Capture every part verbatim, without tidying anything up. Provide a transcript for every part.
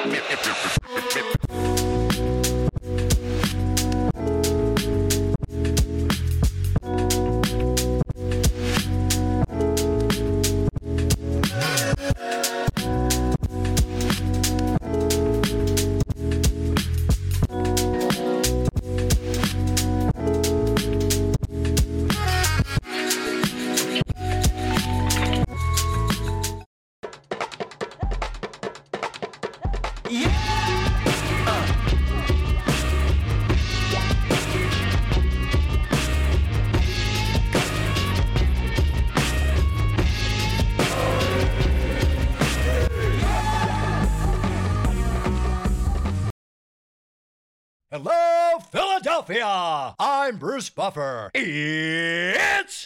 Hello, Philadelphia! I'm Bruce Buffer. It's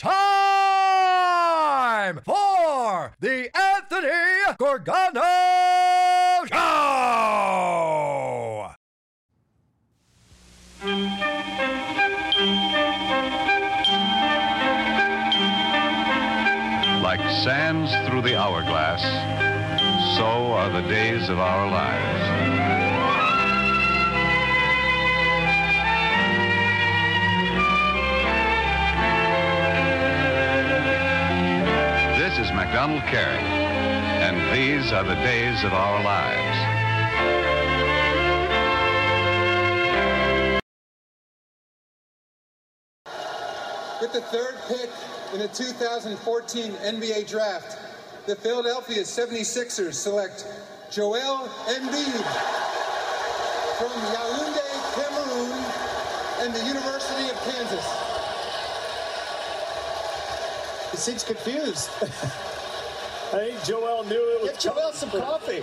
time for the Anthony Gorgano Show! Like sands through the hourglass, so are the days of our lives. This is MacDonald Carey, and these are the days of our lives. With the third pick in the two thousand fourteen N B A Draft, the Philadelphia seventy-sixers select Joel Embiid from Yaoundé, Cameroon, and the University of Kansas. He seems confused. I think Joel knew it was Get Joel some coffee.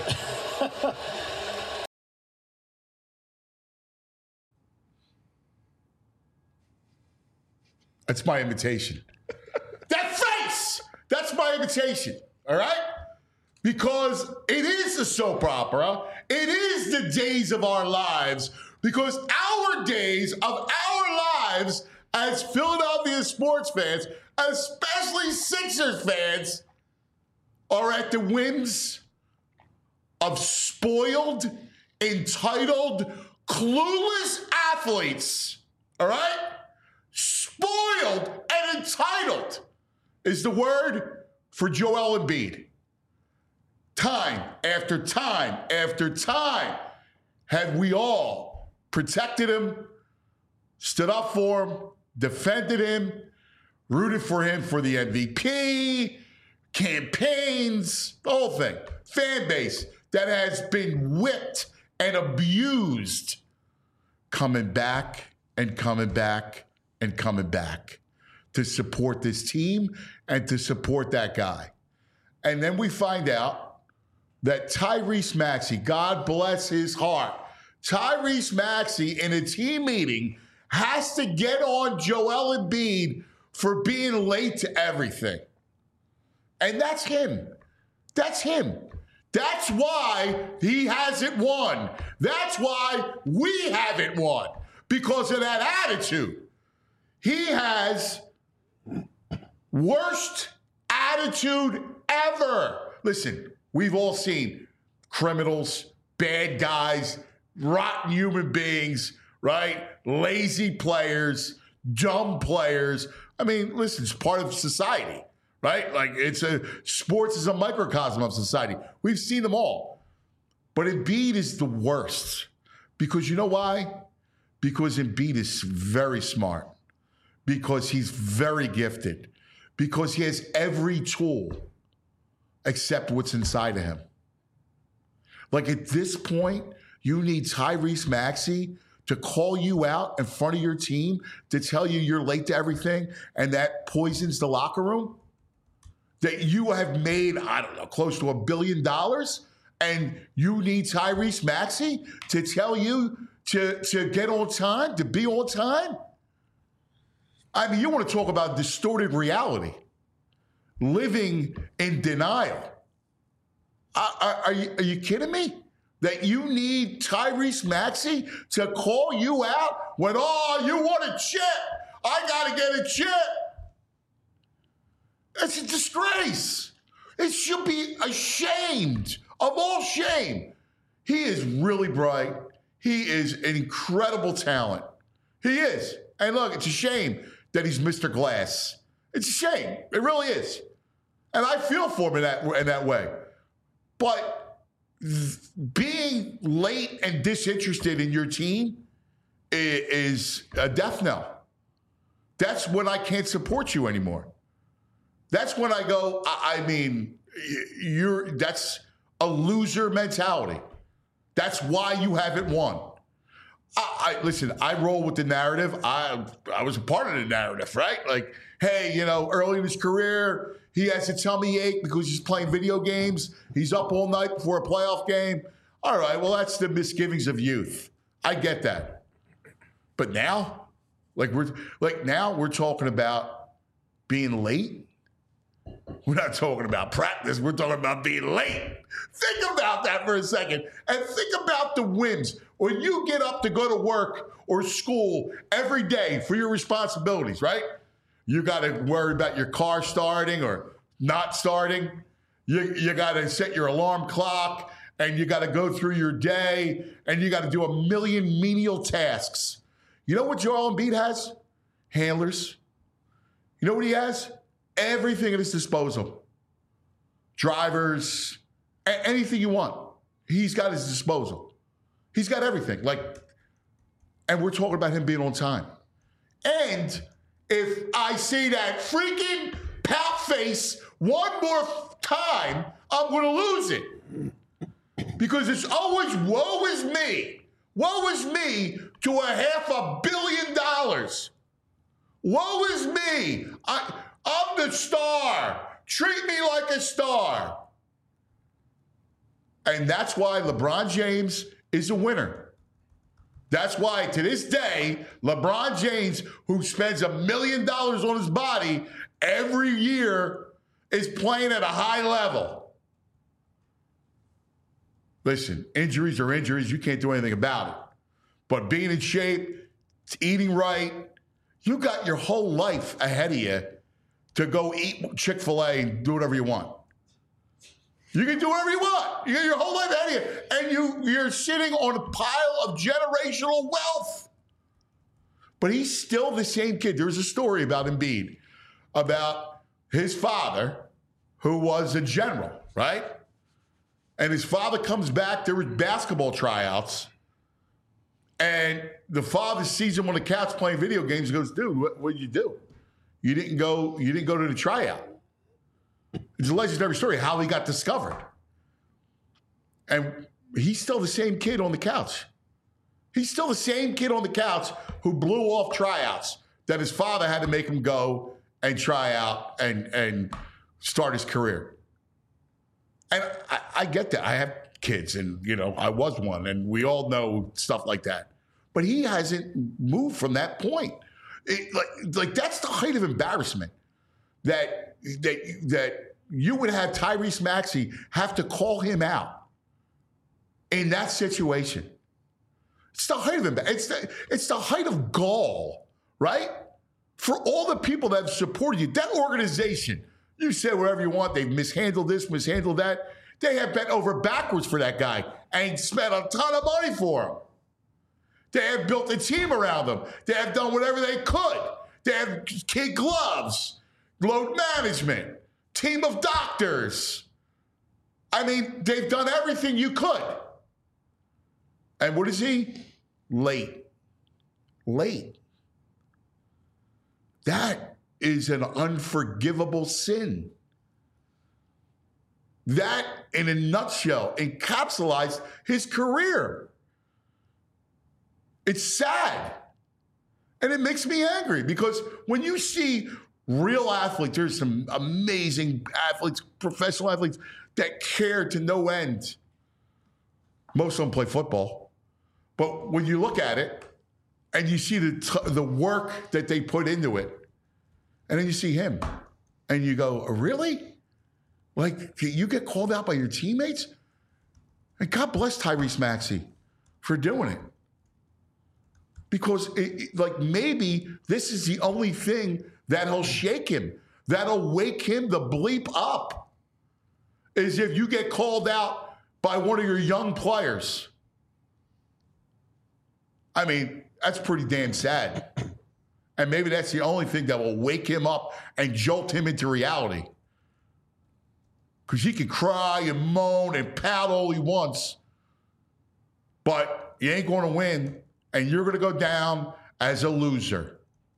That's my invitation. That face! That's my invitation, all right? Because it is a soap opera. It is the days of our lives. Because our days of our lives as Philadelphia sports fans, especially Sixers fans, are at the whims of spoiled, entitled, clueless athletes, all right? Spoiled and entitled is the word for Joel Embiid. Time after time after time have we all protected him, stood up for him, defended him, rooted for him for the M V P, campaigns, the whole thing. Fan base that has been whipped and abused, coming back and coming back and coming back to support this team and to support that guy. And then we find out that Tyrese Maxey, God bless his heart, Tyrese Maxey in a team meeting has to get on Joel Embiid for being late to everything. And that's him. That's him. That's why he hasn't won. That's why we haven't won, because of that attitude. He has worst attitude ever. Listen, we've all seen criminals, bad guys, rotten human beings, right? Lazy players, dumb players. I mean, listen, it's part of society, right? Like it's a sports is a microcosm of society. We've seen them all. But Embiid is the worst. Because you know why? Because Embiid is very smart. Because he's very gifted. Because he has every tool except what's inside of him. Like at this point, you need Tyrese Maxey to call you out in front of your team to tell you you're late to everything and that poisons the locker room? That you have made, I don't know, close to a billion dollars and you need Tyrese Maxey to tell you to, to get on time, to be on time? I mean, you want to talk about distorted reality, living in denial. Are, are, are, you, are you kidding me? That you need Tyrese Maxey to call you out when, oh, you want a chip. I got to get a chip. It's a disgrace. It should be ashamed of all shame. He is really bright. He is an incredible talent. He is. And look, it's a shame that he's Mister Glass. It's a shame. It really is. And I feel for him in that, in that way. But th- being late and disinterested in your team is, is a death knell. That's when I can't support you anymore. That's when I go, I, I mean, you're that's a loser mentality. That's why you haven't won. I, I listen, I roll with the narrative. I I was a part of the narrative, right? Like, hey, you know, early in his career, he has a tummy ache because he's playing video games. He's up all night before a playoff game. All right, well, that's the misgivings of youth. I get that. But now, like we're like now we're talking about being late. We're not talking about practice. We're talking about being late. Think about that for a second. And think about the wins. When you get up to go to work or school every day for your responsibilities, right? You got to worry about your car starting or not starting. You, you got to set your alarm clock, and you got to go through your day, and you got to do a million menial tasks. You know what Joel Embiid has? Handlers. You know what he has? Everything at his disposal. Drivers, a- anything you want. He's got at his disposal. He's got everything. Like, and we're talking about him being on time. And if I see that freaking pout face one more time, I'm going to lose it. Because it's always, woe is me. Woe is me to a half a billion dollars. Woe is me. I... I'm the star. Treat me like a star. And that's why LeBron James is a winner. That's why, to this day, LeBron James, who spends a million dollars on his body every year, is playing at a high level. Listen, injuries are injuries. You can't do anything about it. But being in shape, eating right, you got your whole life ahead of you to go eat Chick-fil-A and do whatever you want. You can do whatever you want. You got your whole life ahead of you. And you, you're sitting on a pile of generational wealth. But he's still the same kid. There was a story about Embiid, about his father, who was a general, right? And his father comes back. There were basketball tryouts. And the father sees him on the couch playing video games and goes, dude, what what did you do? You didn't go, you didn't go to the tryout. It's a legendary story how he got discovered. And he's still the same kid on the couch. He's still the same kid on the couch who blew off tryouts that his father had to make him go and try out and, and start his career. And I, I get that. I have kids, and, you know, I was one, and we all know stuff like that. But he hasn't moved from that point. It, like, like that's the height of embarrassment that that that you would have Tyrese Maxey have to call him out in that situation. It's the height of embarrassment. It's the, it's the height of gall, right? For all the people that have supported you, that organization, you say whatever you want, they've mishandled this, mishandled that. They have bent over backwards for that guy and spent a ton of money for him. They have built a team around them. They have done whatever they could. They have kid gloves, load management, team of doctors. I mean, they've done everything you could. And what is he? Late. Late. That is an unforgivable sin. That, in a nutshell, encapsulates his career. It's sad. And it makes me angry because when you see real athletes, there's some amazing athletes, professional athletes that care to no end. Most of them play football. But when you look at it and you see the t- the work that they put into it, and then you see him and you go, really? Like, you get called out by your teammates? And God bless Tyrese Maxey for doing it. Because, it, it, like, maybe this is the only thing that'll shake him, that'll wake him the bleep up, is if you get called out by one of your young players. I mean, that's pretty damn sad. And maybe that's the only thing that will wake him up and jolt him into reality. Because he can cry and moan and pout all he wants, but you ain't going to win, and you're going to go down as a loser.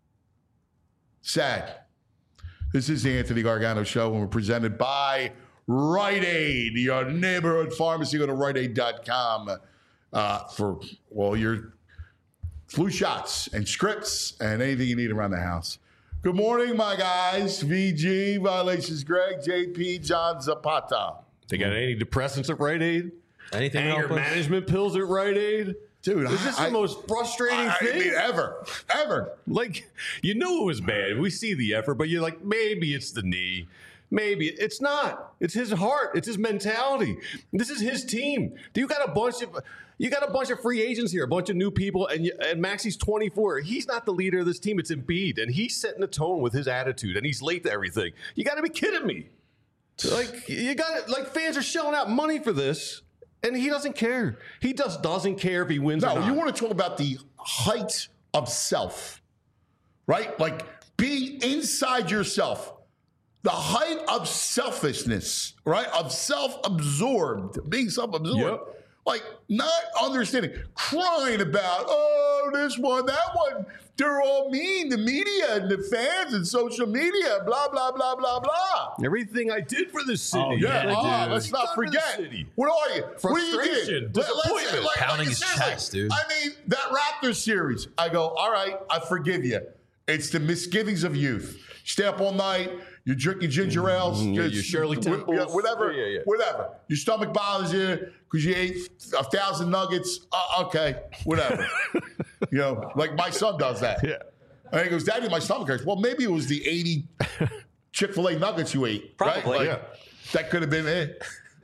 Sad. This is the Anthony Gargano Show, and we're presented by Rite Aid, your neighborhood pharmacy. Go to rite aid dot com uh, for, well, your flu shots and scripts and anything you need around the house. Good morning, my guys. V G, Violations Greg, J P, John Zapata. They got any depressants at Rite Aid? Anything Anger management pills at Rite Aid? Dude, is this I, the most frustrating I, thing? I mean, ever, ever. Like, you knew it was bad. We see the effort, but you're like, maybe it's the knee. Maybe. It's not. It's his heart. It's his mentality. This is his team. You got a bunch of you got a bunch of free agents here, a bunch of new people, and, you, and Maxi's twenty-four. He's not the leader of this team. It's Embiid, and he's setting the tone with his attitude, and he's late to everything. You got to be kidding me. Like, you got like fans are shelling out money for this. And he doesn't care. He just doesn't care if he wins no, or not. No, you want to talk about the height of self, right? Like, be inside yourself. The height of selfishness, right? Of self-absorbed, being self-absorbed. Yep. Like, not understanding, crying about, oh, this one, that one. They're all mean, the media and the fans and social media, blah, blah, blah, blah, blah. Everything I did for this city. Oh, yeah, yeah oh, let's not forget. What are you? Frustration, what do you did? disappointment. Like, Pounding like, his chest, dude. I mean, that Raptors series, I go, all right, I forgive you. It's the misgivings of youth. Stay up all night. You're drinking ginger ales. Mm, you're, you Shirley Temples. Yeah, whatever, yeah, yeah. whatever. Your stomach bothers you because you ate a thousand nuggets. Uh, okay, whatever. You know, like my son does that. Yeah. And he goes, Daddy, my stomach hurts. Well, maybe it was the eighty Chick-fil-A nuggets you ate. Probably, right? Like, yeah. That could have been it.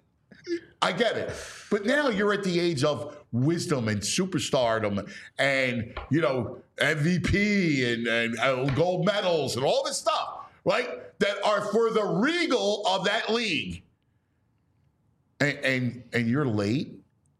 I get it. But now you're at the age of wisdom and superstardom and, you know, M V P and, and uh, gold medals and all this stuff, right? That are for the regal of that league. And, and, and you're late?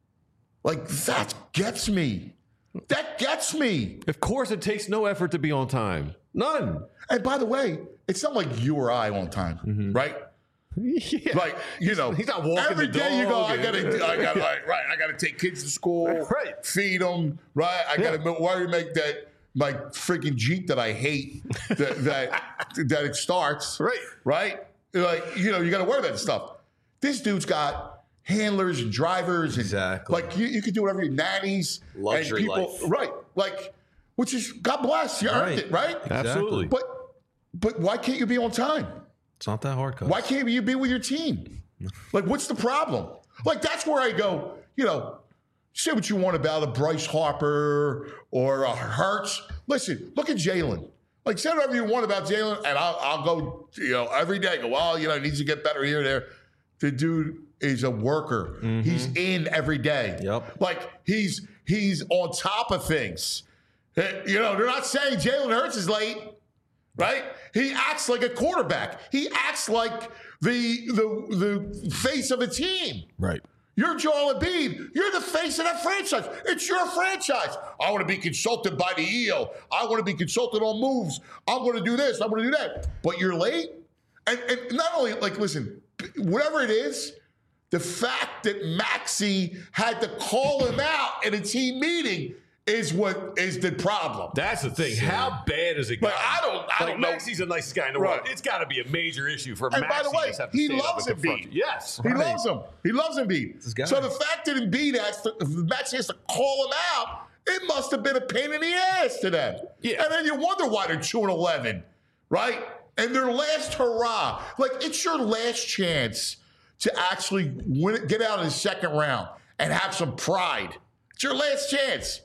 Like, that gets me. That gets me. Of course, it takes no effort to be on time. None. And by the way, it's not like you or I on time, mm-hmm. right? Yeah. Like, you know, he's not walking every the day you go, dog I and- gotta, I gotta, like, right, I gotta take kids to school, Right. feed them, right? I gotta Yeah. worry make that my freaking Jeep that I hate that that that it starts, Right. right? Like, you know, you gotta worry about this stuff. This dude's got handlers and drivers and Exactly. like you, you can do whatever you nannies Luxury and people, life. right? Like, which is God bless, you earned Right. it, right? Absolutely. But but why can't you be on time? It's not that hard, Coach. Why can't you be with your team? Like, what's the problem? Like, that's where I go, you know, say what you want about a Bryce Harper or a Hurts. Listen, look at Jalen. Like, say whatever you want about Jalen, and I'll, I'll go, you know, every day, go, well, you know, he needs to get better here and there. The dude is a worker. Mm-hmm. He's in every day. Yep. Like, he's he's on top of things. You know, they're not saying Jalen Hurts is late. Right? He acts like a quarterback. He acts like the the the face of a team. Right. You're Joel Embiid. You're the face of that franchise. It's your franchise. I want to be consulted by the E O. I want to be consulted on moves. I'm going to do this. I'm going to do that. But you're late. And, and not only, like, listen, whatever it is, the fact that Maxey had to call him out in a team meeting is what is the problem. That's the thing. How bad is it? But I don't- I like, don't know. Maxey's the nicest guy in the Right. world. It's got to be a major issue for And Maxey. by the way, to have to he stand up loves and confront Embiid. you. Yes. He Right. loves him. He loves Embiid. his guy. So the fact that Embiid has to, Maxey has to call him out, it must have been a pain in the ass to them. Yeah. And then you wonder why they're two and eleven, right? And their last hurrah, like, it's your last chance to actually win it, get out in the second round and have some pride. It's your last chance.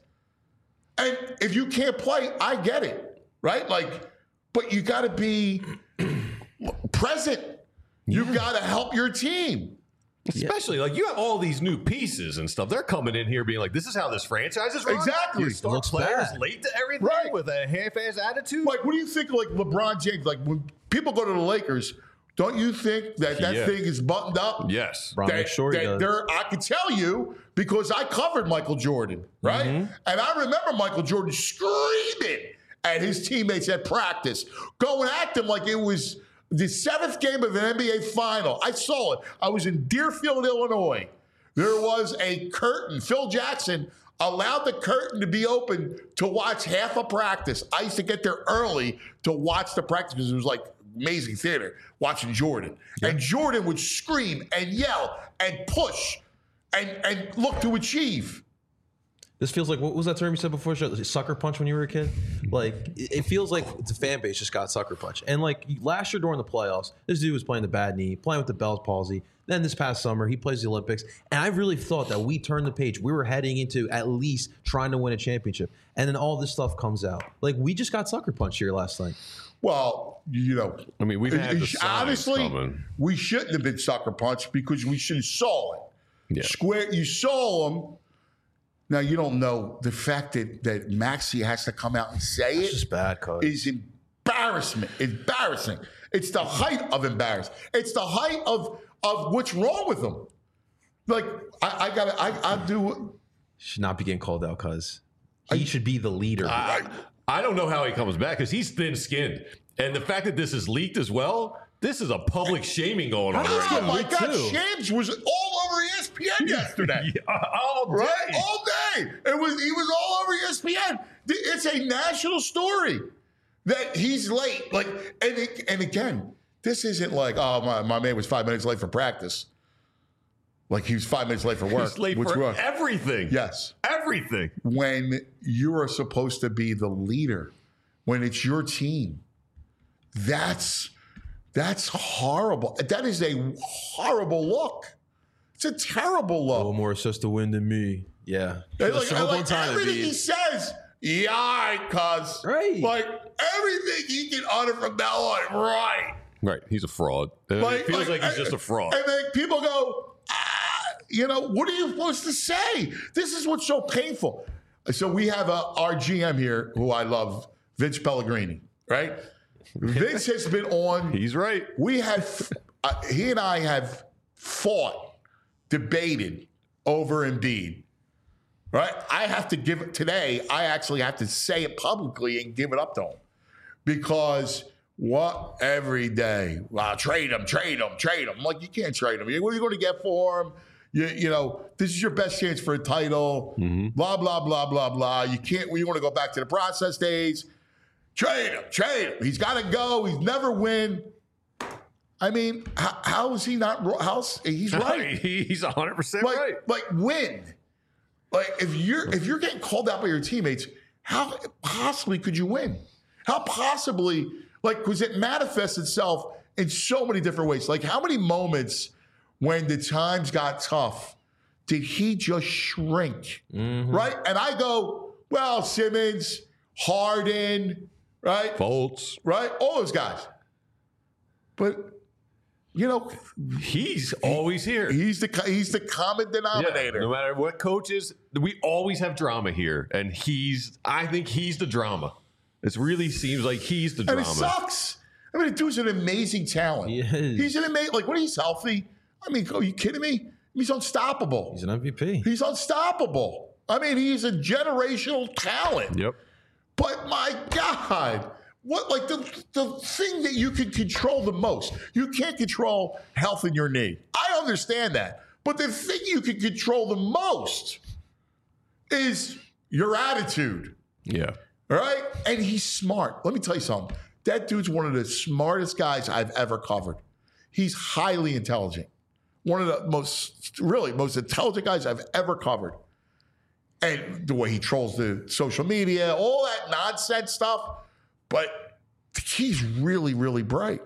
And if you can't play, I get it, right? Like, but you got to be present. You've got to help your team. Especially, like, you have all these new pieces and stuff. They're coming in here being like, this is how this franchise is run. Exactly. Your star Looks players bad. late to everything Right. with a half-ass attitude. Like, what do you think of, like, LeBron James? Like, when people go to the Lakers, Don't you think that that Yeah. thing is buttoned up? Yes. Bron, make sure he does. there, I can tell you because I covered Michael Jordan, right? Mm-hmm. And I remember Michael Jordan screaming at his teammates at practice, going at them like it was the seventh game of an N B A final. I saw it. I was in Deerfield, Illinois. There was a curtain. Phil Jackson allowed the curtain to be open to watch half a practice. I used to get there early to watch the practice because it was like amazing theater watching Jordan. Yep. And Jordan would scream and yell and push and, and look to achieve. This feels like, what was that term you said before? Sucker punch when you were a kid? Like, it feels like the fan base just got sucker punch. And like last year during the playoffs, this dude was playing the bad knee, playing with the Bell's palsy. Then this past summer, he plays the Olympics. And I really thought that we turned the page. We were heading into at least trying to win a championship. And then all this stuff comes out. Like, we just got sucker punched here last night. Well, you know, I mean, we've had the signs honestly, coming. we shouldn't have been sucker punched because we should have saw it. Yeah. Square, you saw them. Now you don't know the fact that that Maxey has to come out and say It's it just bad, cuz. is embarrassment. Embarrassing. It's the height of embarrassment. It's the height of of what's wrong with them. Like I, I gotta, I, I do. Should not be getting called out, cuz. He I, should be the leader. I, I don't know how he comes back because he's thin-skinned. And the fact that this is leaked as well, this is a public shaming going on. Oh, right my now. God. too. Shams was all over E S P N yesterday. Yeah, all day. Right? All day. It was, he was all over E S P N. It's a national story that he's late. Like, and, it, and again, this isn't like, oh, my, my man was five minutes late for practice. Like he was five minutes late for work. He's late which for was, everything. Yes. Everything. When you are supposed to be the leader, when it's your team, that's that's horrible. That is a horrible look. It's a terrible look. A little more assists to win than me. Yeah. Like, like, like everything he says, yeah, all right, cuz. Right. Like everything he can utter from now on, right. Right. He's a fraud. And Like, it feels like, like he's just a fraud. And then people go, ah, you know, what are you supposed to say? This is what's so painful. So we have a, our G M here, who I love, Vince Pellegrini, right? Vince has been on. He's right. We have, uh, he and I have fought, debated over Embiid, right? I have to give it today. I actually have to say it publicly and give it up to him because what every day, well, trade him, trade him, trade him. I'm like, you can't trade him. What are you going to get for him? You, you know, this is your best chance for a title. Mm-hmm. Blah blah blah blah blah. You can't. You want to go back to the process days. Trade him, trade him. He's got to go. He's never win. I mean, how, how is he not? How's he's right? He's one hundred percent like, right. Like win. Like if you're if you're getting called out by your teammates, how possibly could you win? How possibly like because it manifests itself in so many different ways. Like how many moments when the times got tough did he just shrink? Mm-hmm. Right? And I go, well, Simmons, Harden. Right? Fultz. Right? All those guys. But, you know. He's always here. He's the he's the common denominator. Yeah, no matter what coaches, we always have drama here. And he's, I think he's the drama. It really seems like he's the drama. And it sucks. I mean, the dude's an amazing talent. He is. He's an amazing, like, when he's healthy, I mean, are you kidding me? He's unstoppable. He's an M V P. He's unstoppable. I mean, he's a generational talent. Yep. But my God, what like the the thing that you can control the most, you can't control health in your knee. I understand that. But the thing you can control the most is your attitude. Yeah. All right? And he's smart. Let me tell you something. That dude's one of the smartest guys I've ever covered. He's highly intelligent. One of the most, really, most intelligent guys I've ever covered. And the way he trolls the social media, all that nonsense stuff. But he's really, really bright.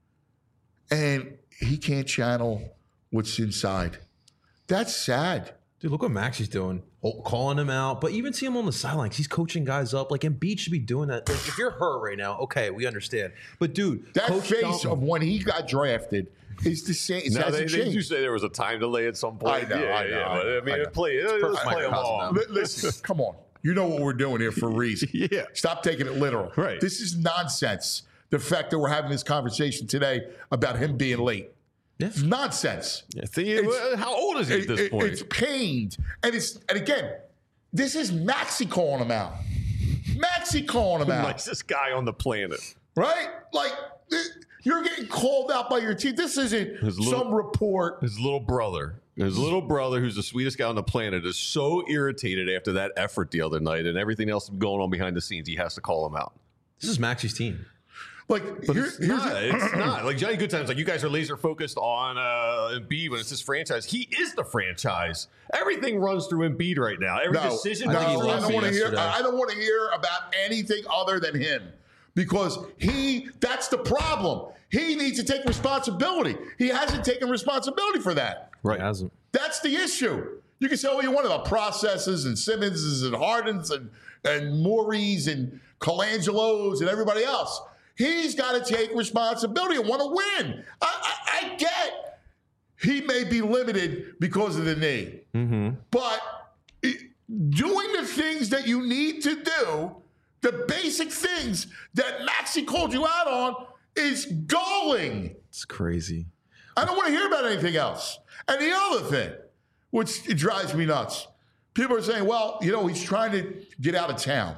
And he can't channel what's inside. That's sad. Dude, look what Maxey's doing. Calling him out. But even see him on the sidelines. He's coaching guys up. Like, Embiid should be doing that. Like, if you're hurt right now, okay, we understand. But, dude, that Coach face Dalton, of when he got drafted is the same. Now, they, they do say there was a time delay at some point. I know, yeah, I know, yeah. I know, But, I mean, I know. play, let's play them all. Listen, come on. You know what we're doing here for a reason. Yeah. Stop taking it literal. Right. This is nonsense. the fact that we're having this conversation today about him being late. Yeah. It's nonsense. Yeah, the, how old is he at this it, point? It's pained. And it's and again, this is Maxey calling him out. Maxey calling him the out. nicest guy on the planet. Right? Like, you're getting called out by your team. This isn't little, some report. His little brother, his little brother, who's the sweetest guy on the planet, is so irritated after that effort the other night and everything else going on behind the scenes, he has to call him out. This is Maxey's team. Like, but here, it's, here's not, a, it's not. Like, Johnny Goodtime's like, you guys are laser focused on uh, Embiid when it's this franchise. He is the franchise. Everything runs through Embiid right now. Every no, decision no, runs through I don't Embiid. want to hear. yesterday. I don't want to hear about anything other than him, because he. That's the problem. He needs to take responsibility. He hasn't taken responsibility for that. Right. He hasn't. That's the issue. You can say all you want about processes and Simmonses and Hardens and and Morey's and Colangelos and everybody else. He's got to take responsibility and want to win. I, I, I get he may be limited because of the knee, Mm-hmm. but it, doing the things that you need to do, the basic things that Maxey called you out on, is galling. It's crazy. I don't want to hear about anything else. And the other thing, which it drives me nuts, people are saying, well, you know, he's trying to get out of town.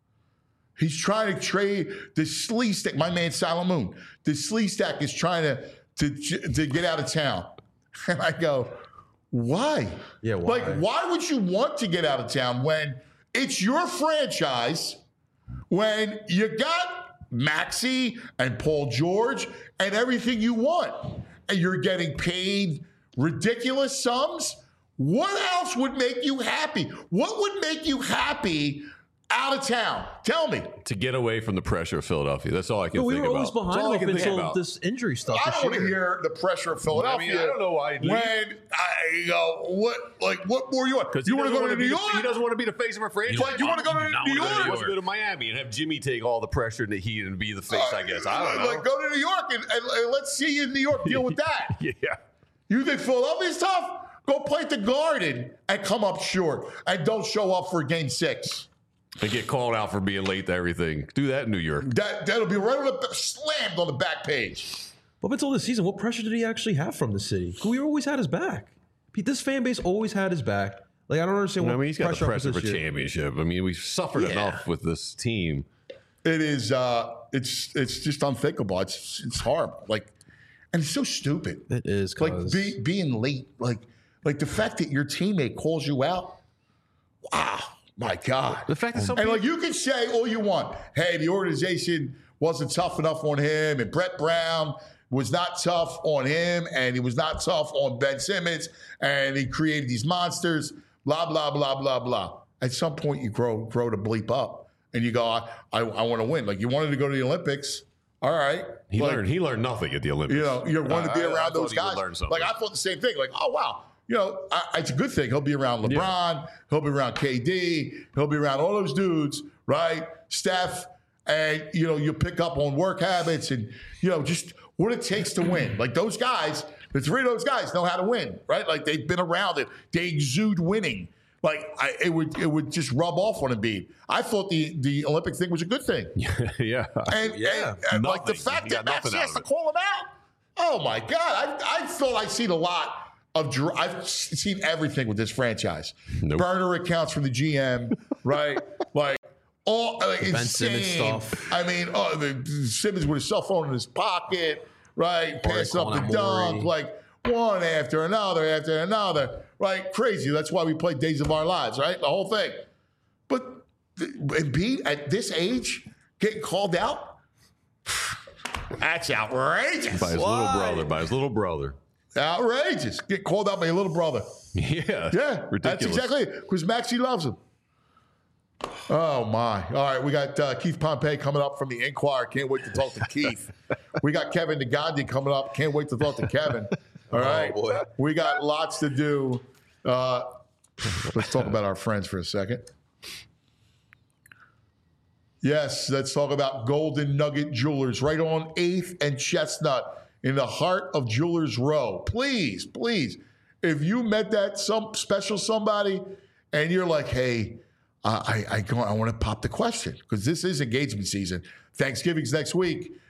He's trying to trade the Slee Stack. My man Salamoon, the Slee Stack is trying to, to to get out of town. And I go, why? Yeah, why? Like, why would you want to get out of town when it's your franchise, when you got Maxey and Paul George and everything you want, and you're getting paid ridiculous sums? What else would make you happy? What would make you happy out of town? Tell me. To get away from the pressure of Philadelphia. That's all I can But we think were about. always That's behind all I him can up think until about. this injury stuff. I this don't want to year. hear the pressure of Philadelphia. I mean, I don't know why he'd leave. When I go, what, like, what more you want? Because You he want to doesn't go to wanna New be York? the- He doesn't want to be the face of a franchise. But you want to go to Not New wanna go to York? He wants to go to Miami and have Jimmy take all the pressure and the heat and be the face, I guess. I don't know. Like, go to New York and, and, and let's see you in New York deal with that. Yeah. You think Philadelphia's tough? Go play at the Garden and come up short. And don't show up for game six. And get called out for being late to everything. Do that in New York. That, that'll be right on the, slammed on the back page. But up until this season, what pressure did he actually have from the city? We always had his back. Pete, this fan base always had his back. Like, I don't understand what I mean, he's got pressure, the pressure up for this year. championship. I mean, we've suffered Yeah. enough with this team. It is, uh, it's it's just unthinkable. It's it's horrible. Like, and it's so stupid. It is, Like, cause be, being late. Like, like the fact that your teammate calls you out. Wow. My God. The fact that some And people, like you can say all you want. Hey, the organization wasn't tough enough on him, and Brett Brown was not tough on him, and he was not tough on Ben Simmons, and he created these monsters, blah, blah, blah, blah, blah. At some point you grow grow to bleep up and you go, I, I, I want to win. Like you wanted to go to the Olympics. All right. he like, learned he learned nothing at the Olympics. you know, you wanted to be I- I around thought those he would guys. learn something. Like I thought the same thing. Like, oh wow, you know, I, it's a good thing. He'll be around LeBron. He'll be around K D. He'll be around all those dudes, right? Steph, and you know, you pick up on work habits and you know just what it takes to win. Like those guys, the three of those guys know how to win, right? Like they've been around it. They exude winning. Like I, it would, it would just rub off on Embiid. I thought the the Olympic thing was a good thing. yeah. And, Yeah. and, and like the Nothing. fact He that got nothing Maxey out has of to it. call him out. Oh my God! I I thought I'd seen a lot of. dr- I've seen everything with this franchise. Nope. Burner accounts from the G M, right? Like all like Ben insane Simmons stuff. I mean, oh, the, Simmons with his cell phone in his pocket, right? Passing up calling the out dunk, Morey. like one after another after another, right? Crazy. That's why we play Days of Our Lives, right? The whole thing. But Embiid at this age getting called out. That's outrageous. By his Why? little brother. By his little brother. Outrageous. Get called out by your little brother. Yeah. Yeah, Ridiculous. that's exactly it. Because Maxey loves him. Oh, my. All right, we got uh, Keith Pompey coming up from the Inquirer. Can't wait to talk to Keith. We got Kevin Nagandi coming up. Can't wait to talk to Kevin. All right. boy. We got lots to do. Uh, let's talk about our friends for a second. Yes, let's talk about Golden Nugget Jewelers right on eighth and Chestnut in the heart of Jewelers Row. Please, please, if you met that some special somebody and you're like, hey, uh, I I, go, I want to pop the question because this is engagement season. Thanksgiving's next week.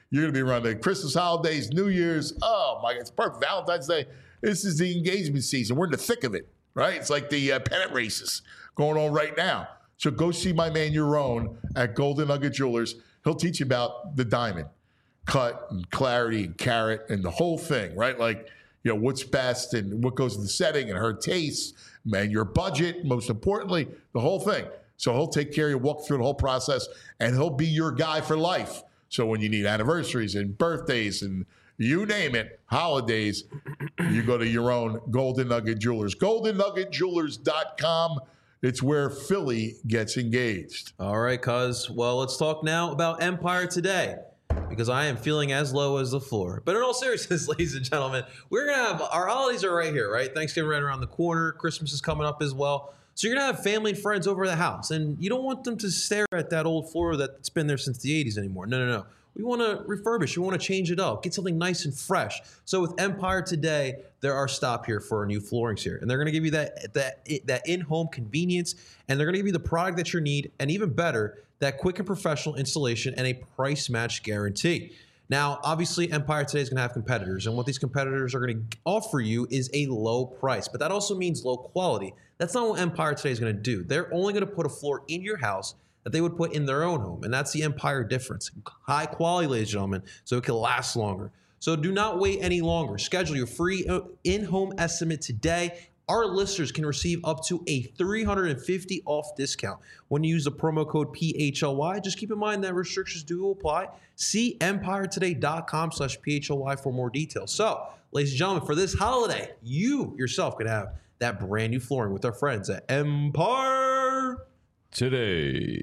You're going to be around the Christmas holidays, New Year's. Oh, my God. It's perfect. Valentine's Day. This is the engagement season. We're in the thick of it, right? It's like the uh, pennant races going on right now. So go see my man, Yaron, at Golden Nugget Jewelers. He'll teach you about the diamond cut and clarity and carat and the whole thing, right? Like, you know, what's best and what goes in the setting and her tastes, man, your budget, most importantly, the whole thing. So he'll take care of you, walk through the whole process, and he'll be your guy for life. So when you need anniversaries and birthdays and you name it, holidays, you go to your own Golden Nugget Jewelers. golden nugget jewelers dot com. It's where Philly gets engaged. All right, cuz. Well, let's talk now about Empire Today, because I am feeling as low as the floor. But in all seriousness, ladies and gentlemen, we're going to have our holidays are right here, right? Thanksgiving right around the corner. Christmas is coming up as well. So you're going to have family and friends over at the house, and you don't want them to stare at that old floor that's been there since the eighties anymore. No, no, no. We want to refurbish. We want to change it up. Get something nice and fresh. So with Empire Today, they're our stop here for our new floorings here. And they're going to give you that that that in-home convenience, and they're going to give you the product that you need, and even better, that quick and professional installation and a price match guarantee. Now, obviously, Empire Today is going to have competitors, and what these competitors are going to offer you is a low price, but that also means low quality. That's not what Empire Today is going to do. They're only going to put a floor in your house that they would put in their own home, and that's the Empire difference. High quality, ladies and gentlemen, so it can last longer. So do not wait any longer. Schedule your free in-home estimate today. Our listeners can receive up to a three hundred fifty dollars off discount when you use the promo code P H L Y. Just keep in mind that restrictions do apply. See empire today dot com slash P H L Y for more details. So, ladies and gentlemen, for this holiday, you yourself can have that brand new flooring with our friends at Empire Today.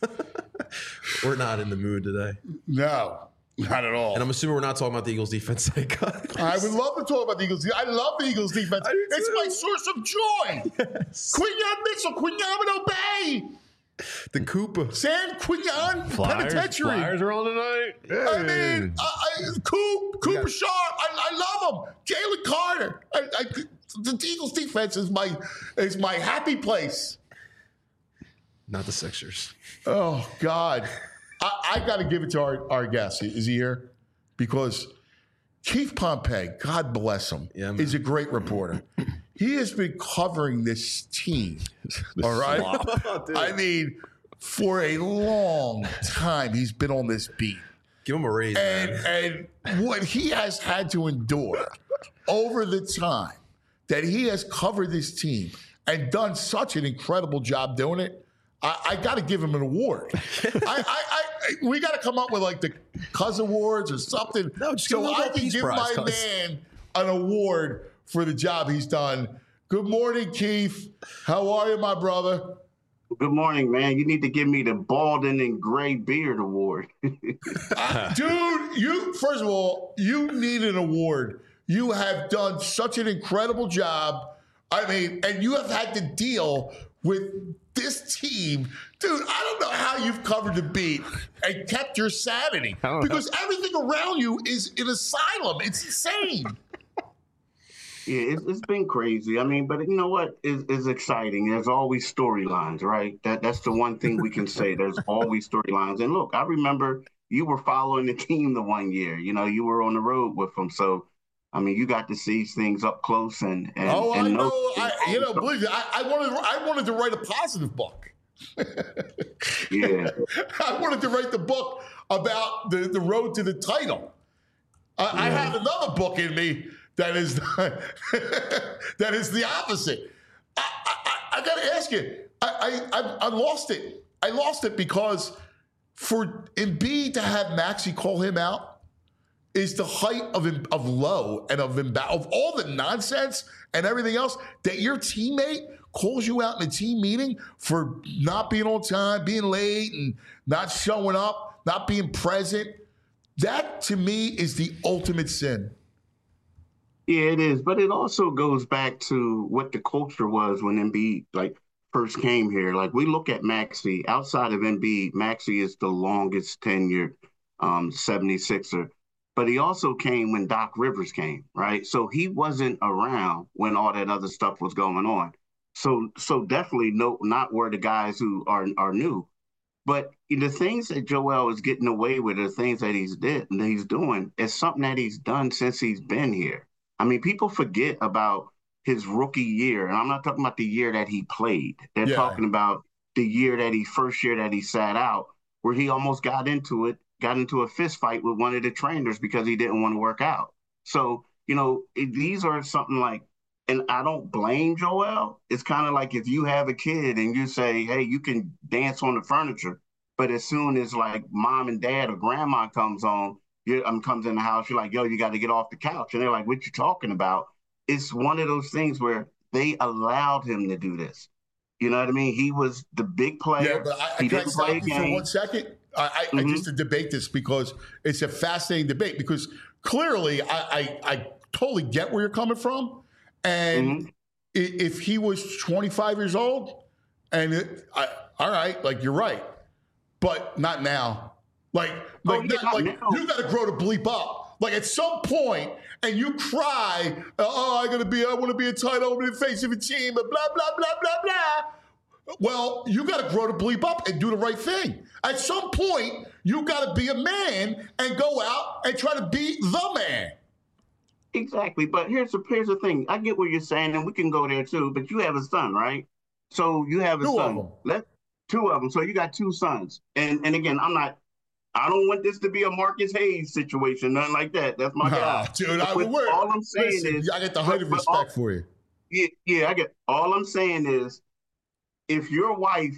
We're not in the mood today. No, not at all. And I'm assuming we're not talking about the Eagles defense today, guys. I would love to talk about the Eagles. I love the Eagles defense. It's too. my source of joy. Yes. Quinyon Mitchell, Quinyon Bay, The Koopa. San Quinyon Flyers, Penitentiary. Flyers are on tonight. I mean, I, I, Coop, Cooper Yeah. Sharp. I, I love him. Jalen Carter. I, I, the Eagles defense is my is my happy place. Not the Sixers. Oh, God. I, I got to give it to our, our guest. Is he here? Because Keith Pompey, God bless him, Yeah, man. is a great reporter. He has been covering this team, all right? I mean, for a long time, he's been on this beat. Give him a raise, And, man. and what he has had to endure over the time that he has covered this team and done such an incredible job doing it, I, I got to give him an award. I, I, I, we got to come up with like the Cuz Awards or something, No, just give him a so little I can Peace give Prize, my Cuz. man an award for the job he's done. Good morning, Keith. How are you, my brother? Good morning, man. You need to give me the balding and gray beard award. Uh, dude, you first of all, you need an award. You have done such an incredible job. I mean, and you have had to deal with this team. Dude, I don't know how you've covered the beat and kept your sanity because everything around you is an asylum. It's insane. Yeah, it's, it's been crazy. I mean, but you know what is is exciting? There's always storylines, right? That that's the one thing we can say. There's always storylines. And look, I remember you were following the team the one year. You know, you were on the road with them, so I mean, you got to see things up close and and Oh, and I know. I, you know, believe me, I, I wanted I wanted to write a positive book. Yeah, I wanted to write the book about the, the road to the title. I, yeah. I have another book in me that is that is the opposite. I, I, I got to ask you, I, I I lost it. I lost it because for Embiid to have Maxey call him out is the height of of low and of of all the nonsense and everything else that your teammate calls you out in a team meeting for not being on time, being late, and not showing up, not being present. That to me is the ultimate sin. Yeah, it is, but it also goes back to what the culture was when Embiid like first came here. Like we look at Maxey outside of Embiid, Maxey is the longest tenured um, seventy-sixer. But he also came when Doc Rivers came, right? So he wasn't around when all that other stuff was going on. So so definitely no, not where the guys who are are new. But the things that Joel is getting away with, the things that he's did and that he's doing, is something that he's done since he's been here. I mean, people forget about his rookie year, and I'm not talking about the year that he played. They're Yeah. talking about the year that he first year that he sat out, where he almost got into it, got into a fist fight with one of the trainers because he didn't want to work out. So, you know, it, these are something like, and I don't blame Joel. It's kind of like if you have a kid and you say, hey, you can dance on the furniture, but as soon as like mom and dad or grandma comes on, you um, comes in the house, you're like, yo, you got to get off the couch. And they're like, what you talking about? It's one of those things where they allowed him to do this. You know what I mean? He was the big player. Yeah, but I, I he can didn't stop play a you for game. one second. I, I, Mm-hmm. I just to debate this because it's a fascinating debate. Because clearly, I, I, I totally get where you're coming from, and Mm-hmm. i- if he was twenty-five years old, and it, I, all right, like you're right, but not now. Like, like, Oh, yeah, not- not like now. you got to grow to bleep up. Like at some point, and you cry, "Oh, I gotta be, I want to be a tight end in the face of a team," and blah blah blah blah blah. Well, you got to grow to bleep up and do the right thing. At some point, you got to be a man and go out and try to be the man. Exactly. But here's the here's the thing. I get what you're saying, and we can go there too. But you have a son, right? So you have a Two of son. them. Let two of them. So you got two sons. And and again, I'm not. I don't want this to be a Marcus Hayes situation, nothing like that. That's my guy. Oh, dude, I, But we're, all I'm saying listen, is, I get the height of but- but respect all- for you. Yeah, yeah, I get. All I'm saying is, if your wife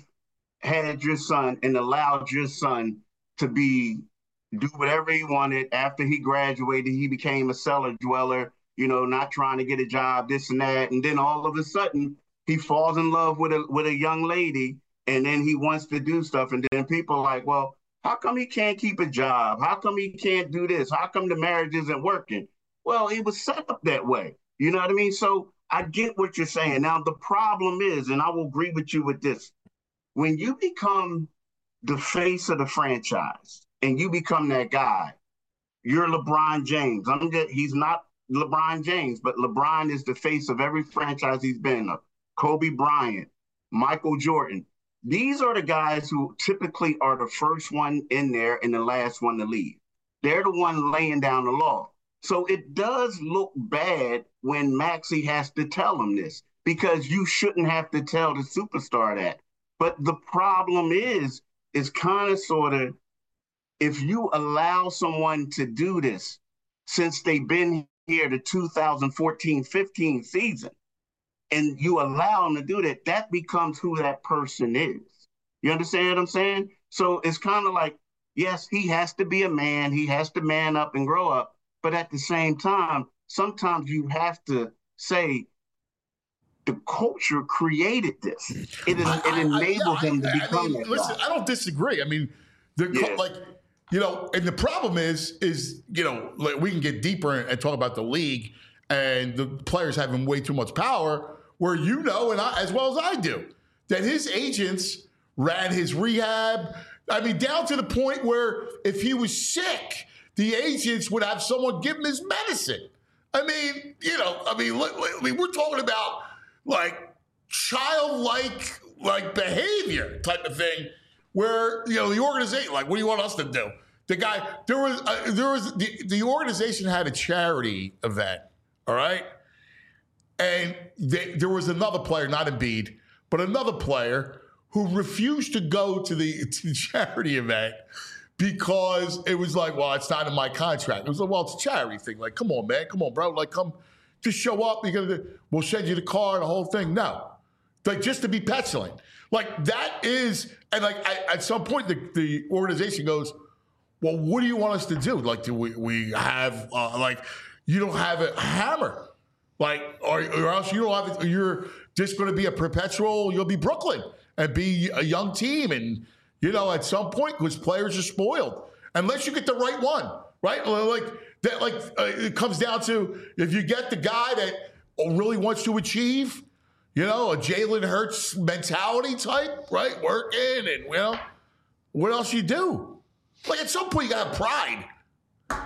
had your son and allowed your son to be do whatever he wanted after he graduated, he became a cellar dweller, you know, not trying to get a job, this and that, and then all of a sudden he falls in love with a with a young lady, and then he wants to do stuff, and then people are like, well, how come he can't keep a job? How come he can't do this? How come the marriage isn't working? Well, it was set up that way. You know what I mean? So I get what you're saying. Now, the problem is, and I will agree with you with this, when you become the face of the franchise and you become that guy, you're LeBron James. I'm just, he's not LeBron James, but LeBron is the face of every franchise he's been in. Kobe Bryant, Michael Jordan. These are the guys who typically are the first one in there and the last one to leave. They're the one laying down the law. So it does look bad when Maxey has to tell him this, because you shouldn't have to tell the superstar that. But the problem is, is kind of sort of, if you allow someone to do this since they've been here the two thousand fourteen fifteen season, and you allow them to do that, that becomes who that person is. You understand what I'm saying? So it's kind of like, yes, he has to be a man. He has to man up and grow up. But at the same time, sometimes you have to say the culture created this. It, it I- I- enabled yeah, him to I- I become mean, that listen, guy. I don't disagree. I mean, the Yeah. like, you know, and the problem is, is you know, like we can get deeper and talk about the league and the players having way too much power. Where you know, and I, as well as I do, that his agents ran his rehab. I mean, down to the point where if he was sick, the agents would have someone give him his medicine. I mean, you know, I mean, li- li- I mean, we're talking about like childlike like behavior type of thing, where you know the organization, like, what do you want us to do? The guy, there was, uh, there was the, the organization had a charity event, all right, and they, there was another player, not Embiid, but another player who refused to go to the, to the charity event because it was like, well, it's not in my contract. It was like, well, it's a charity thing. Like, come on, man, come on, bro. Like, come, just show up. You're gonna, we'll send you the car, the whole thing. No, like just to be petulant. Like that is, and like I, at some point, the, the organization goes, well, what do you want us to do? Like, do we, we have, uh, like, you don't have a hammer. Like, or, or else you don't have, you're just going to be a perpetual, you'll be Brooklyn and be a young team. And, you know, at some point, because players are spoiled, unless you get the right one, right? Like, that, like uh, it comes down to if you get the guy that really wants to achieve, you know, a Jalen Hurts mentality type, right? Working and, you know, what else you do? Like, at some point, you got to have pride.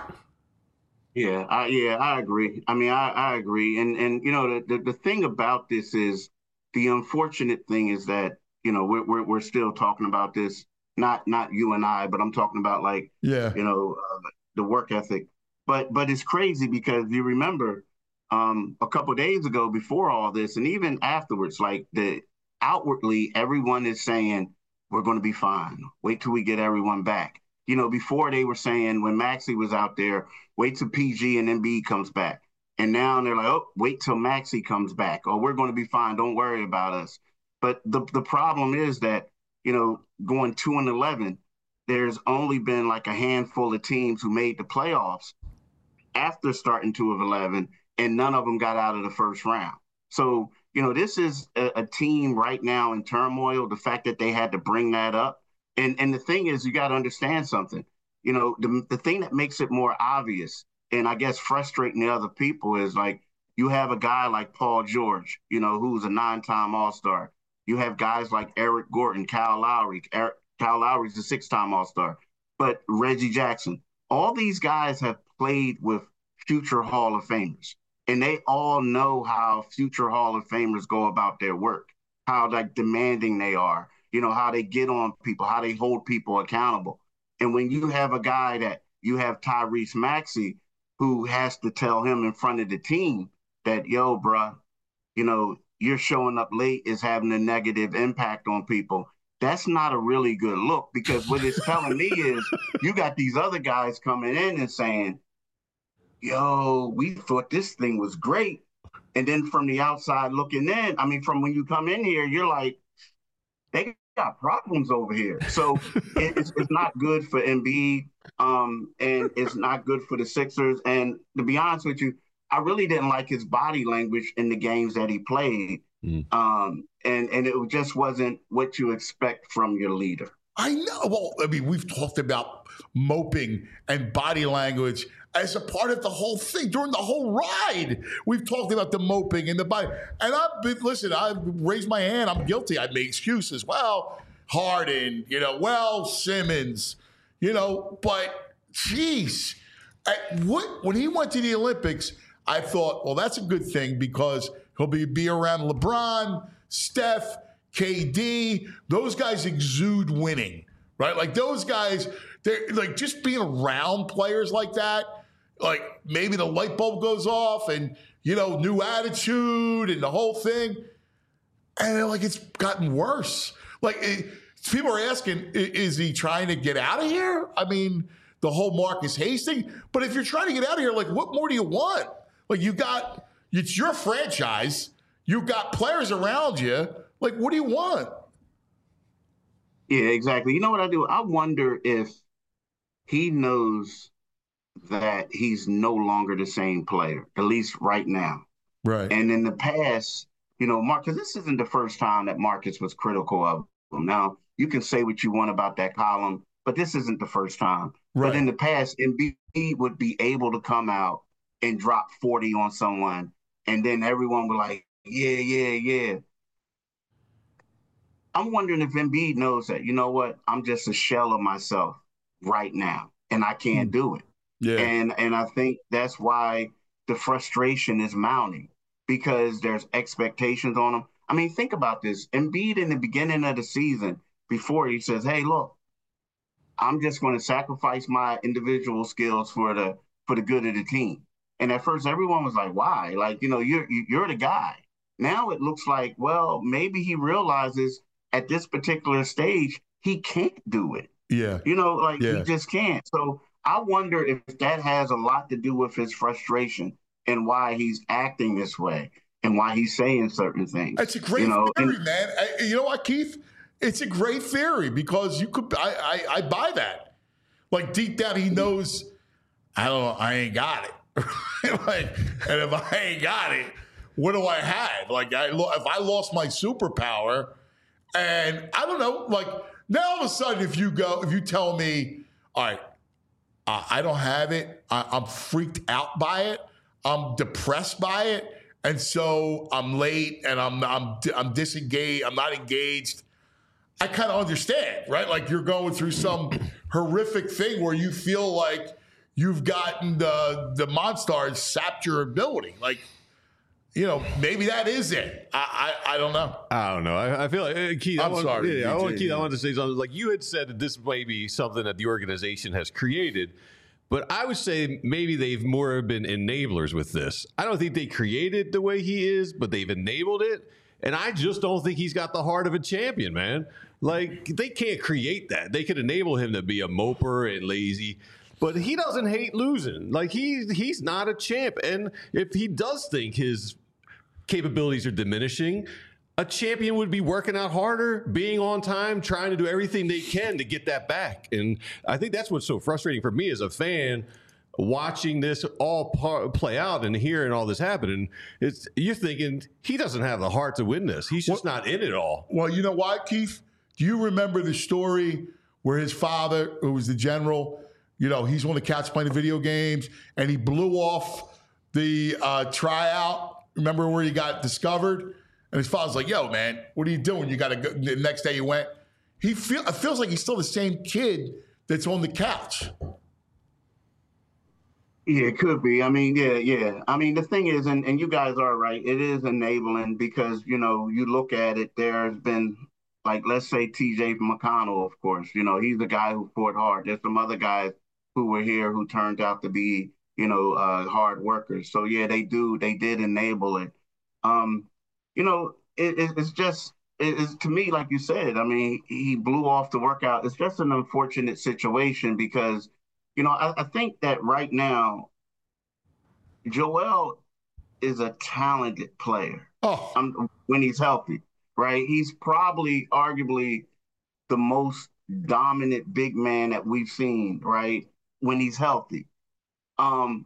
Yeah, I, yeah, I agree. I mean, I, I agree. And, and you know, the, the, the thing about this is, the unfortunate thing is that, you know, we're, we're, we're still talking about this not not you and I, but I'm talking about like, Yeah. you know, uh, the work ethic. But but it's crazy because you remember um, a couple of days ago before all this, and even afterwards, like the outwardly, everyone is saying we're going to be fine. Wait till we get everyone back. You know, before they were saying when Maxey was out there, wait till P G and Embiid comes back. And now they're like, oh, wait till Maxey comes back. Or we're going to be fine. Don't worry about us. But the the problem is that, you know, going two and eleven, there's only been like a handful of teams who made the playoffs after starting two of eleven, and none of them got out of the first round. So, you know, this is a, a team right now in turmoil. The fact that they had to bring that up. And and the thing is, you got to understand something. You know, the, the thing that makes it more obvious and I guess frustrating the other people is like you have a guy like Paul George, you know, who's a nine-time All-Star. You have guys like Eric Gordon, Kyle Lowry. Eric, Kyle Lowry's a six-time All-Star. But Reggie Jackson, all these guys have played with future Hall of Famers. And they all know how future Hall of Famers go about their work, how like demanding they are, you know, how they get on people, how they hold people accountable. And when you have a guy that you have Tyrese Maxey, who has to tell him in front of the team that, yo, bruh, you know, you're showing up late is having a negative impact on people. That's not a really good look, because what it's telling me is you got these other guys coming in and saying, yo, we thought this thing was great. And then from the outside looking in, I mean, from when you come in here, you're like, they got problems over here. So it's, it's not good for Embiid, um, and it's not good for the Sixers. And to be honest with you, I really didn't like his body language in the games that he played. Mm. Um, and, and it just wasn't what you expect from your leader. I know. Well, I mean, we've talked about moping and body language as a part of the whole thing during the whole ride. We've talked about the moping and the body. And I've been, listen, I've raised my hand. I'm guilty. I made excuses. Well, Harden, you know, well, Simmons, you know, but geez, at what, when he went to the Olympics, I thought, well, that's a good thing because he'll be, be around LeBron, Steph, K D. Those guys exude winning, right? Like those guys, they're like just being around players like that. Like maybe the light bulb goes off and, you know, new attitude and the whole thing. And like it's gotten worse. Like it, people are asking, is he trying to get out of here? I mean, the whole Marcus Hastings. But if you're trying to get out of here, like what more do you want? Like you got, it's your franchise. You got players around you. Like, what do you want? Yeah, exactly. You know what I do? I wonder if he knows that he's no longer the same player, at least right now. Right. And in the past, you know, Marcus, this isn't the first time that Marcus was critical of him. Now, you can say what you want about that column, but this isn't the first time. Right. But in the past, Embiid would be able to come out and drop forty on someone, and then everyone would like, yeah, yeah, yeah. I'm wondering if Embiid knows that, you know what, I'm just a shell of myself right now, and I can't do it. Yeah. And and I think that's why the frustration is mounting, because there's expectations on him. I mean, think about this. Embiid in the beginning of the season, before he says, hey, look, I'm just going to sacrifice my individual skills for the for the good of the team. And at first, everyone was like, why? Like, you know, you're you're the guy. Now it looks like, well, maybe he realizes at this particular stage, he can't do it. Yeah. You know, like yeah. he just can't. So I wonder if that has a lot to do with his frustration and why he's acting this way and why he's saying certain things. It's a great you know? theory, and, man. I, you know what, Keith? It's a great theory because you could, I, I, I buy that. Like deep down, he knows, I don't know, I ain't got it. Like, and if I ain't got it, what do I have? Like, I, if I lost my superpower, and I don't know, like now all of a sudden, if you go, if you tell me, all right, uh, I don't have it, I, I'm freaked out by it, I'm depressed by it, and so I'm late and I'm I'm I'm disengaged, I'm not engaged. I kind of understand, right? Like you're going through some horrific thing where you feel like you've gotten the the Monstars sapped your ability. Like you know, maybe that is it. I I, I don't know. I don't know. I, I feel like uh, Keith. I'm I want, sorry, Yeah, I D J, want Keith. yeah. I wanted to say something. Like you had said that this may be something that the organization has created, but I would say maybe they've more been enablers with this. I don't think they created the way he is, but they've enabled it. And I just don't think he's got the heart of a champion, man. Like they can't create that. They could enable him to be a moper and lazy. But he doesn't hate losing. Like he he's not a champ. And if he does think his capabilities are diminishing, a champion would be working out harder, being on time, trying to do everything they can to get that back. And I think that's what's so frustrating for me as a fan, watching this all par- play out and hearing all this happen. And it's you're thinking he doesn't have the heart to win this. He's just well, not in it all. Well, you know what, Keith? Do you remember the story where his father, who was the general, you know, he's on the couch playing the video games, and he blew off the uh, tryout. Remember where he got discovered? And his father's like, yo, man, what are you doing? You got to go. The next day he went. He feel, it feels like he's still the same kid that's on the couch. Yeah, it could be. I mean, yeah, yeah. I mean, the thing is, and, and you guys are right, it is enabling because, you know, you look at it, there's been, like, let's say T J McConnell, of course. You know, he's the guy who fought hard. There's some other guys who were here who turned out to be, you know, uh, hard workers. So, yeah, they do. They did enable it. Um, you know, it, it, it's just, it, it's to me, like you said, I mean, he blew off the workout. It's just an unfortunate situation because, you know, I, I think that right now, Joel is a talented player oh. um, when he's healthy, right? He's probably arguably the most dominant big man that we've seen, right, when he's healthy. Um,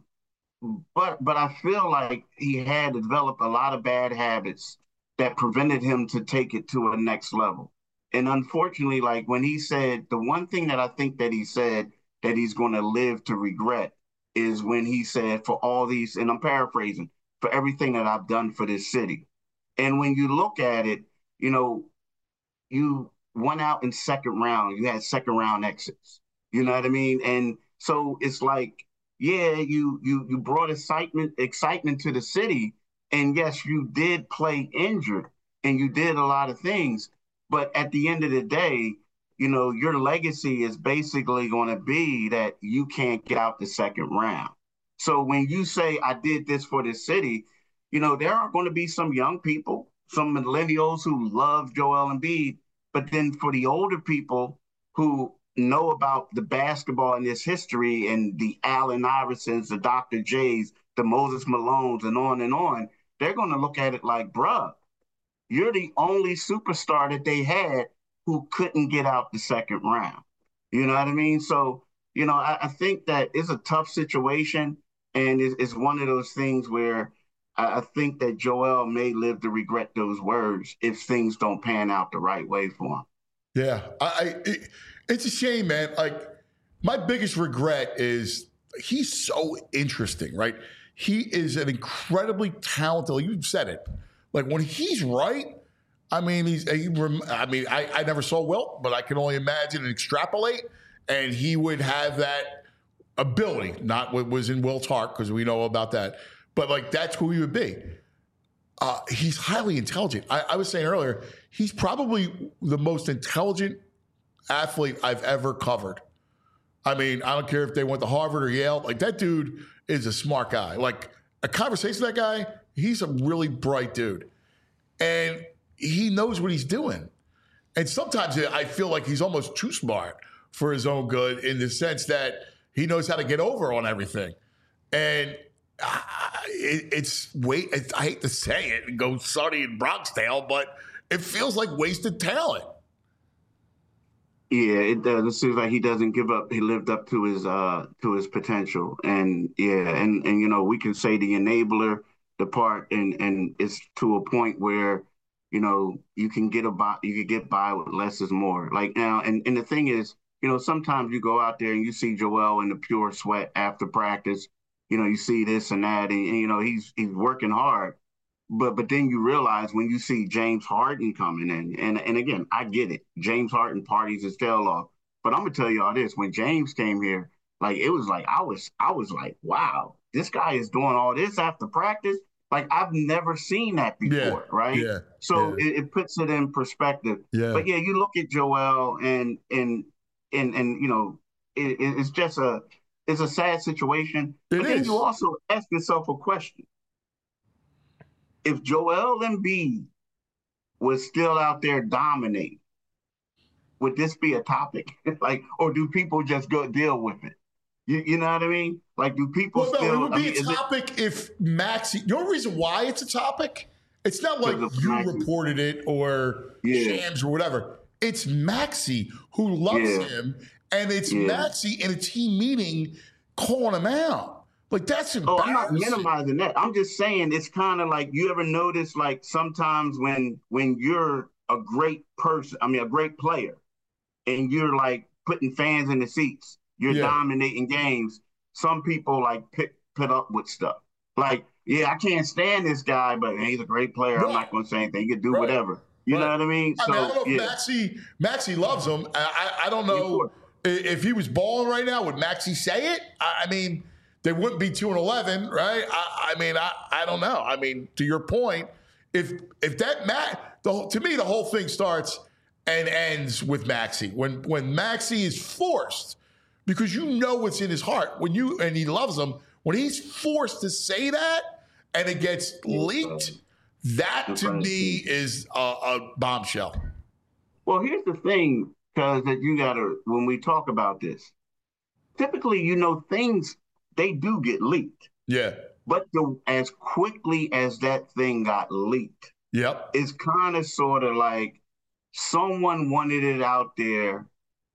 but but I feel like he had developed a lot of bad habits that prevented him to take it to a next level. And unfortunately, like when he said, the one thing that I think that he said that he's going to live to regret is when he said, for all these, and I'm paraphrasing, for everything that I've done for this city. And when you look at it, you know, you went out in second round, you had second round exits, you know what I mean? And so it's like, yeah, you you you brought excitement excitement to the city, and yes, you did play injured, and you did a lot of things, but at the end of the day, you know, your legacy is basically going to be that you can't get out the second round. So when you say, I did this for the city, you know, there are going to be some young people, some millennials who love Joel Embiid, but then for the older people who know about the basketball and its history and the Allen Iversons, the Doctor J's, the Moses Malones, and on and on, they're going to look at it like, bruh, you're the only superstar that they had who couldn't get out the second round. You know what I mean? So, you know, I, I think that it's a tough situation, and it's, it's one of those things where I, I think that Joel may live to regret those words if things don't pan out the right way for him. Yeah, I, I it, it's a shame, man. Like, my biggest regret is he's so interesting, right? He is an incredibly talented, like you said it. Like, when he's right, I mean, he's. He, I mean, I, I never saw Wilt, but I can only imagine and extrapolate, and he would have that ability. Not what was in Wilt's heart, because we know about that, but like that's who he would be. Uh, he's highly intelligent. I, I was saying earlier, he's probably the most intelligent athlete I've ever covered. I mean, I don't care if they went to Harvard or Yale. Like, that dude is a smart guy. Like, a conversation with that guy, he's a really bright dude. And he knows what he's doing. And sometimes I feel like he's almost too smart for his own good, in the sense that he knows how to get over on everything. And uh, it, it's, wait, it's, I hate to say it and go Sonny and Bronxdale, but it feels like wasted talent. Yeah, it does. It seems like he doesn't give up. He lived up to his uh to his potential, and yeah, and and you know, we can say the enabler, the part, and and it's to a point where, you know, you can get about you can get by with less is more. Like now, and and the thing is, you know, sometimes you go out there and you see Joel in the pure sweat after practice. You know, you see this and that, and, and you know, he's he's working hard. But but then you realize when you see James Harden coming in, and, and again, I get it. James Harden parties his tail off. But I'm gonna tell you all this: when James came here, like it was like I was I was like, wow, this guy is doing all this after practice. Like, I've never seen that before, Yeah, right? yeah, So yeah. It, it puts it in perspective. Yeah. But yeah, you look at Joel and and and and you know, it, it's just a it's a sad situation. It but then is. you also ask yourself a question: if Joel Embiid was still out there dominating, would this be a topic? Like, or do people just go deal with it? You, you know what I mean? Like, do people Well, no, still? it would I be mean, a is it- topic if Maxey. The only reason why it's a topic, it's not like Because of you Maxey. reported it or Yeah. Shams or whatever. It's Maxey who loves Yeah. him, and it's Yeah. Maxey in a team meeting calling him out. Like, that's Oh, embarrassing. I'm not minimizing that. I'm just saying it's kind of like, you ever notice, like, sometimes when when you're a great person, I mean a great player, and you're like putting fans in the seats, you're Yeah. dominating games, some people like pick put up with stuff. Like, yeah, I can't stand this guy, but he's a great player. Right. I'm not gonna say anything. He can do Right. whatever. You know Right. what I mean? I So mean, I don't know if yeah. Maxey, Maxey loves him. I, I, I don't Yeah, know of i- if he was balling right now. Would Maxey say it? I, I mean, they wouldn't be two and eleven, right? I, I mean, I, I don't know. I mean, to your point, if if that Matt, the whole- to me, the whole thing starts and ends with Maxey. When when Maxey is forced, because you know what's in his heart when you and he loves him. When he's forced to say that and it gets leaked, that to me is a, a bombshell. Well, here's the thing, because that you gotta, when we talk about this, typically, you know, things, they do get leaked. Yeah. But the, as quickly as that thing got leaked, Yep. it's kind of sort of like someone wanted it out there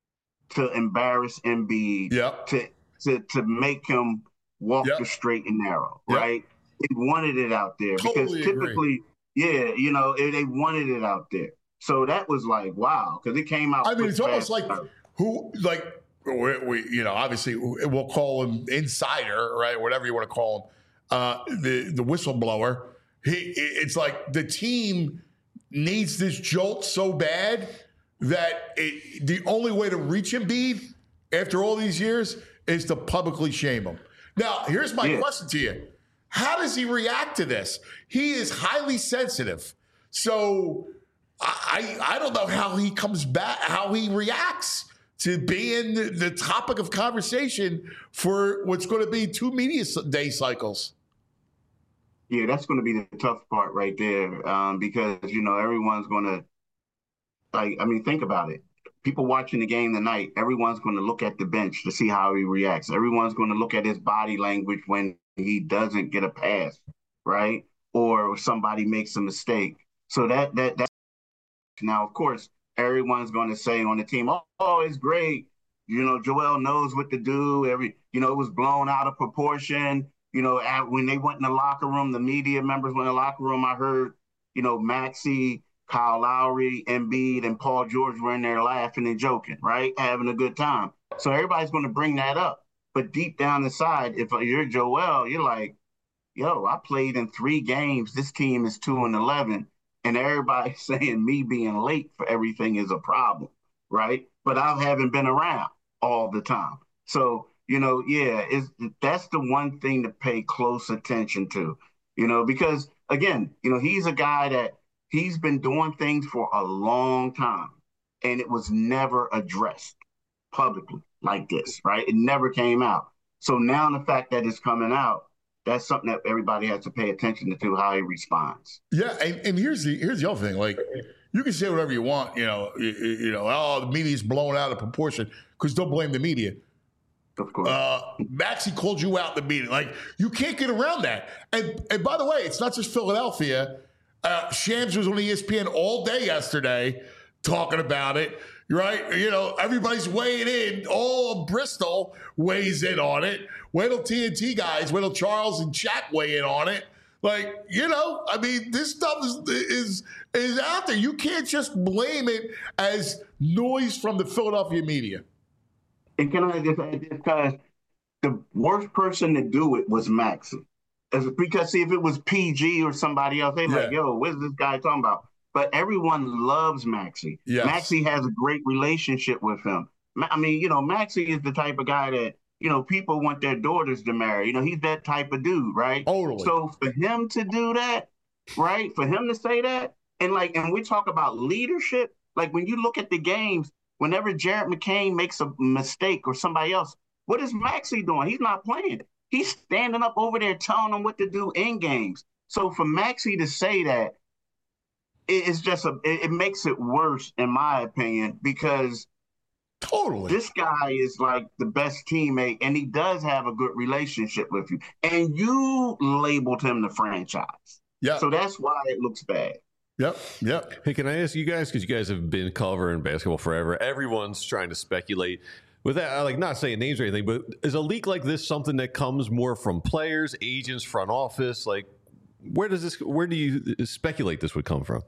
to embarrass Embiid, Yep. to to to make him walk Yep. the straight and narrow, Yep. right? They wanted it out there Totally because agree. typically, yeah, you know, they they wanted it out there. So that was like, wow, because it came out. I mean, quick, it's almost fast. like who, like, we, we, you know, obviously we'll call him insider, right? Whatever you want to call him, uh, the the whistleblower. He, it's like the team needs this jolt so bad that it, the only way to reach Embiid after all these years is to publicly shame him. Now, here's my Yeah. question to you: how does he react to this? He is highly sensitive, so. I, I don't know how he comes back, how he reacts to being the, the topic of conversation for what's going to be two media day cycles. Yeah, that's going to be the tough part right there, um, because you know everyone's going to, like, I mean, think about it. People watching the game tonight, everyone's going to look at the bench to see how he reacts. Everyone's going to look at his body language when he doesn't get a pass, right, or somebody makes a mistake. So that that that. Now, of course, everyone's going to say on the team, oh, oh, it's great. You know, Joel knows what to do. Every, you know, it was blown out of proportion. You know, at, when they went in the locker room, the media members went in the locker room, I heard, you know, Maxey, Kyle Lowry, Embiid, and Paul George were in there laughing and joking, right? Having a good time. So everybody's going to bring that up. But deep down inside, if you're Joel, you're like, yo, I played in three games. This team is two and eleven. And everybody's saying me being late for everything is a problem, right? But I haven't been around all the time. So, you know, yeah, it's, that's the one thing to pay close attention to, you know, because, again, you know, he's a guy that he's been doing things for a long time, and it was never addressed publicly like this, right? It never came out. So now the fact that it's coming out, that's something that everybody has to pay attention to, how he responds. Yeah, and, and here's the here's the other thing. Like, you can say whatever you want, you know, you, you know, oh, the media's blown out of proportion, because don't blame the media. Of course. Uh, Maxey called you out in the meeting. Like, you can't get around that. And and by the way, it's not just Philadelphia. Uh, Shams was on E S P N all day yesterday talking about it. Right? You know, everybody's weighing in. All of Bristol weighs in on it. Wait till T N T guys, wait till Charles and Shaq weigh in on it. Like, you know, I mean, this stuff is is is out there. You can't just blame it as noise from the Philadelphia media. And can I just add this? Because the worst person to do it was Maxey. Because, see, if it was P G or somebody else, they're Yeah. like, yo, what's this guy talking about? But everyone loves Maxey. Yes. Maxey has a great relationship with him. I mean, you know, Maxey is the type of guy that you know, people want their daughters to marry. You know, he's that type of dude, right? Totally. So for him to do that, right? For him to say that, and like, and we talk about leadership, like when you look at the games, whenever Jared McCain makes a mistake or somebody else, what is Maxey doing? He's not playing. He's standing up over there telling them what to do in games. So for Maxey to say that, it, it's just a, it, it makes it worse, in my opinion, because totally this guy is like the best teammate, and he does have a good relationship with you. And you labeled him the franchise. Yeah. So that's why it looks bad. Yep, yep. Hey, can I ask you guys, because you guys have been covering basketball forever, everyone's trying to speculate. With that, like not saying names or anything, but is a leak like this something that comes more from players, agents, front office? Like, where does this? Where do you speculate this would come from?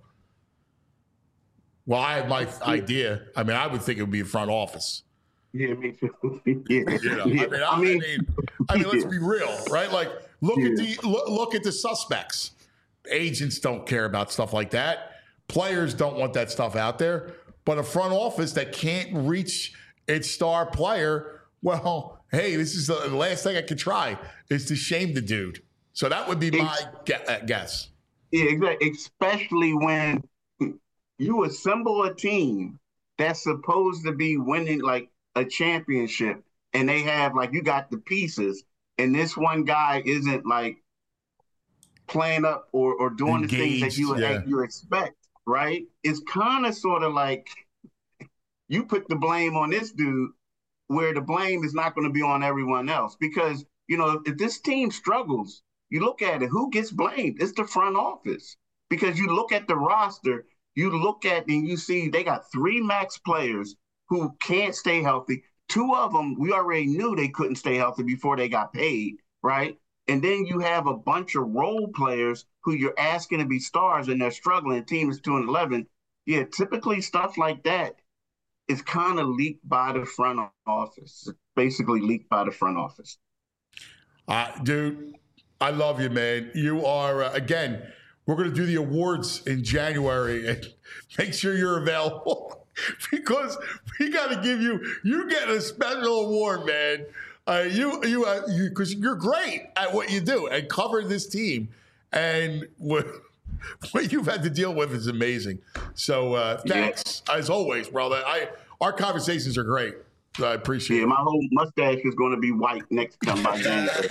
Well, I have my idea. I mean, I would think it would be front office. Yeah, me too. yeah. You know, yeah. I, mean, I, I mean, I mean, I mean, let's be real, right? Like, look yeah. at the look, look at the suspects. Agents don't care about stuff like that. Players don't want that stuff out there. But a front office that can't reach its star player, well, hey, this is the last thing I could try is to shame the dude. So that would be my guess. Yeah, exactly. Especially when you assemble a team that's supposed to be winning like a championship, and they have like you got the pieces, and this one guy isn't like playing up or, or doing Engaged, the things that you yeah. you expect, right? It's kind of sort of like you put the blame on this dude where the blame is not going to be on everyone else. Because, you know, if this team struggles, you look at it, who gets blamed? It's the front office. Because you look at the roster, you look at and you see they got three max players who can't stay healthy. Two of them, we already knew they couldn't stay healthy before they got paid, right? And then you have a bunch of role players who you're asking to be stars and they're struggling. The team is two and eleven. Yeah, typically stuff like that is kind of leaked by the front office. It's basically leaked by the front office. Uh, dude, I love you, man. You are, uh, again, we're going to do the awards in January. And make sure you're available because we got to give you, you get a special award, man. Uh, you, you, uh, you, because you're great at what you do and cover this team. And what, what you've had to deal with is amazing. So uh, thanks, yeah. as always, brother. I Our conversations are great. So I appreciate yeah, it. My whole mustache is going to be white next time by January.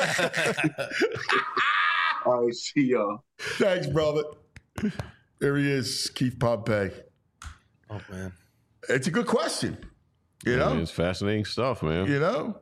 All right, see y'all. Thanks, brother. There he is, Keith Pompey. Oh, man. It's a good question. You know? Yeah, it's fascinating stuff, man. You know?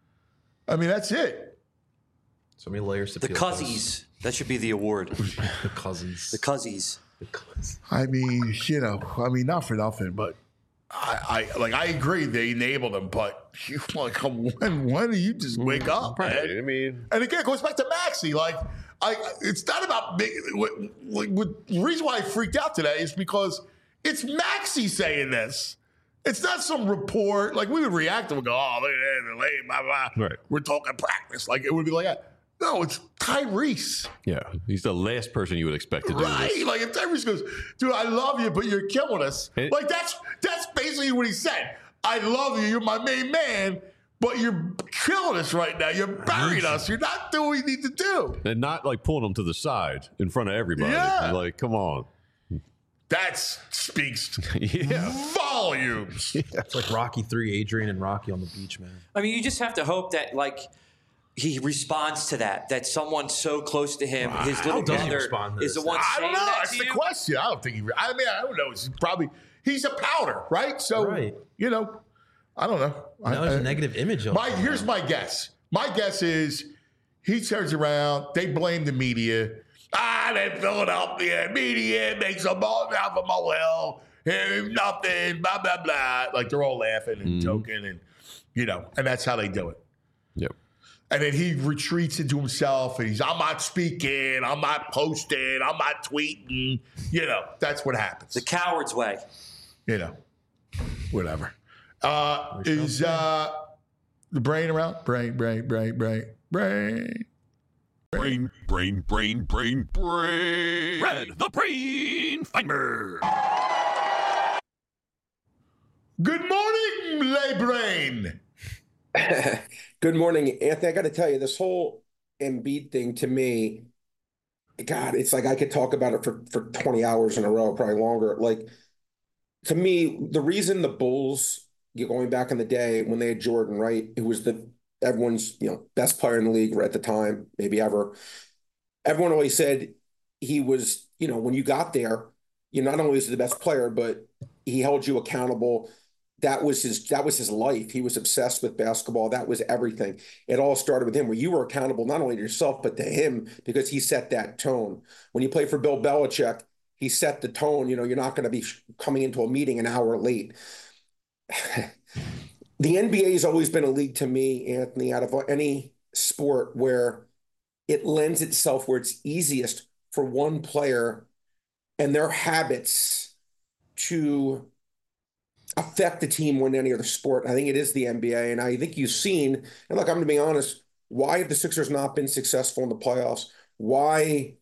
I mean, that's it. So many layers to The peel. Cuzzies. That should be the award. The cousins. The Cuzzies. The cousins. I mean, you know, I mean, not for nothing, but I, I like I agree they enabled them, but you like when when do you just wake up, Right. man? I mean, And again, it goes back to Maxey. Like, I, it's not about me. What, what, the reason why I freaked out today is because it's Maxey saying this. It's not some report. Like, we would react and we go, oh, look at that, lame, blah, blah. Right. We're talking practice. Like, it would be like that. No, it's Tyrese. yeah, he's the last person you would expect to do Right. this. Like, if Tyrese goes, dude, I love you, but you're killing us. It- like, that's that's basically what he said. I love you. You're my main man, but you're killing us right now. You're burying us. You're not doing what you need to do. And not like pulling him to the side in front of everybody. Yeah. Like, come on. That speaks Yeah. volumes. It's like Rocky three, Adrian and Rocky on the beach, man. I mean, you just have to hope that, like, he responds to that, that someone so close to him, his little How does he brother, respond to is the this? one I saying don't know. that That's to the you. question. I don't think he. I mean, I don't know. He's probably he's a powder, right? So Right. you know, I don't know. Now I, there's I- a negative image of My him. here's my guess. My guess is he turns around. They blame the media. Ah, that Philadelphia media makes a ball out of a molehill. Hey, nothing. Blah blah blah. Like they're all laughing and joking, and you know, and that's how they do it. Yep. And then he retreats into himself and he's, I'm not speaking, I'm not posting, I'm not tweeting. You know, that's what happens. The coward's way. You know, whatever. Uh, is uh, the brain around? Brain, brain, brain, brain, brain. Brain, brain, brain, brain, brain. Red, the brain finder. Good morning, Le Brain. Good morning, Anthony. I got to tell you, this whole Embiid thing to me, God, it's like I could talk about it for, for twenty hours in a row, probably longer. Like, to me, the reason the Bulls, going back in the day when they had Jordan, right, who was the everyone's you know best player in the league at the time, maybe ever. Everyone always said he was, you know, when you got there, you not only was he the best player, but he held you accountable. That was his that was his life. He was obsessed with basketball. That was everything. It all started with him, where you were accountable not only to yourself, but to him, because he set that tone. When you play for Bill Belichick, he set the tone. You know, you're not going to be coming into a meeting an hour late. The N B A has always been a league to me, Anthony, out of any sport where it lends itself where it's easiest for one player and their habits to affect the team more than any other sport. I think it is the N B A. And I think you've seen, and look, I'm going to be honest, why have the Sixers not been successful in the playoffs? Why?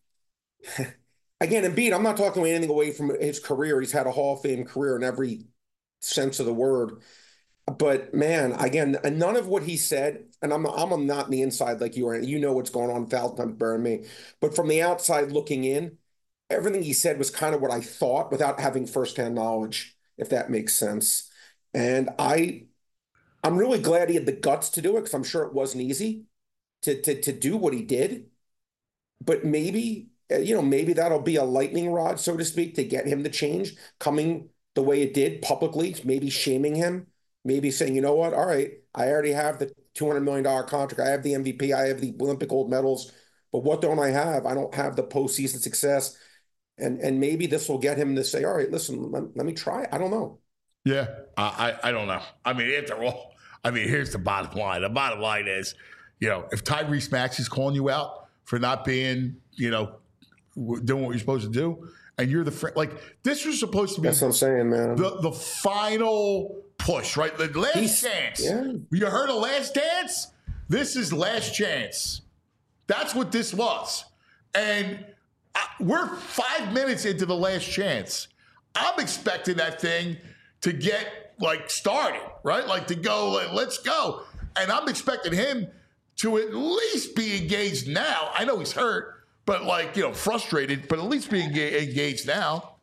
Again, Embiid, I'm not talking anything away from his career. He's had a Hall of Fame career in every sense of the word. But man, again, none of what he said, and I'm I'm not on the inside like you are. You know what's going on a thousand times better than me. But from the outside looking in, everything he said was kind of what I thought without having firsthand knowledge, if that makes sense. And I, I'm really glad he had the guts to do it, because I'm sure it wasn't easy to to to do what he did. But maybe, you know, maybe that'll be a lightning rod, so to speak, to get him to change, coming the way it did publicly, maybe shaming him. Maybe saying, you know what, all right, I already have the two hundred million dollars contract. I have the M V P. I have the Olympic gold medals. But what don't I have? I don't have the postseason success. And and maybe this will get him to say, all right, listen, let, let me try. I don't know. Yeah, I, I I don't know. I mean, after all, I mean, here's the bottom line. The bottom line is, you know, if Tyrese Maxey's calling you out for not being, you know, doing what you're supposed to do, and you're the friend, like, this was supposed to be. That's what I'm saying, man. The, the final push, right? The last He's, chance. Yeah. You heard of Last Dance? This is Last Chance. That's what this was. And I, we're five minutes into the Last Chance. I'm expecting that thing to get, like, started, right? Like, to go, like, let's go. And I'm expecting him to at least be engaged now. I know he's hurt, but, like, you know, frustrated, but at least be engaged now.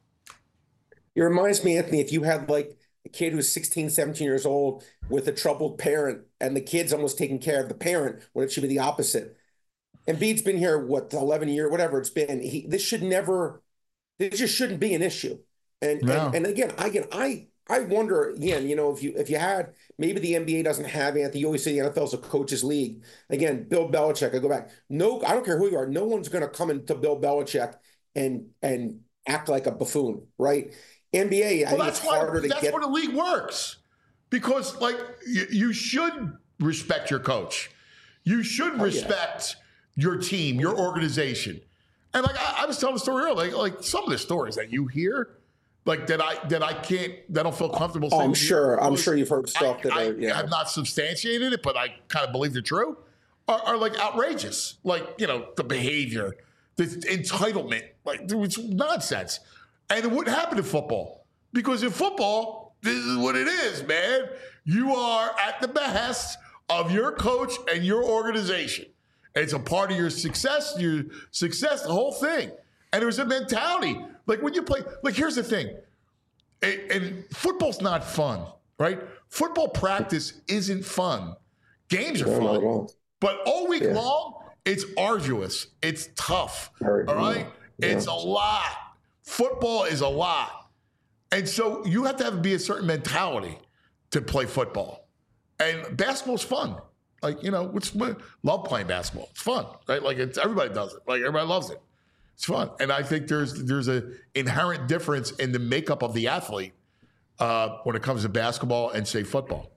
It reminds me, Anthony, if you had, like, a kid who's sixteen, seventeen years old with a troubled parent, and the kid's almost taking care of the parent, when it should be the opposite. Embiid's been here, what, eleven years, whatever it's been. He, this should never, this just shouldn't be an issue. And, No. and and again, I again, I I wonder again, you know, if you if you had, maybe the N B A doesn't have, Anthony. You always say the N F L is a coach's league. Again, Bill Belichick. I go back. No, I don't care who you are. No one's going to come into Bill Belichick and and act like a buffoon, right? N B A, I Well, think that's it's why, harder to that's get. where the league works. Because, like, you, you should respect your coach. You should Oh, yeah. respect your team, your organization. And, like, I, I was telling the story earlier, like, like some of the stories that you hear, like, that I that I can't, that I don't feel comfortable Oh, saying. I'm sure. I'm sure you've heard stuff I, that I, are, yeah. have not substantiated it, but I kind of believe they're true, are, are, like, outrageous. Like, you know, the behavior, the entitlement, like, it's nonsense. And it wouldn't happen in football. Because in football, this is what it is, man. You are at the behest of your coach and your organization. It's a part of your success, your success, the whole thing. And there's a mentality. Like when you play, like here's the thing. And, and football's not fun, right? Football practice isn't fun. Games are No, not at fun. all. But all week Yeah. long, it's arduous. It's tough. Very all right? yeah. It's a lot. Football is a lot. And so you have to have be a certain mentality to play football. And basketball's fun. Like, you know, it's love playing basketball. It's fun, right? Like it's everybody does it. Like everybody loves it. It's fun. And I think there's there's a inherent difference in the makeup of the athlete uh, when it comes to basketball and say football.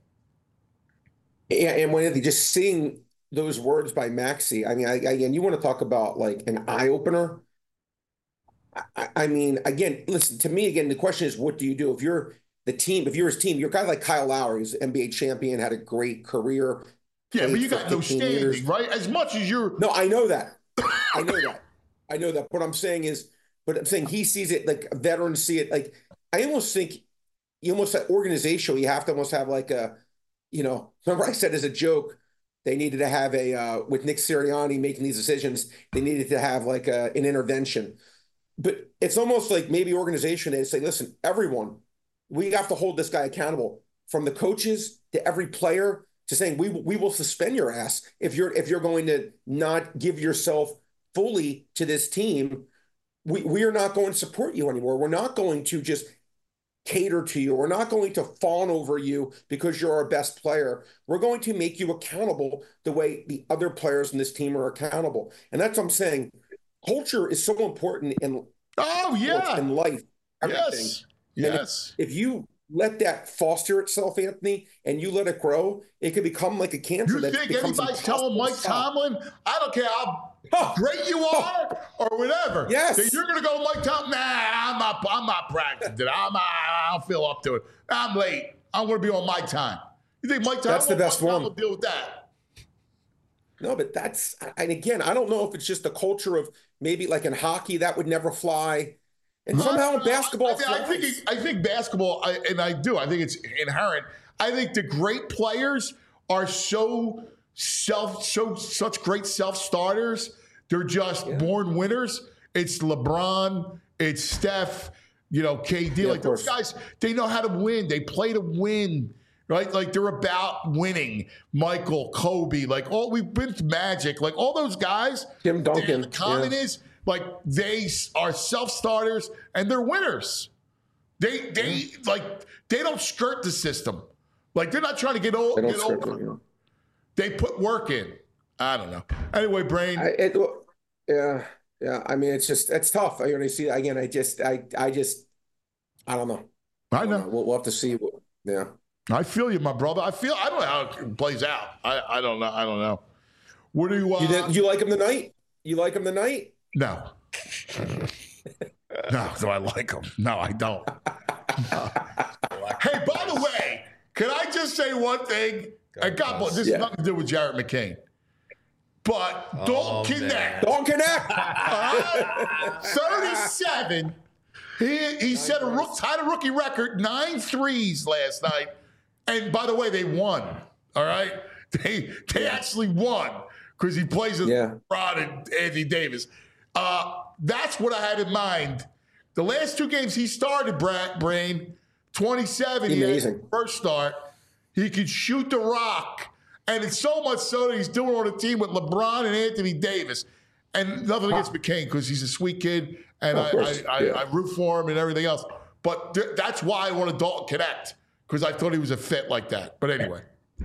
Yeah, and when just seeing those words by Maxey, I mean, I, again, you want to talk about like an eye opener. I, I mean, again, listen to me. Again, the question is, what do you do if you're the team? If you're his team, you're a guy like Kyle Lowry, who's N B A champion, had a great career. Yeah, but played you for got no fifteen standing, years. right? As much as you're. No, I know that. I know that. I know that. What I'm saying is, but I'm saying he sees it like veterans see it. Like I almost think you almost that organizational. You have to almost have like a you know, remember I said as a joke, they needed to have a, uh, with Nick Sirianni making these decisions, they needed to have like a, an intervention. But it's almost like maybe organization is say, listen, everyone, we have to hold this guy accountable, from the coaches to every player to saying we we will suspend your ass if you're if you're going to not give yourself fully to this team. We we are not going to support you anymore. We're not going to just cater to you. We're not going to fawn over you because you're our best player. We're going to make you accountable the way the other players in this team are accountable. And that's what I'm saying. Culture is so important in oh yeah in life. Everything. Yes. And Yes. If, if you let that foster itself, Anthony, and you let it grow, it could become like a cancer. You that think becomes anybody's telling Mike stop. Tomlin, I don't care how Huh. great you are or whatever. Yes. That you're gonna go Mike Tomlin. Nah, I'm not I'm not practicing. I'm not, I don't feel up to it. I'm late. I'm gonna be on my time. You think Mike Tomlin That's the best one. will deal with that? No, but that's, and again, I don't know if it's just the culture of maybe like in hockey that would never fly. And No, somehow in no, basketball, I, I, think flies. it, I think basketball, I, and I do. I think it's inherent. I think the great players are so self, so such great self starters. They're just Yeah. born winners. It's LeBron. It's Steph. You know, K D. Yeah, like of those course. guys, they know how to win. They play to win. Right? Like they're about winning. Michael, Kobe, like all we've been to Magic, like all those guys. Tim Duncan, The common yeah. is like they are self-starters and they're winners. They they like they don't skirt the system. Like they're not trying to get, o- They don't get script over. it, you know. They put work in. I don't know. Anyway, Brain. I, it, yeah, yeah. I mean, it's just it's tough. I when I see again, I just, I, I just, I don't know. I know. Uh, we'll, we'll have to see. What, yeah. I feel you, my brother. I feel. I don't know how it plays out. I, I don't know. I don't know. What do you? Uh, You, did, you like him tonight? You like him tonight? No. No. Do I like him? No, I don't. No. Hey, by the way, can I just say one thing? And God bless. This Yeah. has nothing to do with Jarrett McCain. But Oh, don't connect. Don't connect. All right? thirty-seven. He he set a rook, tied a rookie record, nine threes last night. And by the way, they won. All right, they they actually won because he plays with Yeah. Rod and Anthony Davis. Uh, that's what I had in mind. The last two games he started, Brad Brain, twenty-seven. He had his Amazing. first start. He could shoot the rock. And it's so much so that he's doing on a team with LeBron and Anthony Davis. And nothing against McCain because he's a sweet kid and Of I, course, I, I, yeah. I root for him and everything else. But th- that's why I wanted Dalton Connect because I thought he was a fit like that. But anyway.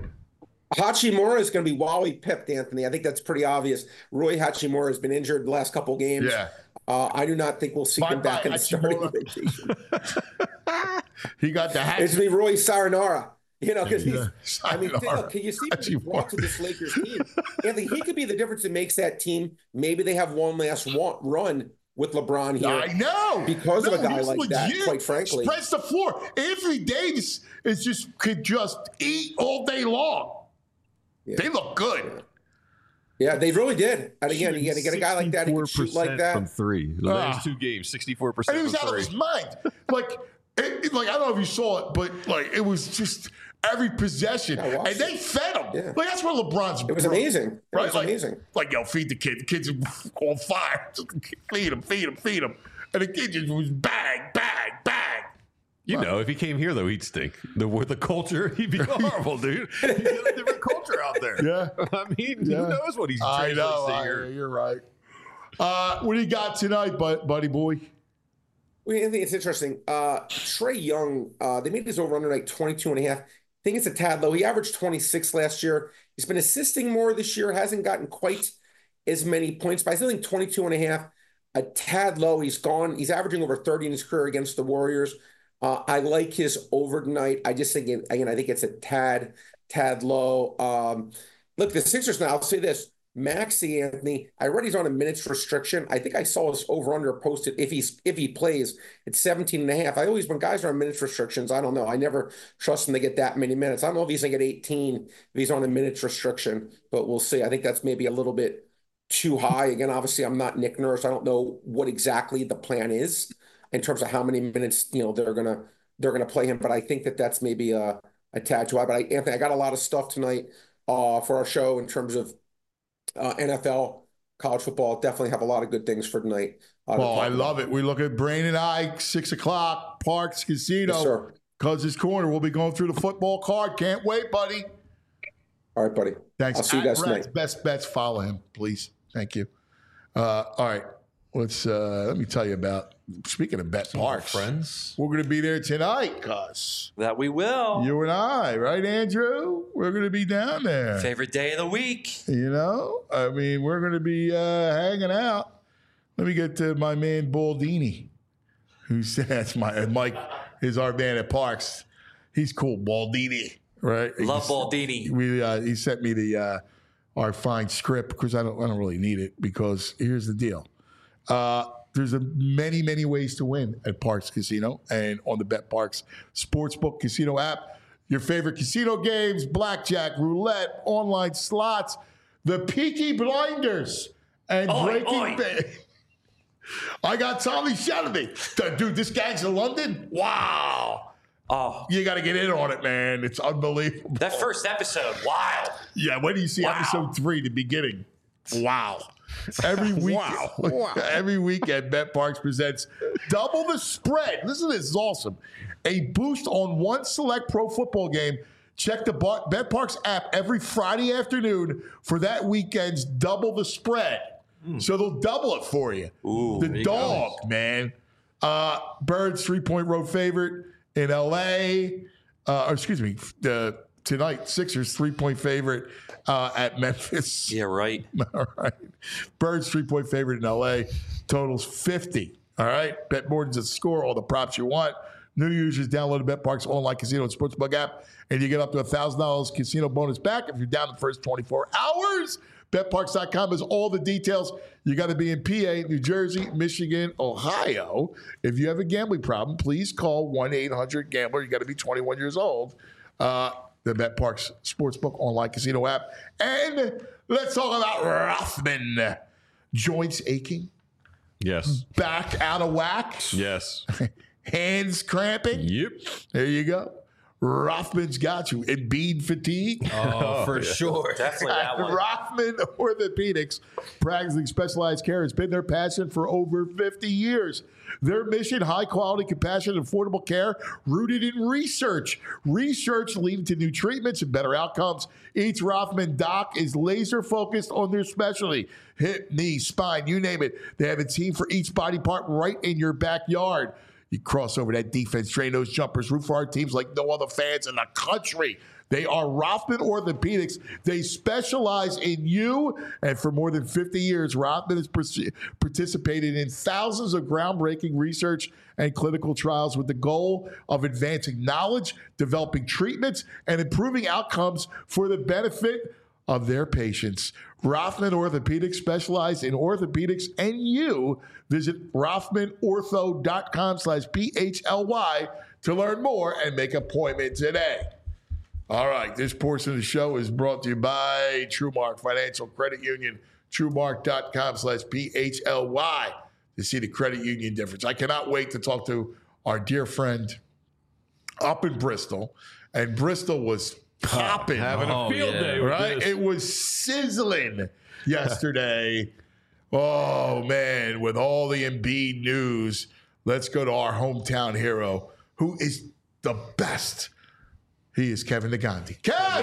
Hachimura is going to be Wally pipped, Anthony. I think that's pretty obvious. Roy Hachimura has been injured the last couple of games. Yeah. Uh, I do not think we'll see him Bye-bye, back in the starting Hachimura. rotation. He got the hat. It's going to be Roy Saranara. You know, because he's, Yeah, I mean, Sayonara. look, can you see what he Hachimura. brought to this Lakers team? Anthony, he could be the difference that makes that team. Maybe they have one last one, run with LeBron here. I know. Because no, of a guy he's like that, legit. quite frankly. Spreads the floor. Anthony Davis is just could just eat all day long. Yeah. They look good. Yeah, they really did. And again, you got to get a guy like that who can shoot like from that. three. The Ah. last two games, sixty-four And percent he was from out of three. his mind. Like, it, it- like I don't know if you saw it, but like it was just every possession, I watched and they fed him. Yeah. Like that's where LeBron's. It was bro- amazing. It right? was like, amazing. Like yo, feed the kid. The kid's on fire. Just feed him, feed him, feed him, and the kid just was bang, bang, bang. You know, if he came here though, he'd stink. The with the culture, he'd be horrible, dude. He's got a different culture out there. Yeah. I mean, Yeah. who knows what he's I translates know. to I, here. you're right. Uh, what do you got tonight, bud, buddy boy? Well, I think it's interesting. Uh, Trey Young, uh, they made his over-under like twenty-two and a half. I think it's a tad low. He averaged twenty-six last year. He's been assisting more this year, hasn't gotten quite as many points, but I still think twenty-two and a half, a tad low. He's gone. He's averaging over thirty in his career against the Warriors. Uh, I like his over tonight. I just think, again, I think it's a tad, tad low. Um, look, the Sixers now, I'll say this. Maxey, Anthony, I read he's on a minutes restriction. I think I saw his over-under posted if he's if he plays, it's seventeen and a half. I always, when guys are on minutes restrictions, I don't know. I never trust him to get that many minutes. I don't know if he's going to get eighteen if he's on a minutes restriction, but we'll see. I think that's maybe a little bit too high. Again, obviously, I'm not Nick Nurse. I don't know what exactly the plan is in terms of how many minutes, you know, they're gonna they're gonna play him. But I think that that's maybe a a tad too high. But I, Anthony, I got a lot of stuff tonight uh, for our show in terms of uh, N F L, college football. Definitely have a lot of good things for tonight. Uh, well, I love it. We look at Brain and Ike, six o'clock, Parks Casino. Yes, sir. Cousins Corner. We'll be going through the football card. Can't wait, buddy. All right, buddy. Thanks. I'll see you At guys Rex tonight. Best Bets. Follow him, please. Thank you. Uh, all right. Let's uh, let me tell you about. Speaking of Bet Parks, friends, we're going to be there tonight, Cuz. That we will. You and I, right, Andrew? We're going to be down there. Favorite day of the week. You know, I mean, we're going to be uh, hanging out. Let me get to my man Baldini, who says my Mike is our man at Parks. He's cool, Baldini, right? Love He's, Baldini. We uh, he sent me the uh, our fine script because I don't I don't really need it because here's the deal. Uh, there's a many, many ways to win at Parks Casino and on the Bet Parks Sportsbook Casino app. Your favorite casino games, blackjack, roulette, online slots, the Peaky Blinders, and Oi, Breaking oi. Bad. I got Tommy Shelby. Dude, this guy's in London? Wow. Oh, You got to get in on it, man. It's unbelievable. that first episode, wild. Yeah, when do you see Wow. episode three, the beginning? Wow. Every week, Wow. Wow. every weekend, Bet Parks presents Double the Spread. Listen to this, is awesome. A boost on one select pro football game. Check the Bar- Bet Parks app every Friday afternoon for that weekend's Double the Spread. So they'll double it for you. Ooh, the there you dog, man. Uh, Birds three-point road favorite in L A. Uh, or excuse me, the tonight Sixers three-point favorite uh, at Memphis. Yeah, right. All right. Birds three-point favorite in L A. Totals fifty. All right. Bet more than just score, all the props you want. New users download the Bet Parks online casino and sportsbook app, and you get up to one thousand dollars casino bonus back if you're down the first twenty-four hours. Bet Parks dot com has all the details. You got to be in P A, New Jersey, Michigan, Ohio. If you have a gambling problem, please call one eight hundred gambler. You got to be twenty-one years old. Uh, the Bet Parks Sportsbook online casino app. And let's talk about Rothman. Joints aching, Yes. back out of whack, Yes. hands cramping. Yep. There you go. Rothman's got you. Embiid fatigue. Oh, for sure. Definitely that one. Rothman Orthopedics, practicing specialized care, has been their passion for over fifty years. Their mission, high quality, compassionate, affordable care rooted in research. Research leading to new treatments and better outcomes. Each Rothman doc is laser focused on their specialty. Hip, knee, spine, you name it. They have a team for each body part right in your backyard. You cross over that defense, train those jumpers, root for our teams like no other fans in the country. They are Rothman Orthopedics. They specialize in you. And for more than fifty years, Rothman has pers- participated in thousands of groundbreaking research and clinical trials with the goal of advancing knowledge, developing treatments, and improving outcomes for the benefit of their patients. Rothman Orthopedics specialize in orthopedics and you. Visit rothman ortho dot com slash P H L Y to learn more and make an appointment today. All right, this portion of the show is brought to you by TrueMark Financial Credit Union, truemark dot com slash P H L Y to see the credit union difference. I cannot wait to talk to our dear friend up in Bristol, and Bristol was popping. Having a Oh, field yeah. day with Right? this. It was sizzling yesterday. Oh, man, with all the Embiid news, let's go to our hometown hero, who is the best. He is Kevin Negandhi. Kev!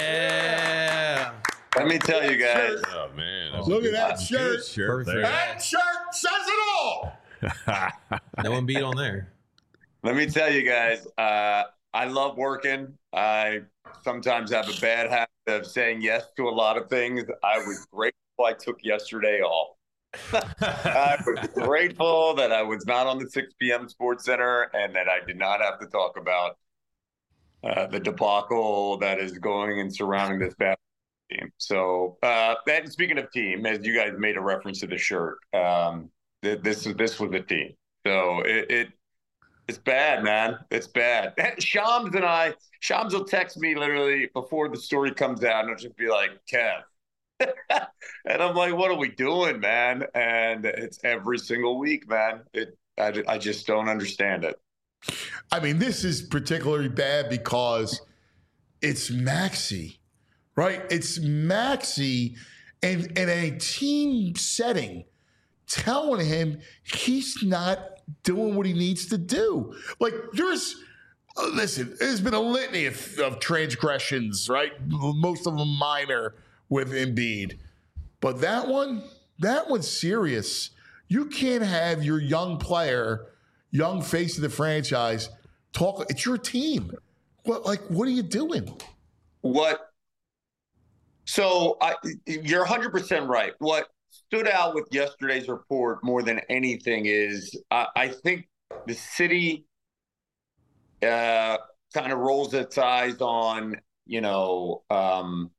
Yeah. Let me tell you guys. Oh, man. that's Look a at that good shirt. shirt Perfect. there. That shirt says it all. No one beat on there. Let me tell you guys. Uh, I love working. I sometimes have a bad habit of saying yes to a lot of things. I was grateful I took yesterday off. I was grateful that I was not on the six p.m. Sports Center and that I did not have to talk about uh, the debacle that is going and surrounding this basketball team. So, uh, and speaking of team, as you guys made a reference to the shirt, um, th- this is this was a team. So it, it it's bad, man. It's bad. Shams and I, Shams will text me literally before the story comes out, and I'll just be like, Kev. And I'm like, what are we doing, man? And it's every single week, man. It, I, I just don't understand it. I mean, this is particularly bad because it's Maxey, right? It's Maxey and in a team setting telling him he's not doing what he needs to do. Like there's, uh, listen, there's been a litany of, of transgressions, right? Most of them minor with Embiid. But that one, that one's serious. You can't have your young player, young face of the franchise, talk. It's your team. What, like, what are you doing? What? So I, you're one hundred percent right. What stood out with yesterday's report more than anything is I, I think the city uh, kind of rolls its eyes on, you know, um,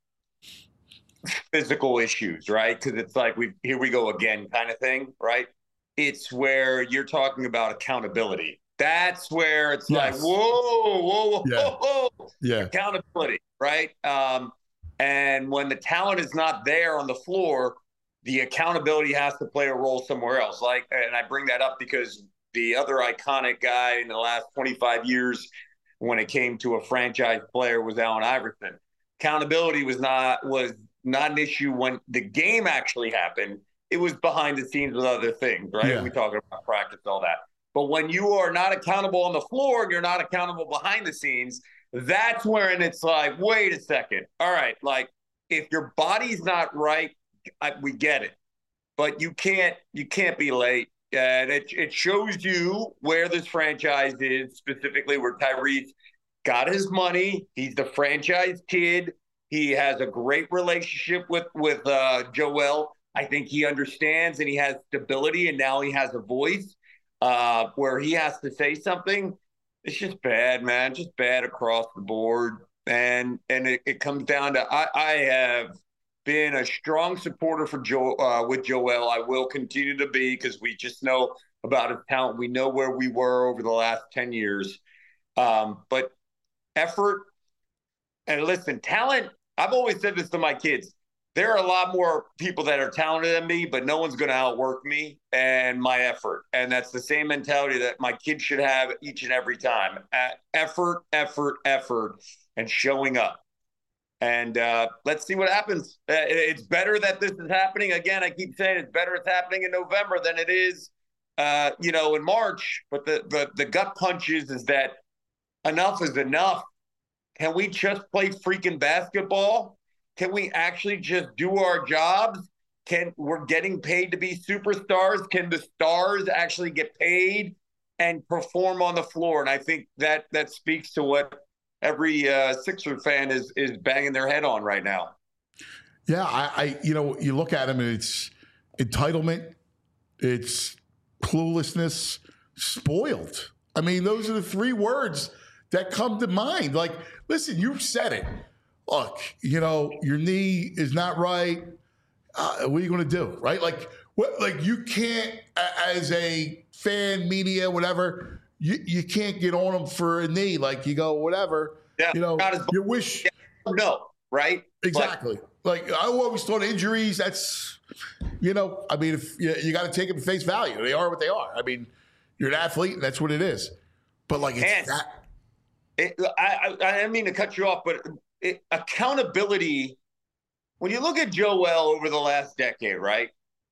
physical issues, right? Because it's like, we here we go again kind of thing, right? It's where you're talking about accountability. That's where it's yes. like, whoa, whoa, whoa, yeah. whoa, yeah. accountability, right? Um, and when the talent is not there on the floor, the accountability has to play a role somewhere else. Like, and I bring that up because the other iconic guy in the last twenty-five years when it came to a franchise player was Allen Iverson. Accountability was not was not an issue when the game actually happened. It was behind the scenes with other things, right? Yeah. We talk about practice, all that. But when you are not accountable on the floor and you're not accountable behind the scenes, that's when it's like, wait a second. All right, like if your body's not right, I, we get it, but you can't you can't be late. And it it shows you where this franchise is, specifically where Tyrese got his money. He's the franchise kid. He has a great relationship with with uh, Joel. I think he understands and he has stability, and now he has a voice uh, where he has to say something. It's just bad, man. Just bad across the board. And and it, it comes down to I, I have been a strong supporter for Joe uh, with Joel. I will continue to be because we just know about his talent. We know where we were over the last ten years. Um, but effort and listen, talent. I've always said this to my kids. There are a lot more people that are talented than me, but no one's going to outwork me and my effort. And that's the same mentality that my kids should have each and every time. At effort, effort, effort, and showing up. And uh, let's see what happens. Uh, it's better that this is happening. Again, I keep saying it's better it's happening in November than it is, uh, you know, in March. But the, the the gut punch is, is that enough is enough. Can we just play freaking basketball? Can we actually just do our jobs? Can we're getting paid to be superstars? Can the stars actually get paid and perform on the floor? And I think that that speaks to what every uh, Sixer fan is is banging their head on right now. Yeah, I, I you know, you look at him and it's entitlement, it's cluelessness, spoiled. I mean, those are the three words that come to mind. Like, listen, you said it. Look, you know, your knee is not right. Uh, what are you going to do, right? Like, what? Like, you can't, as a fan, media, whatever, you, you can't get on them for a knee. Like, you go, whatever. Yeah, you know, you wish. No, right? Exactly. But, like, I always thought injuries, that's, you know, I mean, if you, you got to take them at face value. They are what they are. I mean, you're an athlete, and that's what it is. But, like, it's and that. It, I, I, I didn't mean to cut you off, but it, accountability, when you look at Joel over the last decade, right?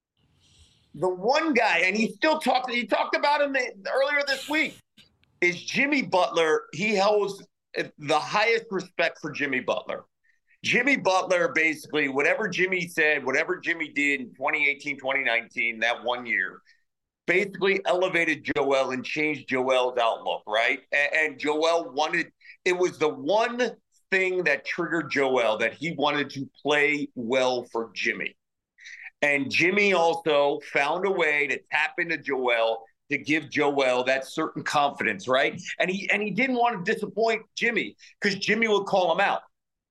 The one guy, and he still talked, he talked about him earlier this week, is Jimmy Butler. He holds the highest respect for Jimmy Butler. Jimmy Butler, basically, whatever Jimmy said, whatever Jimmy did in twenty eighteen, twenty nineteen, that one year, basically elevated Joel and changed Joel's outlook, right? And, and Joel wanted, it was the one thing that triggered Joel, that he wanted to play well for Jimmy. And Jimmy also found a way to tap into Joel to give Joel that certain confidence, right? And he and he didn't want to disappoint Jimmy because Jimmy would call him out.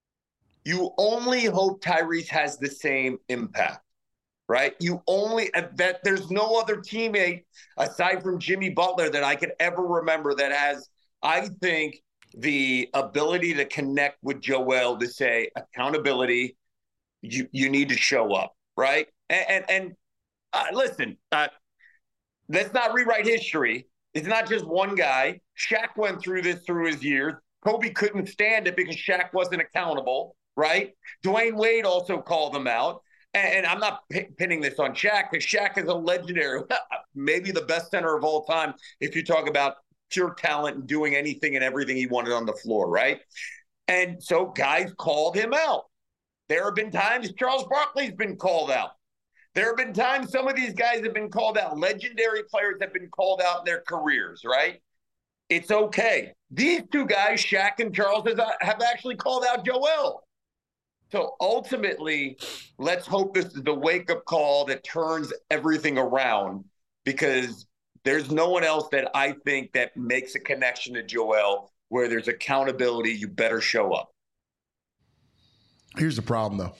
You only hope Tyrese has the same impact, right? You only that there's no other teammate aside from Jimmy Butler that I could ever remember that has, I think, the ability to connect with Joel to say accountability. You you need to show up, right? And and, and uh, listen, uh, let's not rewrite history. It's not just one guy. Shaq went through this through his years. Kobe couldn't stand it because Shaq wasn't accountable, right? Dwayne Wade also called him out. And, and I'm not p- pinning this on Shaq because Shaq is a legendary, maybe the best center of all time if you talk about pure talent and doing anything and everything he wanted on the floor, right? And so guys called him out. There have been times Charles Barkley's been called out. There have been times some of these guys have been called out. Legendary players have been called out in their careers, right? It's okay. These two guys, Shaq and Charles, have actually called out Joel. So ultimately, let's hope this is the wake-up call that turns everything around, because there's no one else that I think that makes a connection to Joel where there's accountability. You better show up. Here's the problem, though.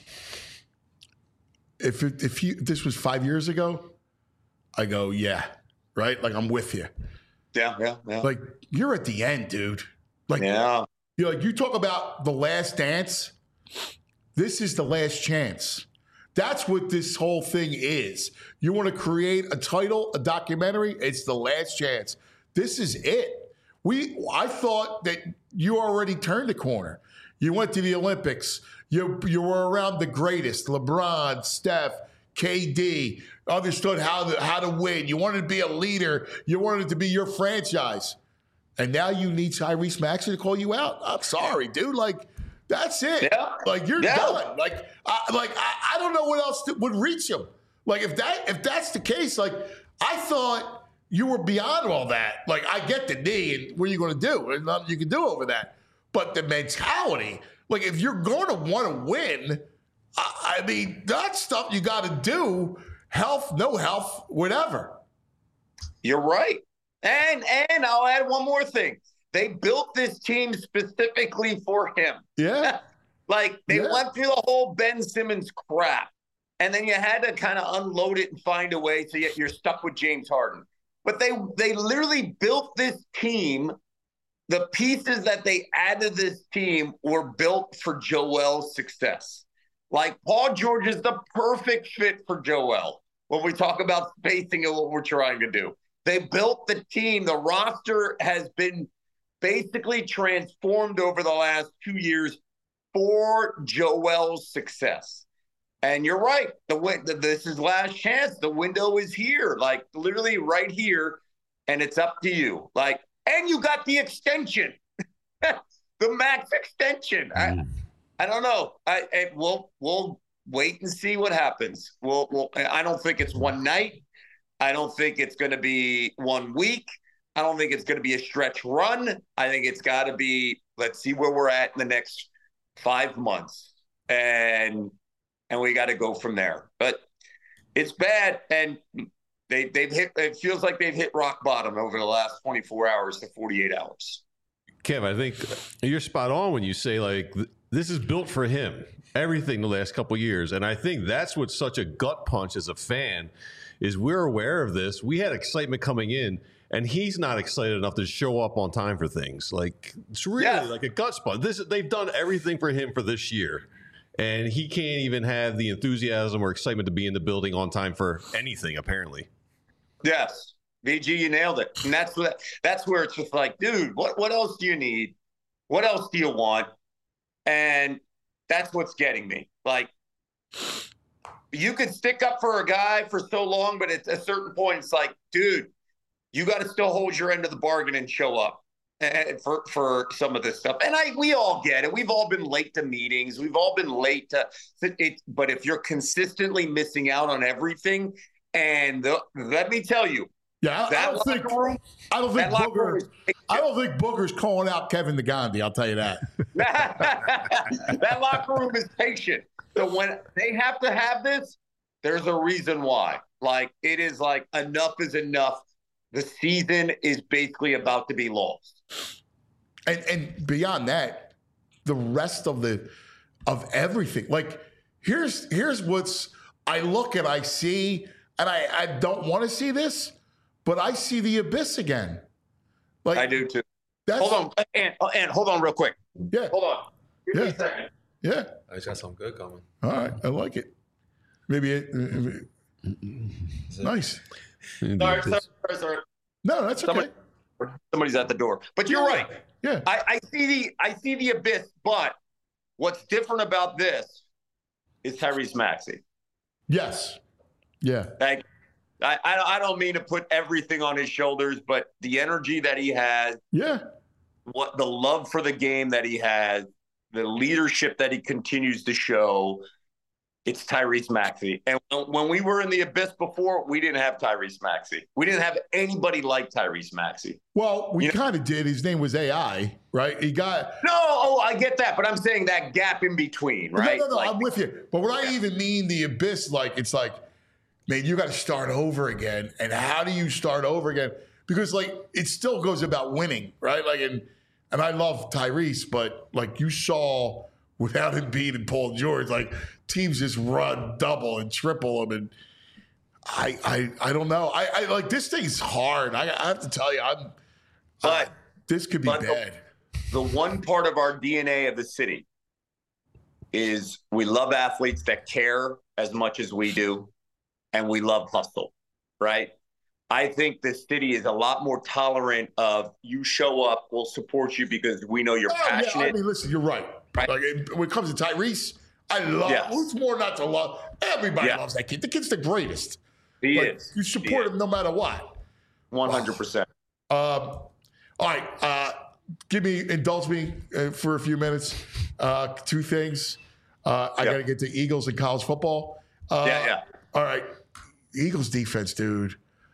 If it, if you this was five years ago, I go, yeah, right? Like, I'm with you. Yeah, yeah, yeah. Like, you're at the end, dude. Like, yeah. You know, like you talk about the last dance. This is the last chance. That's what this whole thing is. You want to create a title, a documentary, it's the last chance. This is it. We I thought that you already turned the corner. You went to the Olympics. You you were around the greatest, LeBron, Steph, K D, understood how to, how to win. You wanted to be a leader. You wanted it to be your franchise. And now you need Tyrese Maxey to call you out. I'm sorry, dude. Like, that's it. Yeah. Like, you're yeah. done. Like, I, like I, I don't know what else to, would reach him. Like, if that if that's the case, like, I thought you were beyond all that. Like, I get the knee, and what are you going to do? There's nothing you can do over that. But the mentality, like, if you're going to want to win, I, I mean, that's stuff you got to do. Health, no health, whatever. You're right. And and I'll add one more thing. They built this team specifically for him. Yeah. Like, they yeah. went through the whole Ben Simmons crap. And then you had to kind of unload it and find a way, so you're stuck with James Harden. But they they literally built this team. The pieces that they added to this team were built for Joel's success. Like, Paul George is the perfect fit for Joel when we talk about spacing and what we're trying to do. They built the team. The roster has been basically transformed over the last two years for Joel's success. And you're right. The This is last chance. The window is here, like, literally right here, and it's up to you. Like, and you got the extension, the max extension. Mm. I, I don't know. I, I we'll we'll wait and see what happens. We'll, we'll I don't think it's one night. I don't think it's going to be one week. I don't think it's going to be a stretch run. I think it's got to be, let's see where we're at in the next five months, and and we got to go from there. But it's bad, and They, they've hit, it feels like they've hit rock bottom over the last twenty-four hours to forty-eight hours. Kev, I think you're spot on when you say, like, th- this is built for him, everything the last couple of years. And I think that's what's such a gut punch as a fan is we're aware of this. We had excitement coming in, and he's not excited enough to show up on time for things. Like, it's really yeah. like a gut punch. This, they've done everything for him for this year. And he can't even have the enthusiasm or excitement to be in the building on time for anything, apparently. Yes, V G, you nailed it. And that's what, that's where it's just like, dude, what, what else do you need? What else do you want? And that's what's getting me. Like, you could stick up for a guy for so long, but at a certain point, it's like, dude, you got to still hold your end of the bargain and show up for, for some of this stuff. And I, we all get it. We've all been late to meetings. We've all been late to it. But if you're consistently missing out on everything, and the, let me tell you, yeah, I, that I don't think room, I don't think Booger, is, I don't think Booger's calling out Kevin the Gandhi. I'll tell you that. That locker room is patient. So when they have to have this, there's a reason why. Like, it is like, enough is enough. The season is basically about to be lost. And and beyond that, the rest of the of everything. Like, here's here's what's I look and I see. And I, I don't want to see this, but I see the abyss again. Like, I do too. That's, hold on, and, and hold on real quick. Yeah. Hold on. Give yeah. me a second. Yeah. I just got something good coming. All right. I like it. Maybe it. Uh, nice. Sorry, sorry, sorry, sorry. No, that's okay. Somebody, somebody's at the door. But you're Yeah. right. Yeah. I, I see the I see the abyss, but what's different about this is Tyrese Maxey. Yes. Yeah. Like, I, I I don't mean to put everything on his shoulders, but the energy that he has, Yeah. what the love for the game that he has, the leadership that he continues to show, it's Tyrese Maxey. And when we were in the abyss before, we didn't have Tyrese Maxey. We didn't have anybody like Tyrese Maxey. Well, we You know- kind of did. His name was A I, right? He got No, oh, I get that, but I'm saying that gap in between, right? No, no, no. Like, I'm with you. But when I even mean the abyss, like it's like, man, you got to start over again. And how do you start over again? Because like it still goes about winning, right? Like and and I love Tyrese, but like you saw without Embiid and Paul George, like teams just run double and triple them, and I I I don't know. I, I like this thing's hard. I, I have to tell you, I'm. But uh, this could be but bad. The, the one part of our D N A of the city is we love athletes that care as much as we do, and we love hustle, right? I think the city is a lot more tolerant of you show up, we'll support you because we know you're Oh, yeah, passionate. I mean, listen, you're right. Right. Like it- when it comes to Tyrese, I love. Yes. Who's more not to love? Everybody Yeah. loves that kid. The kid's the greatest. He Like, is. You He support is. him no matter what. one hundred percent. Um, all right, uh, give me, indulge me uh, for a few minutes. Uh, two things. Uh, I Yeah. got to get to Eagles and college football. Uh, Yeah, yeah. All right, Eagles defense, dude.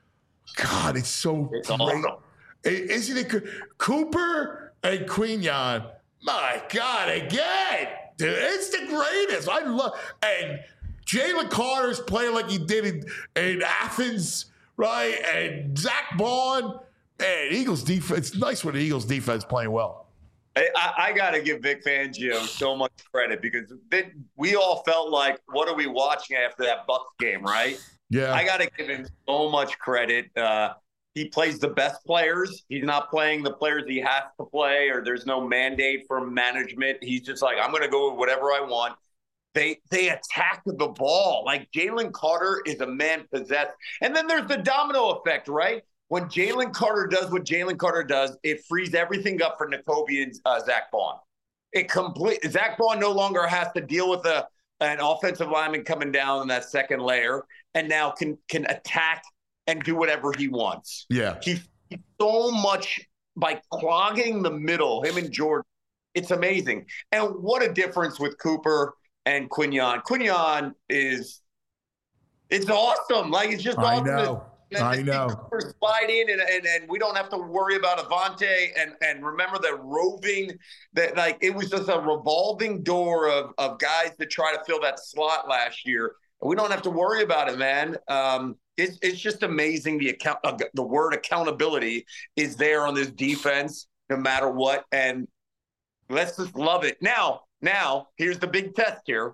God, it's so It's great. awesome. I- Isn't it good? Cooper and Quinyon, my God, again, dude, it's the greatest. I love and Jalen Carter's playing like he did in, in Athens, right? And Zach Bond, man, Eagles defense. It's nice when the Eagles defense playing well. I, I, I got to give Vic Fangio so much credit because they, we all felt like, what are we watching after that Bucs game, right? Yeah, I got to give him so much credit. Uh, he plays the best players. He's not playing the players he has to play, or there's no mandate from management. He's just like, I'm going to go with whatever I want. They they attack the ball. Like Jalen Carter is a man possessed. And then there's the domino effect, right? When Jalen Carter does what Jalen Carter does, it frees everything up for N'Kobe and uh, Zach Bond. It complete Zach Bond no longer has to deal with a an offensive lineman coming down in that second layer, and now can can attack and do whatever he wants. yeah. He, he so much by clogging the middle, him and Jordan. It's amazing. And what a difference with Cooper and Quinyon. Quinyon is it's awesome. Like it's just I awesome. know. And I to see know. Cooper slide in and, and and we don't have to worry about Avante and and remember that roving that like it was just a revolving door of of guys that try to fill that slot last year. We don't have to worry about it, man. Um, it's it's just amazing. The account, uh, the word accountability is there on this defense, no matter what. And let's just love it. Now, now here's the big test here.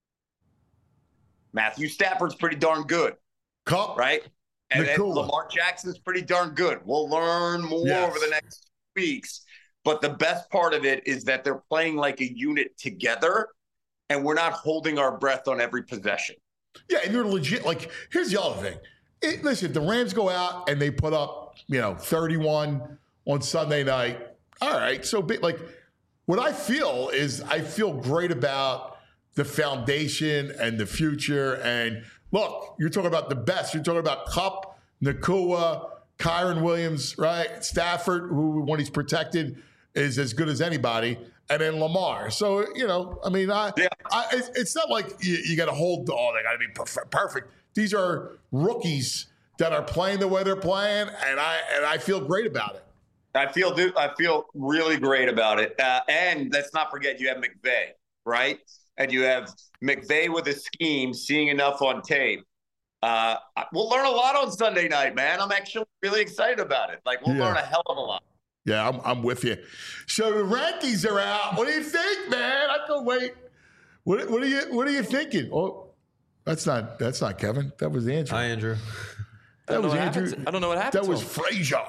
Matthew Stafford's pretty darn good, Cup, right? And then Nakua. Lamar Jackson's pretty darn good. We'll learn more Yes. over the next weeks. But the best part of it is that they're playing like a unit together, and we're not holding our breath on every possession. Yeah, and you're legit. Like, here's the other thing. It, listen, if the Rams go out and they put up, you know, thirty-one on Sunday night, all right. So, big, like, what I feel is I feel great about the foundation and the future. And look, you're talking about the best. You're talking about Kupp, Nakua, Kyron Williams, right? Stafford, who, when he's protected, is as good as anybody. And then Lamar. So, you know, I mean, I, Yeah. I it's, it's not like you, you got to hold, oh, they got to be perf- perfect. These are rookies that are playing the way they're playing, and I and I feel great about it. I feel do I feel really great about it. Uh, and let's not forget you have McVay, right? And you have McVay with a scheme, seeing enough on tape. Uh, we'll learn a lot on Sunday night, man. I'm actually really excited about it. Like we'll Yeah. learn a hell of a lot. Yeah, I'm, I'm with you. So the rankings are out. What do you think, man? I can wait. What, what are you What are you thinking? Oh, that's not that's not Kevin. That was Andrew. Hi, Andrew. I That don't know was what Andrew. happened to- I don't know what happened That to was him. Frazier.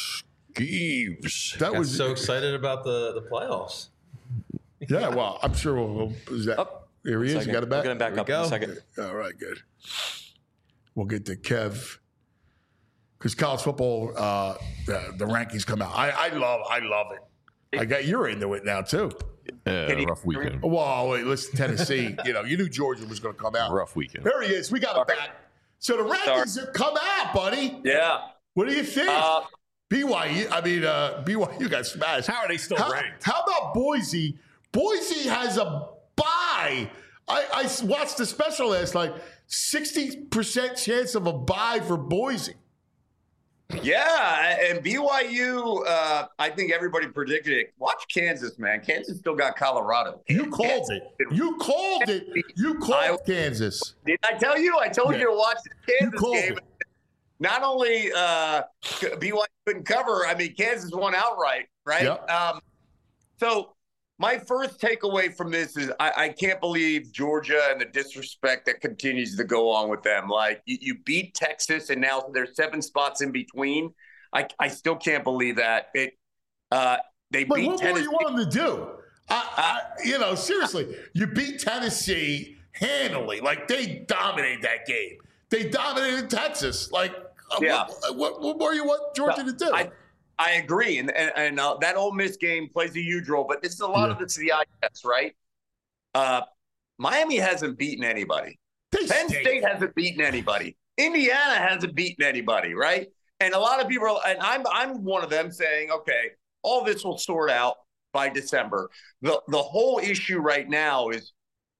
Gives. That Got was so excited about the, the playoffs. Yeah, well, I'm sure we'll. we'll is that, Up. here he is. You Second. got it back. We'll get him back There we up in a go. second. All right, good. We'll get to Kev. because college football, uh, the, the rankings come out. I, I love, I love it. I got you're into it now too. Uh, rough weekend. Well, wait, listen, Tennessee. you know, you knew Georgia was going to come out. Rough weekend. There he is. We got him back. So the rankings have come out, buddy. Yeah. What do you think? Uh, B Y U. I mean, uh, B Y U got smashed. How are they still how, ranked? How about Boise? Boise has a bye. I, I watched the special last night. sixty percent chance of a bye for Boise. Yeah, and B Y U, uh, I think everybody predicted it. Watch Kansas, man. Kansas still got Colorado. You called Kansas. it. You called it. You called I, Kansas. Did I tell you? I told yeah. you to watch the Kansas game. It. Not only uh, B Y U couldn't cover, I mean, Kansas won outright, right? Yep. Um, so my first takeaway from this is I, I can't believe Georgia and the disrespect that continues to go on with them. Like, you, you beat Texas, and now there's seven spots in between. I, I still can't believe that. It. Uh, they but beat what Tennessee. more you want them to do? I, I, you know, seriously, you beat Tennessee handily. Like, they dominated that game. They dominated Texas. Like, yeah. what, what, what more you want Georgia no, to do? I, I agree, and and, and uh, that Ole Miss game plays a huge role, but this is a lot yeah. of it's the eye test, right? Uh, Miami hasn't beaten anybody. They Penn stink. State hasn't beaten anybody. Indiana hasn't beaten anybody, right? And a lot of people, are, and I'm I'm one of them saying, okay, all this will sort out by December. The the whole issue right now is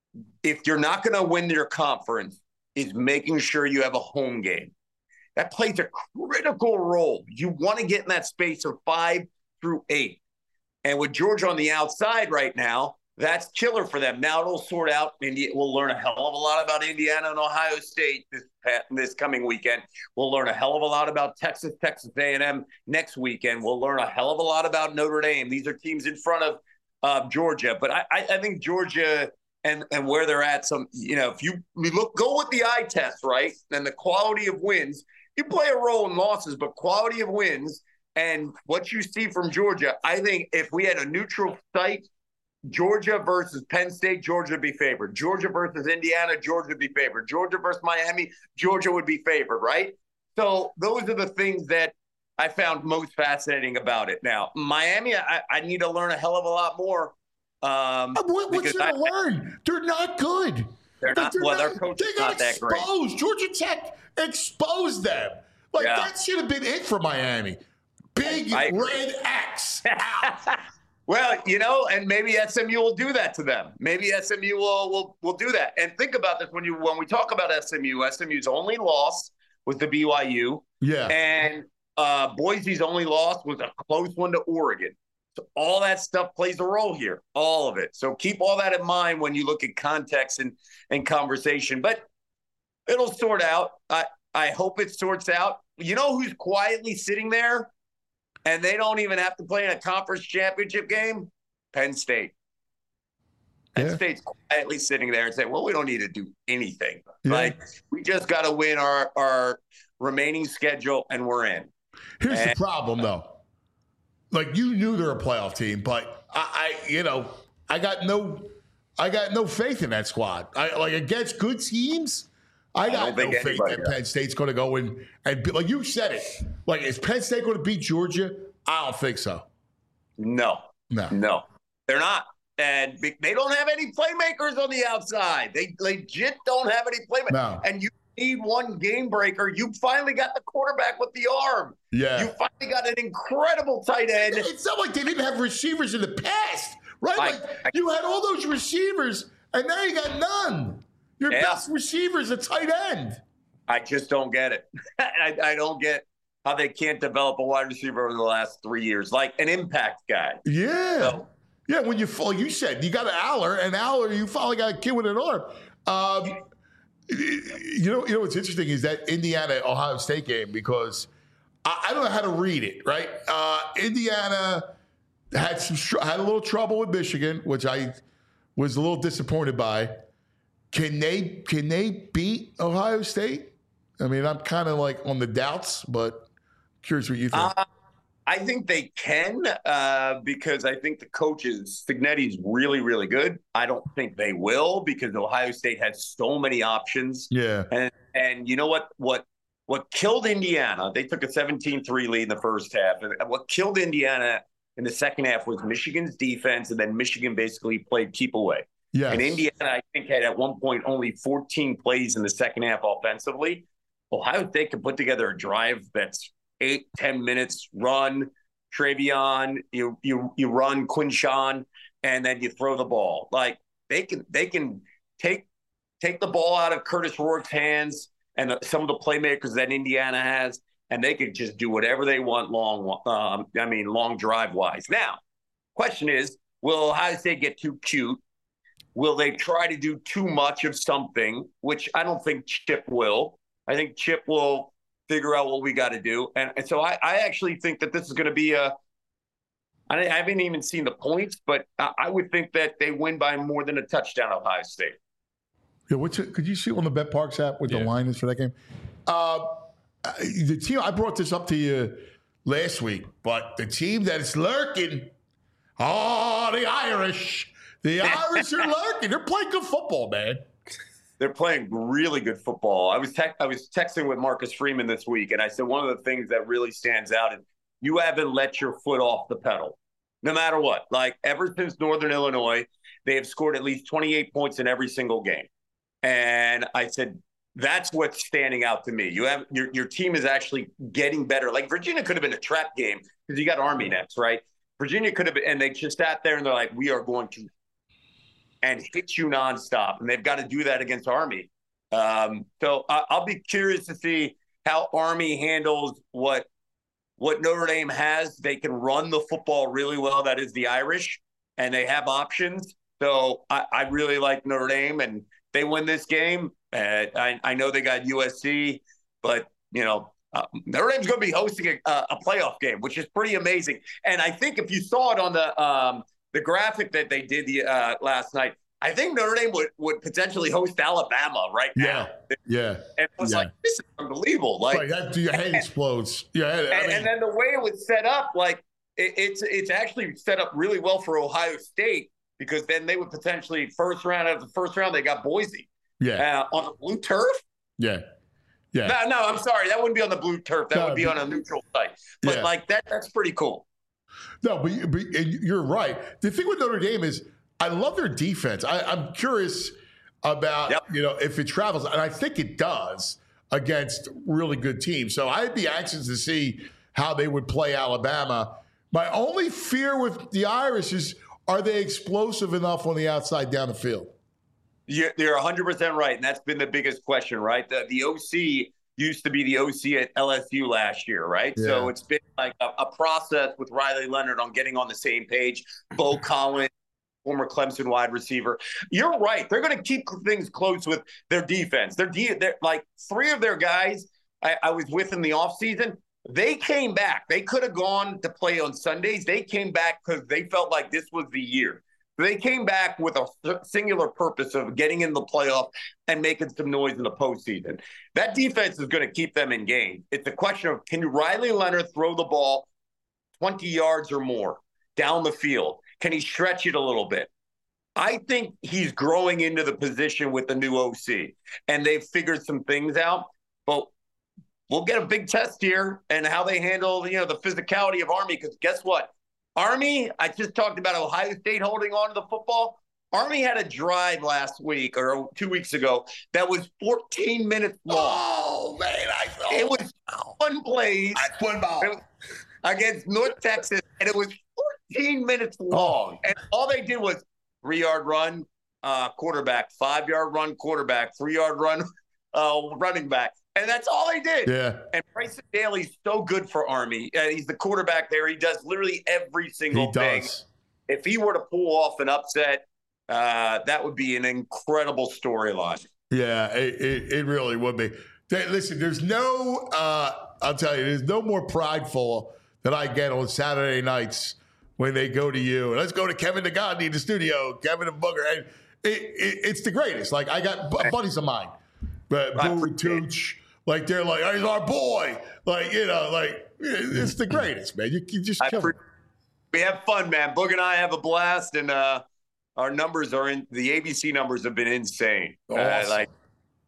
if you're not going to win your conference, is making sure you have a home game. That plays a critical role. You want to get in that space of five through eight. And with Georgia on the outside right now, that's killer for them. Now it'll sort out. India, we'll learn a hell of a lot about Indiana and Ohio State this, this coming weekend. We'll learn a hell of a lot about Texas, Texas A and M next weekend. We'll learn a hell of a lot about Notre Dame. These are teams in front of uh, Georgia. But I, I think Georgia and, and where they're at, some, you know, if you we look, go with the eye test, right, and the quality of wins, you play a role in losses, but quality of wins and what you see from Georgia, I think if we had a neutral site, Georgia versus Penn State, Georgia would be favored. Georgia versus Indiana, Georgia would be favored. Georgia versus Miami, Georgia would be favored, right? So those are the things that I found most fascinating about it. Now, Miami, I, I need to learn a hell of a lot more. Um, what, what's there to learn? They're not good. They're not. They're well, not, their coach is got not that great. Exposed. Georgia Tech exposed them. Like, Yeah. that should have been it for Miami. Big I agree. red X. out. Well, you know, and maybe S M U will do that to them. Maybe S M U will will will do that. And think about this when you when we talk about S M U. S M U's only loss was the B Y U. Yeah. And uh, Boise's only loss was a close one to Oregon. So all that stuff plays a role here, all of it. So keep all that in mind when you look at context and, and conversation. But it'll sort out. I, I hope it sorts out. You know who's quietly sitting there and they don't even have to play in a conference championship game? Penn State. Penn Yeah. State's quietly sitting there and saying, well, we don't need to do anything. Yeah. Like, we just got to win our, our remaining schedule and we're in. Here's And- the problem, though. Like, you knew they're a playoff team, but I, I, you know, I got no, I got no faith in that squad. I like against good teams. I got don't no think faith anybody that does. Penn State's going to go in and be, like you said it. Like, is Penn State going to beat Georgia? I don't think so. No, No. no, they're not. And be- they don't have any playmakers on the outside. They legit don't have any playmakers. No. And you need one game breaker. You finally got the quarterback with the arm. Yeah. You finally got an incredible tight end. It's not like they didn't have receivers in the past, right? I- like I- you had all those receivers, and now you got none. Your Yeah. best receiver is a tight end. I just don't get it. I, I don't get how they can't develop a wide receiver over the last three years, like an impact guy. Yeah. So- yeah, when you fall, you said you got an Aller, and Aller, you finally got a kid with an arm. Um, you know, you know what's interesting is that Indiana Ohio State game, because I, I don't know how to read it. Right, uh, Indiana had some str- had a little trouble with Michigan, which I was a little disappointed by. Can they can they beat Ohio State? I mean, I'm kind of like on the doubts, but curious what you think. Uh, I think they can uh, because I think the coaches, Signetti's really, really good. I don't think they will because Ohio State has so many options. Yeah. And and you know what what what killed Indiana, they took a seventeen three lead in the first half. And what killed Indiana in the second half was Michigan's defense, and then Michigan basically played keep away. Yes. And Indiana, I think, had at one point only fourteen plays in the second half offensively. Ohio State can put together a drive that's eight, ten minutes, run, Travion, you you you run Quinshawn, and then you throw the ball. Like they can they can take take the ball out of Curtis Rourke's hands and the, some of the playmakers that Indiana has, and they could just do whatever they want long. Um, I mean, long drive wise. Now, question is, will Ohio State get too cute? Will they try to do too much of something? Which I don't think Chip will. I think Chip will figure out what we got to do. And, and so I, I actually think that this is going to be a – I haven't even seen the points, but I, I would think that they win by more than a touchdown, Ohio State. Yeah, what's it, could you see on the BetParks app what Yeah. the line is for that game? Uh, the team – I brought this up to you last week, but the team that is lurking – oh, the Irish. The Irish are lurking. They're playing good football, man. They're playing really good football. I was te- I was texting with Marcus Freeman this week, and I said one of the things that really stands out is you haven't let your foot off the pedal, no matter what. Like ever since Northern Illinois, they have scored at least twenty-eight points in every single game. And I said that's what's standing out to me. You have your your team is actually getting better. Like Virginia could have been a trap game because you got Army next, right? Virginia could have been, and they just sat there and they're like, we are going to. And hit you nonstop, and they've got to do that against Army. Um, so I, I'll be curious to see how Army handles what what Notre Dame has. They can run the football really well. That is the Irish, and they have options. So I, I really like Notre Dame, and they win this game. Uh, I, I know they got U S C, but you know uh, Notre Dame's going to be hosting a, a playoff game, which is pretty amazing. And I think if you saw it on the um, the graphic that they did the uh, last night, I think Notre Dame would, would potentially host Alabama right now. Yeah, yeah. And it was yeah. like, this is unbelievable. Like, right, that, your head explodes. Yeah, I and, mean, and then the way it was set up, like it, it's it's actually set up really well for Ohio State because then they would potentially first round of the first round they got Boise. Yeah, uh, on the blue turf. Yeah, yeah. No, no, I'm sorry, that wouldn't be on the blue turf. That No, would be but, on a neutral site. But yeah. like that, that's pretty cool. No, but, but you're right. The thing with Notre Dame is I love their defense. I, I'm curious about, yep. you know, if it travels, and I think it does against really good teams. So I'd be anxious to see how they would play Alabama. My only fear with the Irish is, are they explosive enough on the outside down the field? You're, you're one hundred percent right, and that's been the biggest question, right? The, the O C used to be the O C at L S U last year, right? Yeah. So it's been like a, a process with Riley Leonard on getting on the same page. Bo Collins, former Clemson wide receiver. You're right. They're going to keep things close with their defense. They're, de- they're like three of their guys I, I was with in the offseason. They came back. They could have gone to play on Sundays. They came back because they felt like this was the year. They came back with a singular purpose of getting in the playoff and making some noise in the postseason. That defense is going to keep them in game. It's a question of, can Riley Leonard throw the ball twenty yards or more down the field? Can he stretch it a little bit? I think he's growing into the position with the new O C, and they've figured some things out. But we'll get a big test here and how they handle, you know, the physicality of Army, because guess what? Army, I just talked about Ohio State holding on to the football. Army had a drive last week or two weeks ago that was fourteen minutes long. Oh, man. I saw It was one play one ball against North Texas, and it was fourteen minutes long. Oh. And all they did was three-yard run, uh, quarterback, five-yard run, quarterback, three-yard run, uh, running back. And that's all they did. Yeah. And Bryson Daly's so good for Army. Uh, he's the quarterback there. He does literally every single he thing. Does. If he were to pull off an upset, uh, that would be an incredible storyline. Yeah, it, it, it really would be. Hey, listen, there's no, uh, I'll tell you, there's no more prideful than I get on Saturday nights when they go to you. Let's go to Kevin DeGandhi in the studio, Kevin and Booger. And it, it, it's the greatest. Like, I got b- buddies of mine, but Boo and Tooch. Like, they're like, oh, he's our boy. Like, you know, like, it's the greatest, man. You, you just kill pre- We have fun, man. Boog and I have a blast, and uh, our numbers are in – the A B C numbers have been insane. Awesome. Uh, like,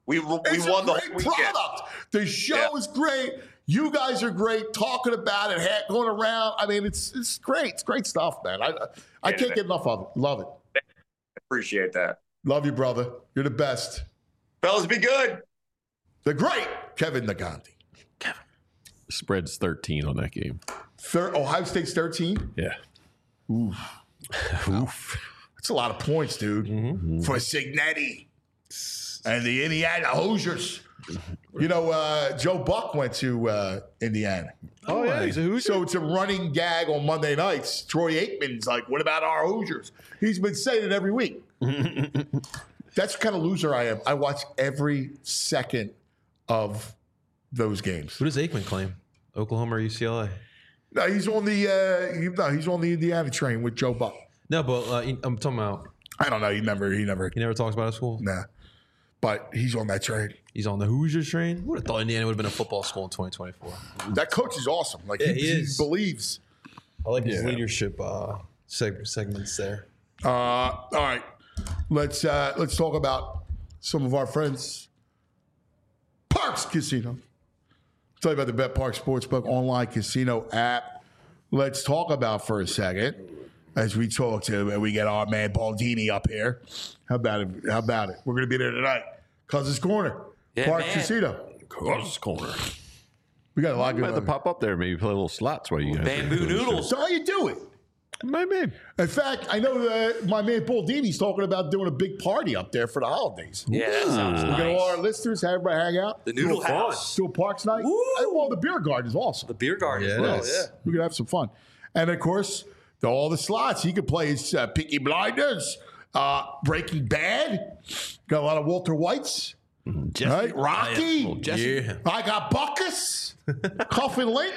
We we It's won a the great whole weekend. product. The show Yeah. is great. You guys are great talking about it, ha- going around. I mean, it's it's great. It's great stuff, man. I I Yeah, can't man. get enough of it. Love it. Appreciate that. Love you, brother. You're the best. Fellas, be good. The great Kevin Nagandi. Spread's thirteen on that game. Thir- Ohio State's thirteen. Yeah. Oof. Oof. That's a lot of points, dude. Mm-hmm. For Signetti and the Indiana Hoosiers. You know, uh, Joe Buck went to uh, Indiana. Oh, yeah, he's a Hoosier. So it's a running gag on Monday nights. Troy Aikman's like, what about our Hoosiers? He's been saying it every week. That's the kind of loser I am. I watch every second of those games. Who does Aikman claim? Oklahoma or U C L A? No, he's on the uh, he, no, he's on the Indiana train with Joe Buck. No, but uh, I'm talking about. I don't know. He never. He never. He never talks about his school. Nah, but he's on that train. He's on the Hoosiers train. Would have thought Indiana would have been a football school in twenty twenty-four. That coach is awesome. Like Yeah, he, he he is. believes. I like his Yeah. leadership uh, seg- segments there. Uh, all right, let's uh, let's talk about some of our friends. Parks Casino. Tell you about the Bet Park Sportsbook online casino app. Let's talk about for a second as we talk to and we get our man Baldini up here. How about it? How about it? We're going to be there tonight. Cousins Corner, Yeah, Park man. Casino. Cousins Corner. We got a lot You might going have to on. pop up there, maybe play a little slots while you guys Bamboo are doing the show. noodles. So how you do it? Maybe. In fact, I know that my man Baldini's talking about doing a big party up there for the holidays. Yeah, that sounds We got all our nice. listeners, have everybody hang out. The Noodle Do a fun- House. Do a Parks night. Woo! And, well, the beer garden is awesome. The beer garden as Yeah, it well. is. Yeah. We could have some fun. And of course, the, all the slots. He could play his uh, Peaky Blinders, uh, Breaking Bad. Got a lot of Walter Whites. Jesse. Right? Rocky. Little Jesse. Yeah. I got Buckus. Cuffin Link.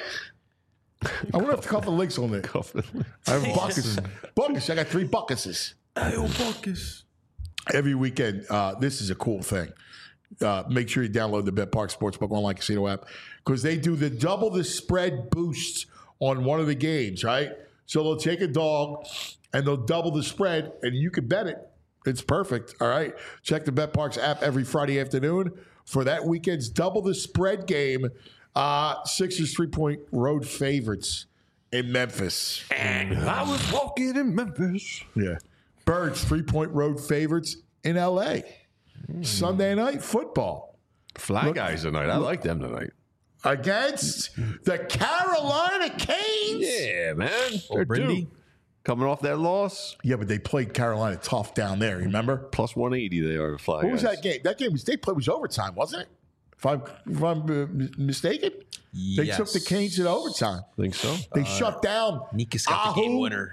I wonder if the Cuffin Link's on there. Cuffin. I have Buckus. Buckus. I got three Buckuses. Ayo, Buckus. Every weekend, uh, this is a cool thing. Uh, make sure you download the Bet Park Sportsbook online casino app because they do the double the spread boosts on one of the games, right? So they'll take a dog and they'll double the spread, and you can bet it. It's perfect. All right. Check the Bet Parks app every Friday afternoon for that weekend's double the spread game. Uh, Sixers three-point road favorites in Memphis. And I was walking in Memphis. Yeah. Birds three-point road favorites in L A. Sunday night football Fly Look- guys tonight. I like them tonight. against the Carolina Canes. Yeah, man. They're Brindy. due. Coming off that loss, Yeah, but they played Carolina tough down there. Remember? plus one eighty they are, the Fly What was guys. that game? That game was they played was overtime, wasn't it? If I'm, if I'm uh, m- mistaken, they Yes. took the Canes to overtime. Think so? They shut down. Nikas got the game Ahu. winner.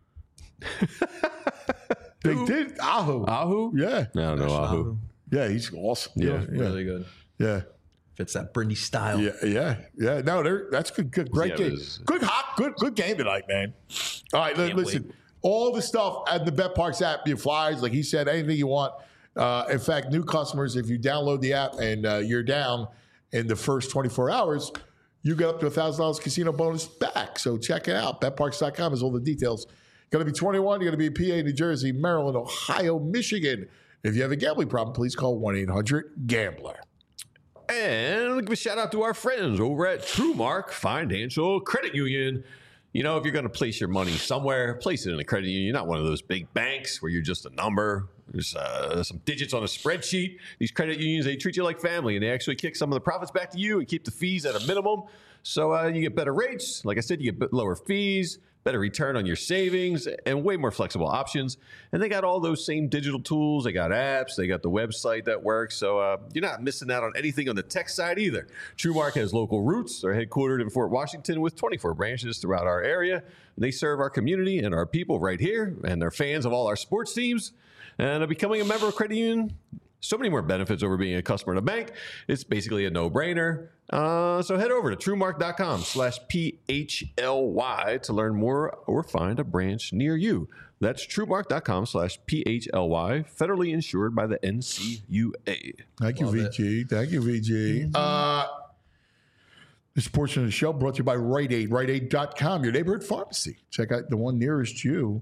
They did Ahu. Ahu? Yeah, I don't know Ahu. yeah, he's awesome. Yeah. yeah, Really good. yeah. Fits that Brindy style. Yeah, yeah, yeah. No, they're, that's good, good, great Yeah, it game. is. Good hot, good, good game tonight, man. All right, li- Can't listen. wait. All the stuff at the Bet Parks app, your flyers, like he said, anything you want. Uh, in fact, new customers, if you download the app and uh, you're down in the first twenty-four hours, you get up to a thousand dollars casino bonus back. So check it out. bet parks dot com has all the details. Got to be twenty-one. You got to be in P A, New Jersey, Maryland, Ohio, Michigan. If you have a gambling problem, please call one eight hundred gambler. And give a shout out to our friends over at TrueMark Financial Credit Union. You know, if you're going to place your money somewhere, place it in a credit union. You're not one of those big banks where you're just a number. There's uh, some digits on a spreadsheet. These credit unions, they treat you like family, and they actually kick some of the profits back to you and keep the fees at a minimum. So uh, you get better rates. Like I said, you get lower fees, better return on your savings, and way more flexible options. And they got all those same digital tools. They got apps. They got the website that works. So uh, you're not missing out on anything on the tech side either. TrueMark has local roots. They're headquartered in Fort Washington with twenty-four branches throughout our area. They serve our community and our people right here, and they're fans of all our sports teams. And uh, becoming a member of Credit Union, so many more benefits over being a customer in a bank. It's basically a no-brainer. Uh, so head over to truemark.com slash P-H-L-Y to learn more or find a branch near you. That's truemark.com slash P-H-L-Y, federally insured by the N C U A. Thank you, V G. Thank you, V G. Uh, this portion of the show brought to you by Rite Aid, rite aid dot com, your neighborhood pharmacy. Check out the one nearest you.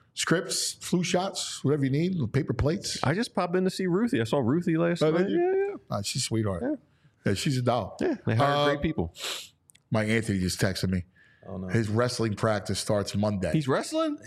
Scripts, flu shots, whatever you need, paper plates. I just popped in to see Ruthie. I saw Ruthie last Oh, night. did you? Yeah, yeah. Uh, she's a sweetheart. Yeah. Yeah, she's a doll. Yeah, they hire Uh, great people. My Anthony just texted me. Oh, no. His wrestling practice starts Monday. He's wrestling?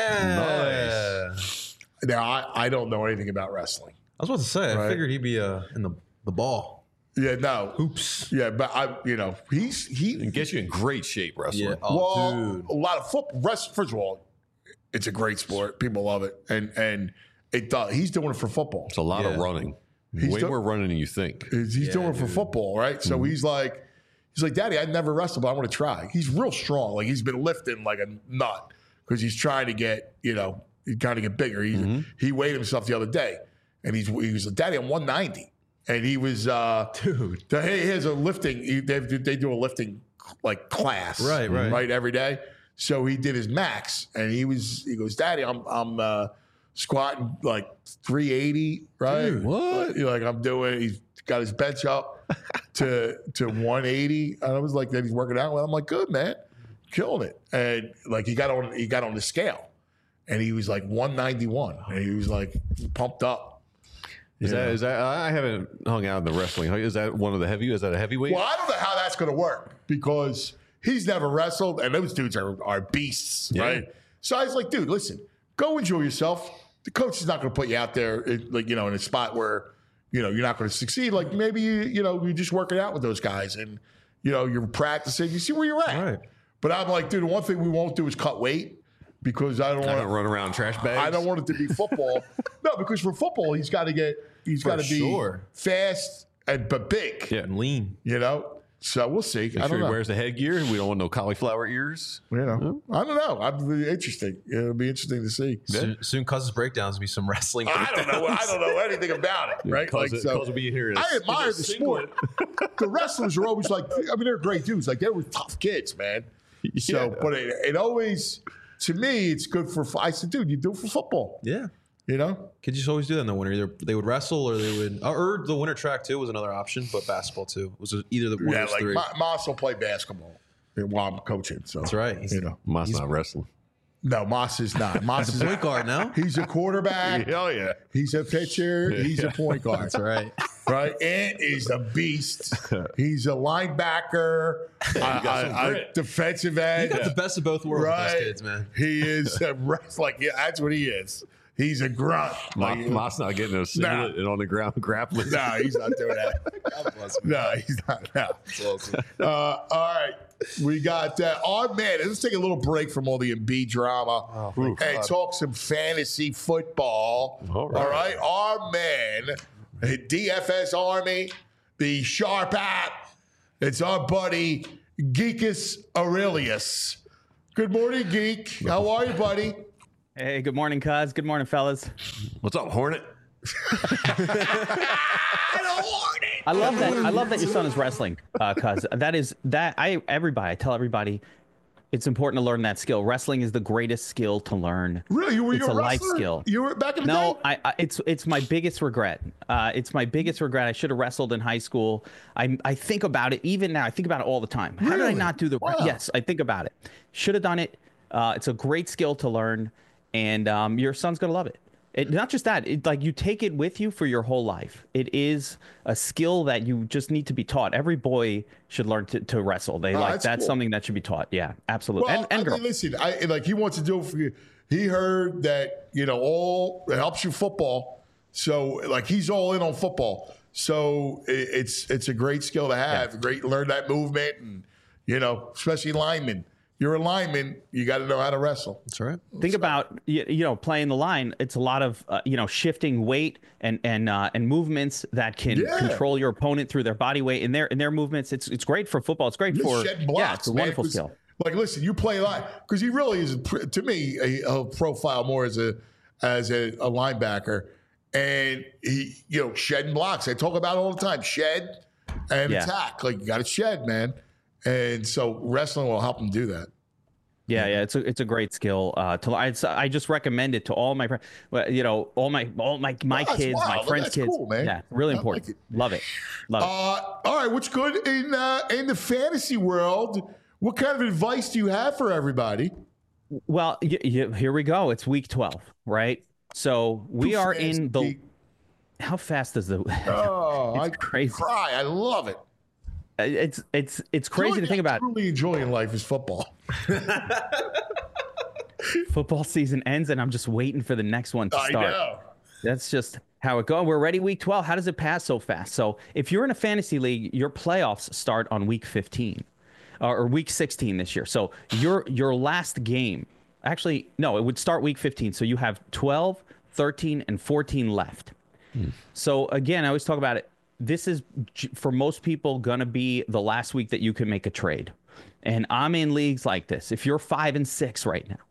Yeah. Nice. Now, I, I don't know anything about wrestling. I was about to say, I Right. figured he'd be uh, in the, the ball. Yeah, no. Hoops. Yeah, but I, you know, he's he It gets you in great shape, wrestling. Yeah. Oh, well, dude. a lot of football. Rest, first of all, it's a great sport. People love it, and and it does. He's doing it for football. It's a lot Yeah. of running. He's Way do- more running than you think. He's, he's Yeah, doing it for dude. football, right? So Mm-hmm. he's like, he's like, Daddy, I never wrestled, but I want to try. He's real strong. Like he's been lifting like a nut because he's trying to get, you know, he's trying to get bigger. He Mm-hmm. he weighed himself the other day, and he's he was like, Daddy, I'm one ninety, and he was, uh, Dude. the, he has a lifting. He, they they do a lifting like class, Right, right. right, every day. So he did his max, and he was he goes, Daddy, I'm I'm uh, squatting like three eighty, right? Dude, what? Like, like I'm doing. He's got his bench up to to one eighty, and I was like, that he's working out. Well, I'm like, good man, killing it. And like he got on he got on the scale, and he was like one ninety-one, and he was like pumped up. Is Yeah. that is that? I haven't hung out in the wrestling. Is that one of the heavy? Is that a heavyweight? Well, I don't know how that's going to work because he's never wrestled, and those dudes are, are beasts, Yeah. right? So I was like, dude, listen, go enjoy yourself. The coach is not going to put you out there, in, like you know, in a spot where you know you're not going to succeed. Like maybe you, you know, you're just working out with those guys, and you know, you're practicing. You see where you're at. Right. But I'm like, dude, the one thing we won't do is cut weight because I don't I want don't run around trash bags. I don't want it to be football. No, because for football, he's got to get, he's For got to be sure. fast and but big. Yeah. And lean. You know. So we'll see. Make I sure don't he know. wears the headgear. We don't want no cauliflower ears. You know, I don't know. I'm really interesting. It'll be interesting to see. Soon, soon Cousins breakdowns will be some wrestling. I don't know. I don't know anything about it, right? Cause Like, it- so cause will be here in a- I in admire a the singlet. sport. The wrestlers are always like, I mean, they're great dudes. Like they were tough kids, man. So, Yeah. but it, it always, to me, it's good for. I said, dude, you do it for football. Yeah. You know, Kids just always do that in the winter. Either they would wrestle or they would, or the winter track too was another option, but basketball too was either the one yeah, of those like three. Ma- Moss will play basketball while I'm coaching. So That's right. He's, You know, Moss not wrestling. no, Moss is not. Moss he's is a point guard now. He's a quarterback. Hell yeah. He's a pitcher. He's a point guard. That's right. Right? Ant is a beast. He's a linebacker, a, got some a- a grit. defensive You end. got the best of both worlds with Right? those kids, man. He is a ref- like yeah, that's what he is. He's a grunt. Moss, Like, Moss not getting a singlet and on the ground grappling. no, he's not doing that. God bless him. No, he's not. No. That's awesome. Uh, all right. We got uh, our man. Let's take a little break from all the Embiid drama thank and God. talk some fantasy football. All right. All right. Our man, D F S Army, the Sharp app. It's our buddy, Geekus Aurelius. Good morning, Geek. How are you, buddy? Hey, good morning, cuz. Good morning, fellas. What's up, Hornet? I love that. I love that your son is wrestling, uh, cuz that is that. I everybody. I tell everybody, it's important to learn that skill. Wrestling is the greatest skill to learn. Really? You were It's you a a life wrestler? skill. You were back in the No, day? I, I it's it's my biggest regret. Uh, it's my biggest regret. I should have wrestled in high school. I I think about it even now. I think about it all the time. How did I Really? not do the? Wow. Yes, I think about it. Should have done it. Uh, it's a great skill to learn, and um, your son's gonna love it. It, not just that, it, like you take it with you for your whole life. It is a skill that you just need to be taught. Every boy should learn to, to wrestle. They Oh, like that's that's cool. something that should be taught. Yeah, absolutely. Well, and and I girls. mean, listen, I like he wants to do it for you. He heard that you know all it helps you football, so like he's all in on football. So it, it's it's a great skill to have. Great learn that movement, and you know, especially linemen. You're a lineman. You got to know how to wrestle. That's right. Think about you, you know playing the line. It's a lot of uh, you know shifting weight and and uh, and movements that can Yeah. control your opponent through their body weight and their and their movements. It's it's great for football. It's great You're for shedding blocks, yeah. It's a man, wonderful 'cause, skill. Like, listen, you play line because he really is a, to me a, a profile more as a as a, a linebacker, and he you know shedding blocks. I talk about it all the time. Shed and Yeah. attack. Like you got to shed, man. And so wrestling will help him do that. Yeah, yeah, it's a it's a great skill. Uh, to I I just recommend it to all my friends. Well, you know, all my all my my Oh, that's kids, my wild. friends' That's kids. cool, man. Yeah, really I important. like it. Love it, love it. Uh, all right, what's good in uh, in the fantasy world? What kind of advice do you have for everybody? Well, y- y- here we go. It's week twelve, right? So we Too are fast, in the. Geek. how fast does the? Oh, it's I crazy. cry. I love it. It's it's it's crazy to think about. Truly enjoying life is football. Football season ends, and I'm just waiting for the next one to I start. know. That's just how it goes. We're ready week twelve. How does it pass so fast? So if you're in a fantasy league, your playoffs start on week fifteen uh, or week sixteen this year. So your your last game, actually, no, it would start week fifteen. So you have twelve, thirteen, and fourteen left. Hmm. So again, I always talk about it. This is, for most people, going to be the last week that you can make a trade. And I'm in leagues like this. If you're five and six right now,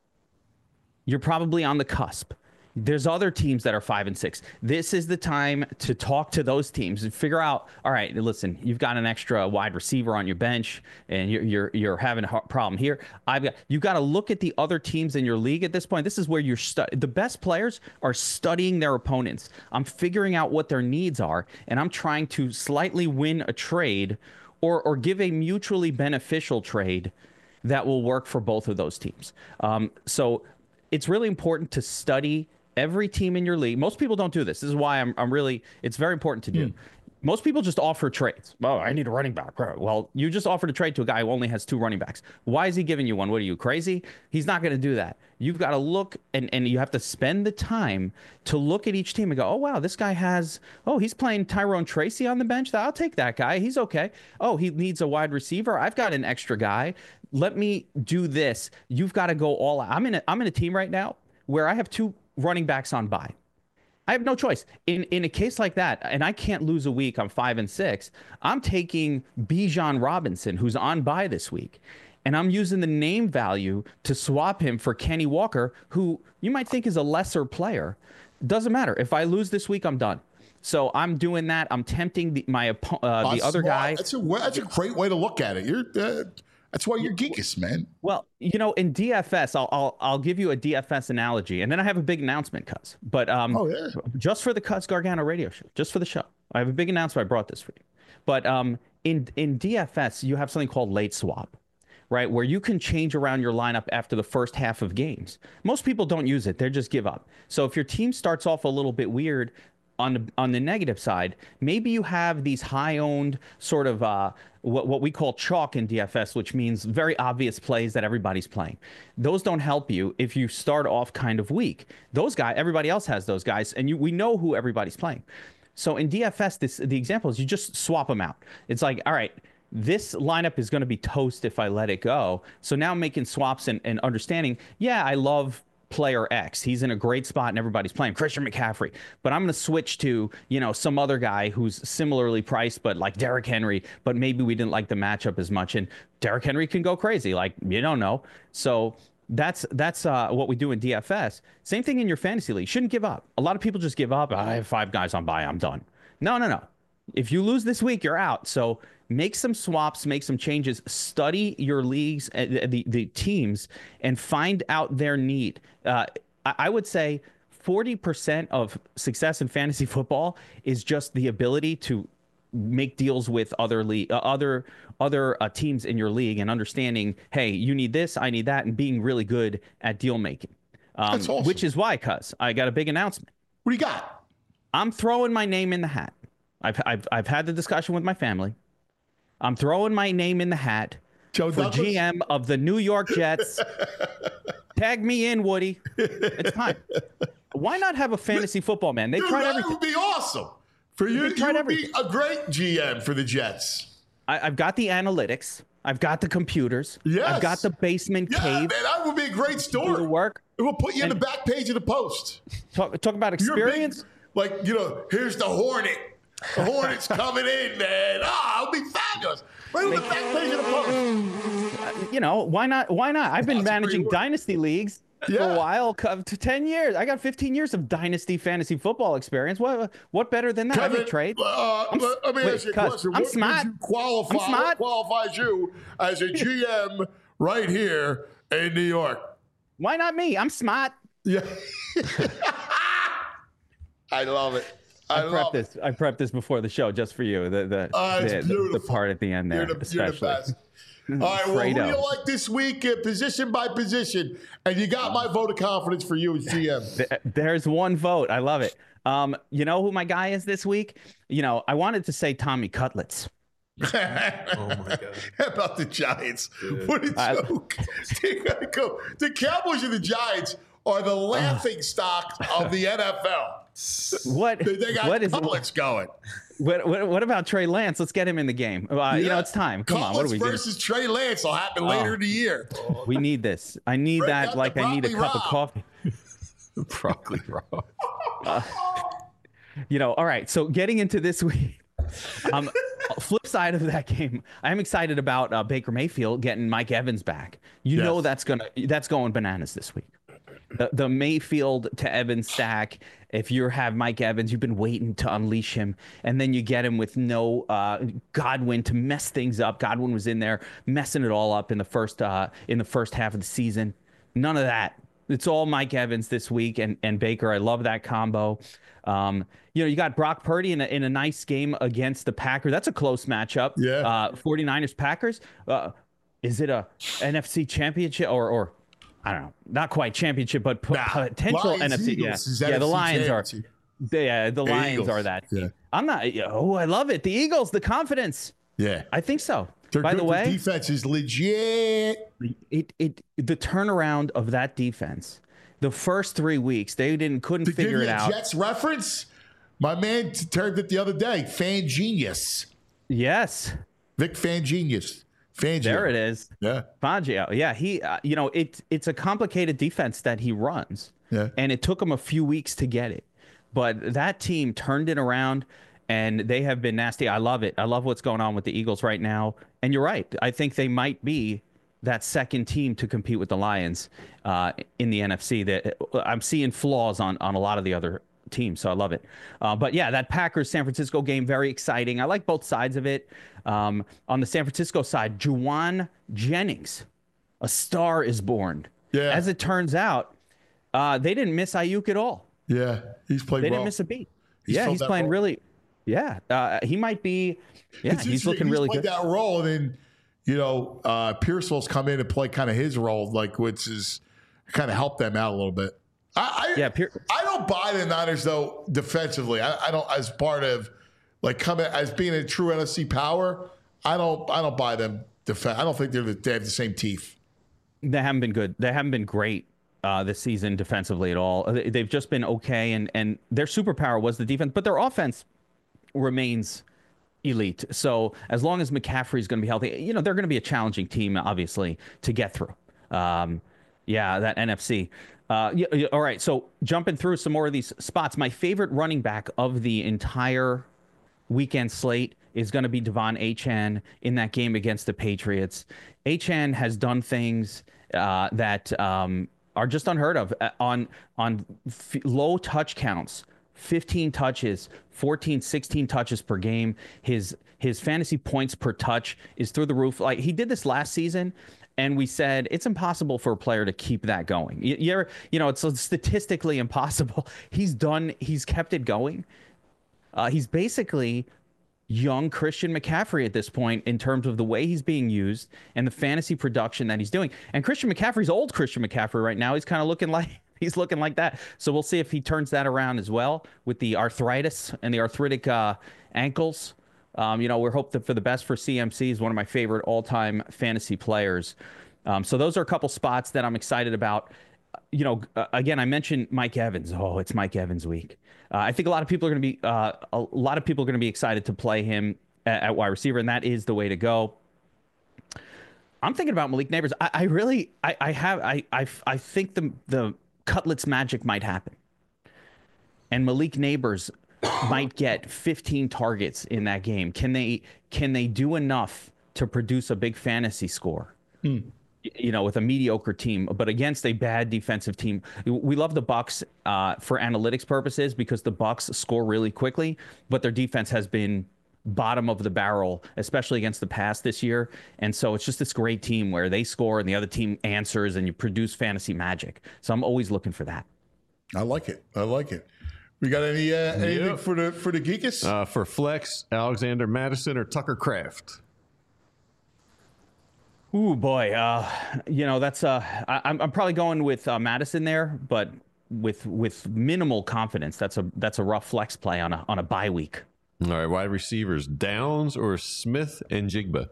you're probably on the cusp. There's other teams that are five and six. This is the time to talk to those teams and figure out, all right, listen, you've got an extra wide receiver on your bench and you're you're, you're having a problem here. I've got you've got to look at the other teams in your league at this point. This is where you're stu- the best players are studying their opponents. I'm figuring out what their needs are, and I'm trying to slightly win a trade or or give a mutually beneficial trade that will work for both of those teams. Um, so it's really important to study every team in your league. Most people don't do this. This is why I'm, I'm really, it's very important to do. Mm. Most people just offer trades. Oh, I need a running back. Well, you just offered a trade to a guy who only has two running backs. Why is he giving you one? What are you, crazy? He's not going to do that. You've got to look, and, and you have to spend the time to look at each team and go, oh, wow, this guy has, oh, he's playing Tyrone Tracy on the bench. I'll take that guy. He's okay. Oh, he needs a wide receiver. I've got an extra guy. Let me do this. You've got to go all out. I'm in a, I'm in a team right now where I have two running backs on bye. I have no choice. In in a case like that, and I can't lose a week, I'm five and six, I'm taking Bijan Robinson, who's on bye this week, and I'm using the name value to swap him for Kenny Walker, who you might think is a lesser player. Doesn't matter. If I lose this week, I'm done. So I'm doing that. I'm tempting the, my uh, the uh, other smart. guy. That's a that's a great way to look at it. You're uh, that's why you're geekiest, man. Well, you know, in D F S, I'll I'll I'll give you a D F S analogy, and then I have a big announcement, Cuz. But um, oh, yeah. just for the Cuz Gargano radio show, just for the show, I have a big announcement. I brought this for you. But um, in in D F S, you have something called late swap, right? Where you can change around your lineup after the first half of games. Most people don't use it; they just give up. So if your team starts off a little bit weird, on the on the negative side, maybe you have these high-owned sort of uh, what what we call chalk in D F S, which means very obvious plays that everybody's playing. Those don't help you if you start off kind of weak. Those guys, everybody else has those guys, and you we know who everybody's playing. So in D F S, this the example is you just swap them out. It's like, all right, this lineup is going to be toast if I let it go. So now I'm making swaps and, and understanding, yeah, I love player X. He's in a great spot and everybody's playing Christian McCaffrey. But I'm going to switch to, you know, some other guy who's similarly priced, but like Derrick Henry, but maybe we didn't like the matchup as much. And Derrick Henry can go crazy. Like, you don't know. So that's that's uh, what we do in D F S. Same thing in your fantasy league. Shouldn't give up. A lot of people just give up. I have five guys on bye. I'm done. No, no, no. If you lose this week, you're out. So make some swaps, make some changes, study your leagues, uh, the, the teams, and find out their need. Uh, I, I would say forty percent of success in fantasy football is just the ability to make deals with other le- uh, other other uh, teams in your league and understanding, hey, you need this, I need that, and being really good at deal making. Um, That's awesome. Which is why, cuz I got a big announcement. What do you got? I'm throwing my name in the hat. I've I've I've had the discussion with my family. I'm throwing my name in the hat Joe for Douglas? G M of the New York Jets. Tag me in, Woody. It's time. Why not have a fantasy football man? They've Dude, tried that everything. would be awesome. For you, They've you tried would be everything. a great G M for the Jets. I, I've got the analytics. I've got the computers. Yes. I've got the basement Yeah, cave. man, that would be a great Do story. the work. It will put you in And- the back page of the Post. Talk, talk about You're a big- experience. like, you know, here's the Hornet. The Hornet's coming in, man. Ah, it'll be fabulous. Right on the back page of the Post. You know, why not? Why not? I've been That's pretty managing work. dynasty leagues for Yeah. a while, co- to ten years. I got fifteen years of dynasty fantasy football experience. What what better than that? I Kevin, make trade. Uh, I'm s- let me wait, ask you a cuz, question. I'm what smart. would you qualify, I'm smart. What qualifies you as a G M right here in New York? Why not me? I'm smart. Yeah. I love it. I, I prepped love this. I prepped this before the show just for you. The the Oh, it's the, the, beautiful. the part at the end there, You're the, you're the especially. best. All right, well, who do Fredo. you like this week, uh, position by position? And you got my vote of confidence for you as G M. Th- There's one vote. I love it. Um, you know who my guy is this week? You know, I wanted to say Tommy Cutlets. Oh my god! How about the Giants? Dude. What a joke! They gotta go. The Cowboys and the Giants are the laughing stock of the N F L. What? They, they got what is Cutlets going. What, what? What about Trey Lance? Let's get him in the game. Uh, You know, Yeah. it's time. Come on. What Cutlets are we doing? versus Trey Lance will happen later Oh. in the year. We need this. I need Break out that the like I need a broccoli cup of raw. coffee. Broccoli raw. Uh, you know, all right. So getting into this week, um, flip side of that game, I'm excited about uh, Baker Mayfield getting Mike Evans back. You Yes. know that's gonna that's going bananas this week. The, the Mayfield to Evans stack. If you have Mike Evans, you've been waiting to unleash him, and then you get him with no uh, Godwin to mess things up. Godwin was in there messing it all up in the first uh, in the first half of the season. None of that. It's all Mike Evans this week and, and Baker. I love that combo. Um, you know, you got Brock Purdy in a, in a nice game against the Packers. That's a close matchup. Yeah. Uh, 49ers Packers. Uh, is it a N F C championship or or I don't know, not quite championship, but p- Nah, potential Lions, N F C. Eagles is Yeah, yeah. The N F C Lions are. championship. They, uh, the The Lions Eagles. are that. Yeah. I'm not. Oh, I love it. The Eagles, the confidence. Yeah. I think so. They're By good. the Their way, defense is legit. it it the turnaround of that defense. The first three weeks, they didn't couldn't To figure give it you a out. Jets reference, my man t- turned it the other day. Fan Genius. Yes, Vic Fan Genius. Fangio. there it is. Yeah. Fangio. Yeah, he. Uh, you know, it it's a complicated defense that he runs. Yeah. And it took him a few weeks to get it, but that team turned it around, and they have been nasty. I love it. I love what's going on with the Eagles right now. And you're right. I think they might be that second team to compete with the Lions uh, in the N F C. That I'm seeing flaws on on a lot of the other teams, so I love it. Uh, but yeah, that Packers San Francisco game, very exciting. I like both sides of it. Um, on the San Francisco side, Juwan Jennings, a star is born. Yeah. As it turns out, uh, they didn't miss Ayuk at all. Yeah. He's played They well. didn't miss a beat. He's yeah, filled he's that playing role. really. Yeah, uh, he might be. Yeah, It's he's interesting. looking really played good. that role, and then you know uh, Pearsall's come in and play kind of his role, like which is kind of helped them out a little bit. I I, Yeah, Pier- I don't buy the Niners though defensively. I, I don't as part of like coming as being a true N F C power. I don't I don't buy them defense. I don't think they're the, they have the same teeth. They haven't been good. They haven't been great uh, this season defensively at all. They- They've just been okay, and and their superpower was the defense, but their offense remains elite. So as long as McCaffrey's going to be healthy, you know, they're going to be a challenging team, obviously, to get through. Um, yeah, that N F C. Uh, yeah, yeah, all right, so jumping through some more of these spots, my favorite running back of the entire weekend slate is going to be Devon Achane in that game against the Patriots. Achane has done things uh, that um, are just unheard of uh, on on f- low touch counts. fifteen touches, fourteen, sixteen touches per game. His his fantasy points per touch is through the roof. Like he did this last season, and we said it's impossible for a player to keep that going. You, you, ever, you know, it's statistically impossible. He's done. He's kept it going. Uh, he's basically young Christian McCaffrey at this point in terms of the way he's being used and the fantasy production that he's doing. And Christian McCaffrey's old Christian McCaffrey right now. He's kind of looking like he's looking like that. So we'll see if he turns that around as well with the arthritis and the arthritic uh, ankles. Um, you know, we're hoping for the best for C M C. He's one of my favorite all-time fantasy players. Um, so those are a couple spots that I'm excited about. You know, uh, again, I mentioned Mike Evans. Oh, it's Mike Evans week. Uh, I think a lot of people are going to be uh, a lot of people are going to be excited to play him at, at wide receiver, and that is the way to go. I'm thinking about Malik Neighbors. I, I really, I, I have, I, I, I think the the Cutlets magic might happen, and Malik Neighbors might get fifteen targets in that game. Can they, can they do enough to produce a big fantasy score? Hmm. You know, with a mediocre team, but against a bad defensive team. We love the Bucks uh, for analytics purposes because the Bucks score really quickly, but their defense has been bottom of the barrel, especially against the pass this year. And so it's just this great team where they score and the other team answers and you produce fantasy magic. So I'm always looking for that. I like it. I like it. We got any uh, anything Yep. for the for the geekus? Uh, for flex, Alexander Madison or Tucker Kraft? Ooh, boy. Uh, you know, that's uh, I, I'm I'm probably going with uh, Madison there, but with with minimal confidence. That's a that's a rough flex play on a on a bye week. All right, wide receivers, Downs or Smith and Jigba?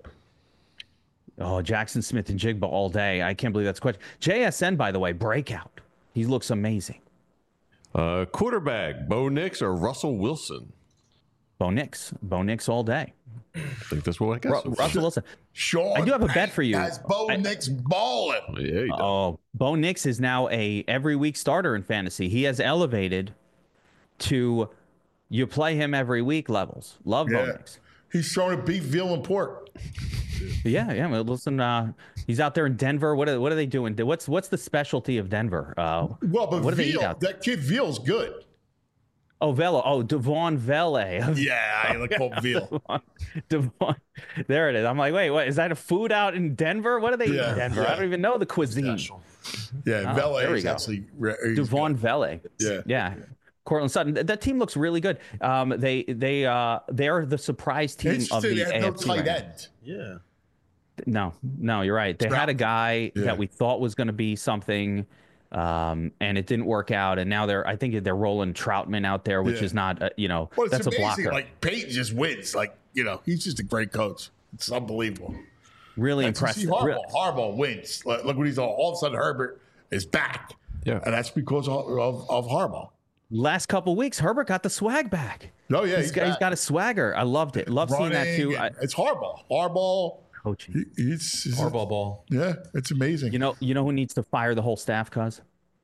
Oh, Jackson Smith and Jigba all day. I can't believe that's a question. J S N, by the way, breakout. He looks amazing. Uh, quarterback, Bo Nix or Russell Wilson? Bo Nix. Bo Nix all day. I think that's what I got. Ru- Russell Wilson. Sean I do have a bet for you. Has Bo I- Nix balling? Yeah, he does. Oh, Bo Nix is now a every week starter in fantasy. He has elevated to you play him every week levels. Love Bo Yeah. Nix. He's throwing a beef, veal, and pork. Yeah, yeah. Well, listen, uh, he's out there in Denver. What are what are they doing? What's what's the specialty of Denver? Uh, Well, but what do they eat veal, out there? that kid Veal's good. Oh, Velo. Oh, Devon Vele. Yeah, I like called veal. Devon. There it is. I'm like, wait, what? Is that a food out in Denver? What do they eat Yeah, in Denver? yeah. I don't even know the cuisine. Yeah, Oh, Vele there we is go. actually re- he's Devon good. Vele. Yeah. Yeah. Cortland Sutton. Th- That team looks really good. Um, they they uh they're the surprise team of Interesting, the they have A no F C tight right now. end. Yeah. No, no, you're right. They had a guy Yeah. that we thought was going to be something, um, and it didn't work out. And now they're, I think they're rolling Troutman out there, which Yeah. is not, uh, you know, Well, it's that's a amazing. blocker. Like Peyton just wins. Like you know, he's just a great coach. It's unbelievable. Really And to impressive. see Harbaugh, Re- Harbaugh wins. Look, look what he's all. All of a sudden, Herbert is back. Yeah, and that's because of, of, of Harbaugh. Last couple weeks, Herbert got the swag back. Oh yeah, he's, he's got, he's back. got a swagger. I loved it. Love seeing that too. Running, I, and it's Harbaugh. Harbaugh. coaching. He, he's, he's Harbaugh ball. Yeah, it's amazing. You know, you know who needs to fire the whole staff, cuz?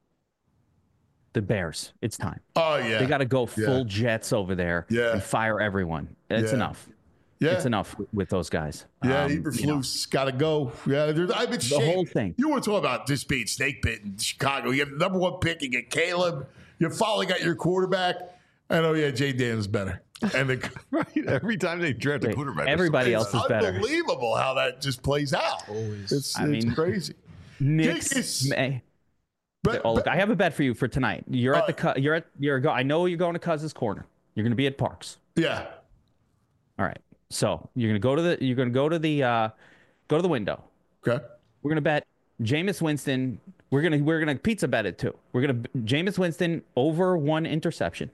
The Bears. It's time. Oh yeah, They got to go Yeah. full Jets over there Yeah. and fire everyone. It's Yeah. enough. Yeah. It's enough with, with those guys. Yeah, Um, Eberflus you know. got to go. Yeah, there's, I've been The shamed. whole thing. You want to talk about this being snake pit in Chicago? You have the number one pick. You get Caleb. You finally got your quarterback. And oh yeah, Jay Daniels better. And the, right. Every time they draft a Wait, quarterback, everybody it's else is better. unbelievable how that just plays out. It's, it's I mean, crazy. Knicks. Kicks. May, But- oh, look, but- I have a bet for you for tonight. You're at the Uh, Cu- you're at you're go. I know you're going to Cuz's corner. You're going to be at Parks. Yeah. All right. So you're going to go to the you're going to go to the uh, go to the window. Okay. We're going to bet Jameis Winston. We're gonna we're gonna pizza bet it too. We're gonna Jameis Winston over one interception,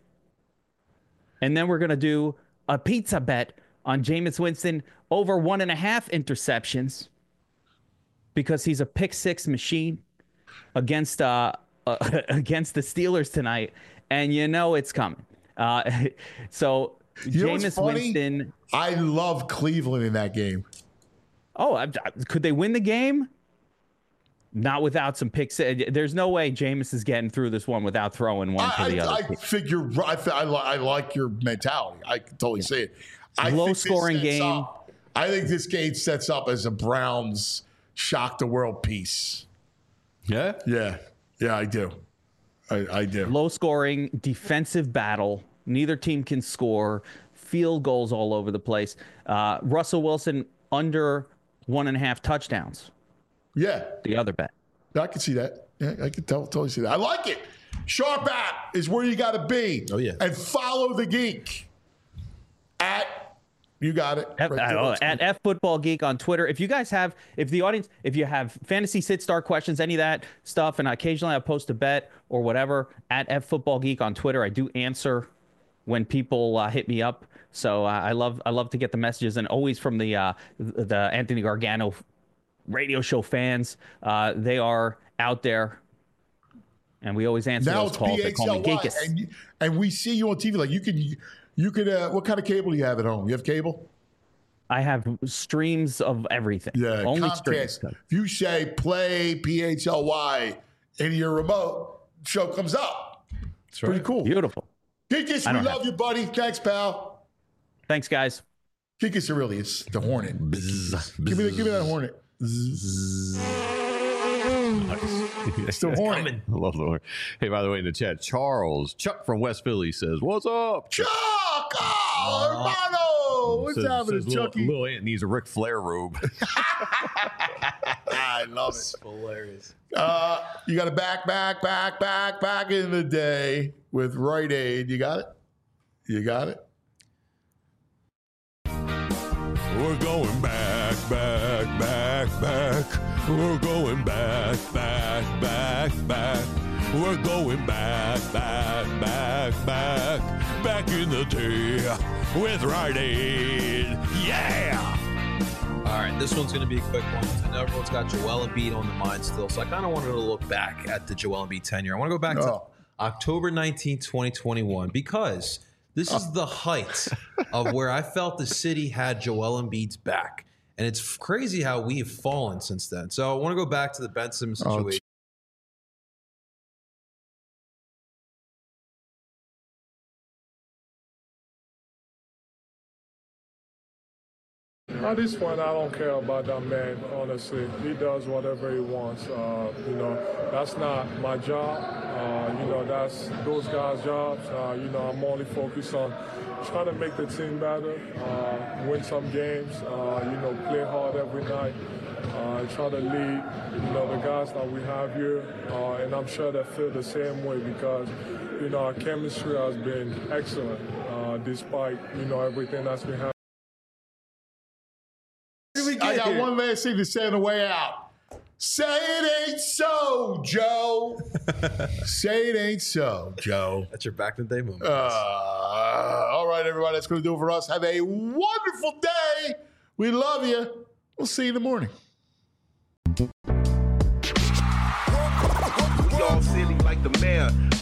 and then we're gonna do a pizza bet on Jameis Winston over one and a half interceptions because he's a pick six machine against uh, uh against the Steelers tonight, and you know it's coming. Uh, so You know what's Jameis funny? Winston. I love Cleveland in that game. Oh, I, I- could they win the game? Not without some picks. There's no way Jameis is getting through this one without throwing one I, to the I, other. I figure I, fi- I, li- I like your mentality. I can totally see it. I Low think this scoring sets game. up- I think this game sets up as a Browns shock the world piece. Yeah. Yeah. Yeah, I do. I, I do. Low scoring defensive battle. Neither team can score. Field goals all over the place. Uh, Russell Wilson under one and a half touchdowns. Yeah. The other bet. I can see that. Yeah, I can tell, totally see that. I like it. Sharp app is where you got to be. Oh, yeah. And follow the geek at, you got it. F, Right I there. don't know, at F Football Geek on Twitter. If you guys have, if the audience, if you have fantasy sit star questions, any of that stuff, and occasionally I post a bet or whatever at F Football Geek on Twitter. I do answer when people uh, hit me up. So uh, I love, I love to get the messages, and always from the uh, the Anthony Gargano radio show fans. Uh, they are out there, and we always answer Now those it's calls. P They H call L me Y, Geekus. and, you- and we see you on T V. Like you can, you could. Uh, what kind of cable do you have at home? You have cable? I have streams of everything. Yeah, only Comcast. streams. If you say play P H L Y in your remote, show comes up. It's pretty cool. Beautiful. Geekus, I we don't love have- you, buddy. Thanks, pal. Thanks, guys. Geekus Aurelius, the Hornet. Give me, the, give me that Hornet. It's the Hornet. I love the horn. Hey, by the way, in the chat, Charles Chuck from West Philly says, "What's up, Chuck? Oh, hermano, what's says, happening, says little, Chucky? little Ant needs a Ric Flair robe." I love it. Hilarious. Uh, you got to back, back, back, back, back in the day with Rite Aid. You got it? You got it? We're going back, back, back, back. We're going back, back, back, back. We're going back, back, back, back. Back in the day with Rite Aid. Yeah! All right, this one's going to be a quick one. I know everyone's got Joel Embiid on the mind still, so I kind of wanted to look back at the Joel Embiid tenure. I want to go back Oh. to October nineteenth, twenty twenty-one, because this is the height of where I felt the city had Joel Embiid's back. And it's crazy how we've fallen since then. So I want to go back to the Ben Simmons Oh, situation. At this point, I don't care about that man, honestly. He does whatever he wants. Uh, you know, that's not my job. Uh, you know, that's those guys' jobs. Uh, you know, I'm only focused on trying to make the team better, uh, win some games, uh, you know, play hard every night, uh, and try to lead, you know, the guys that we have here. Uh, and I'm sure they feel the same way because, you know, our chemistry has been excellent uh, despite, you know, everything that's been happening. I got one last thing to say on the way out. Say it ain't so, Joe. Say it ain't so, Joe. That's your back in the day moment. Uh, all right, everybody. That's going to do it for us. Have a wonderful day. We love you. We'll see you in the morning. We all silly like the mayor.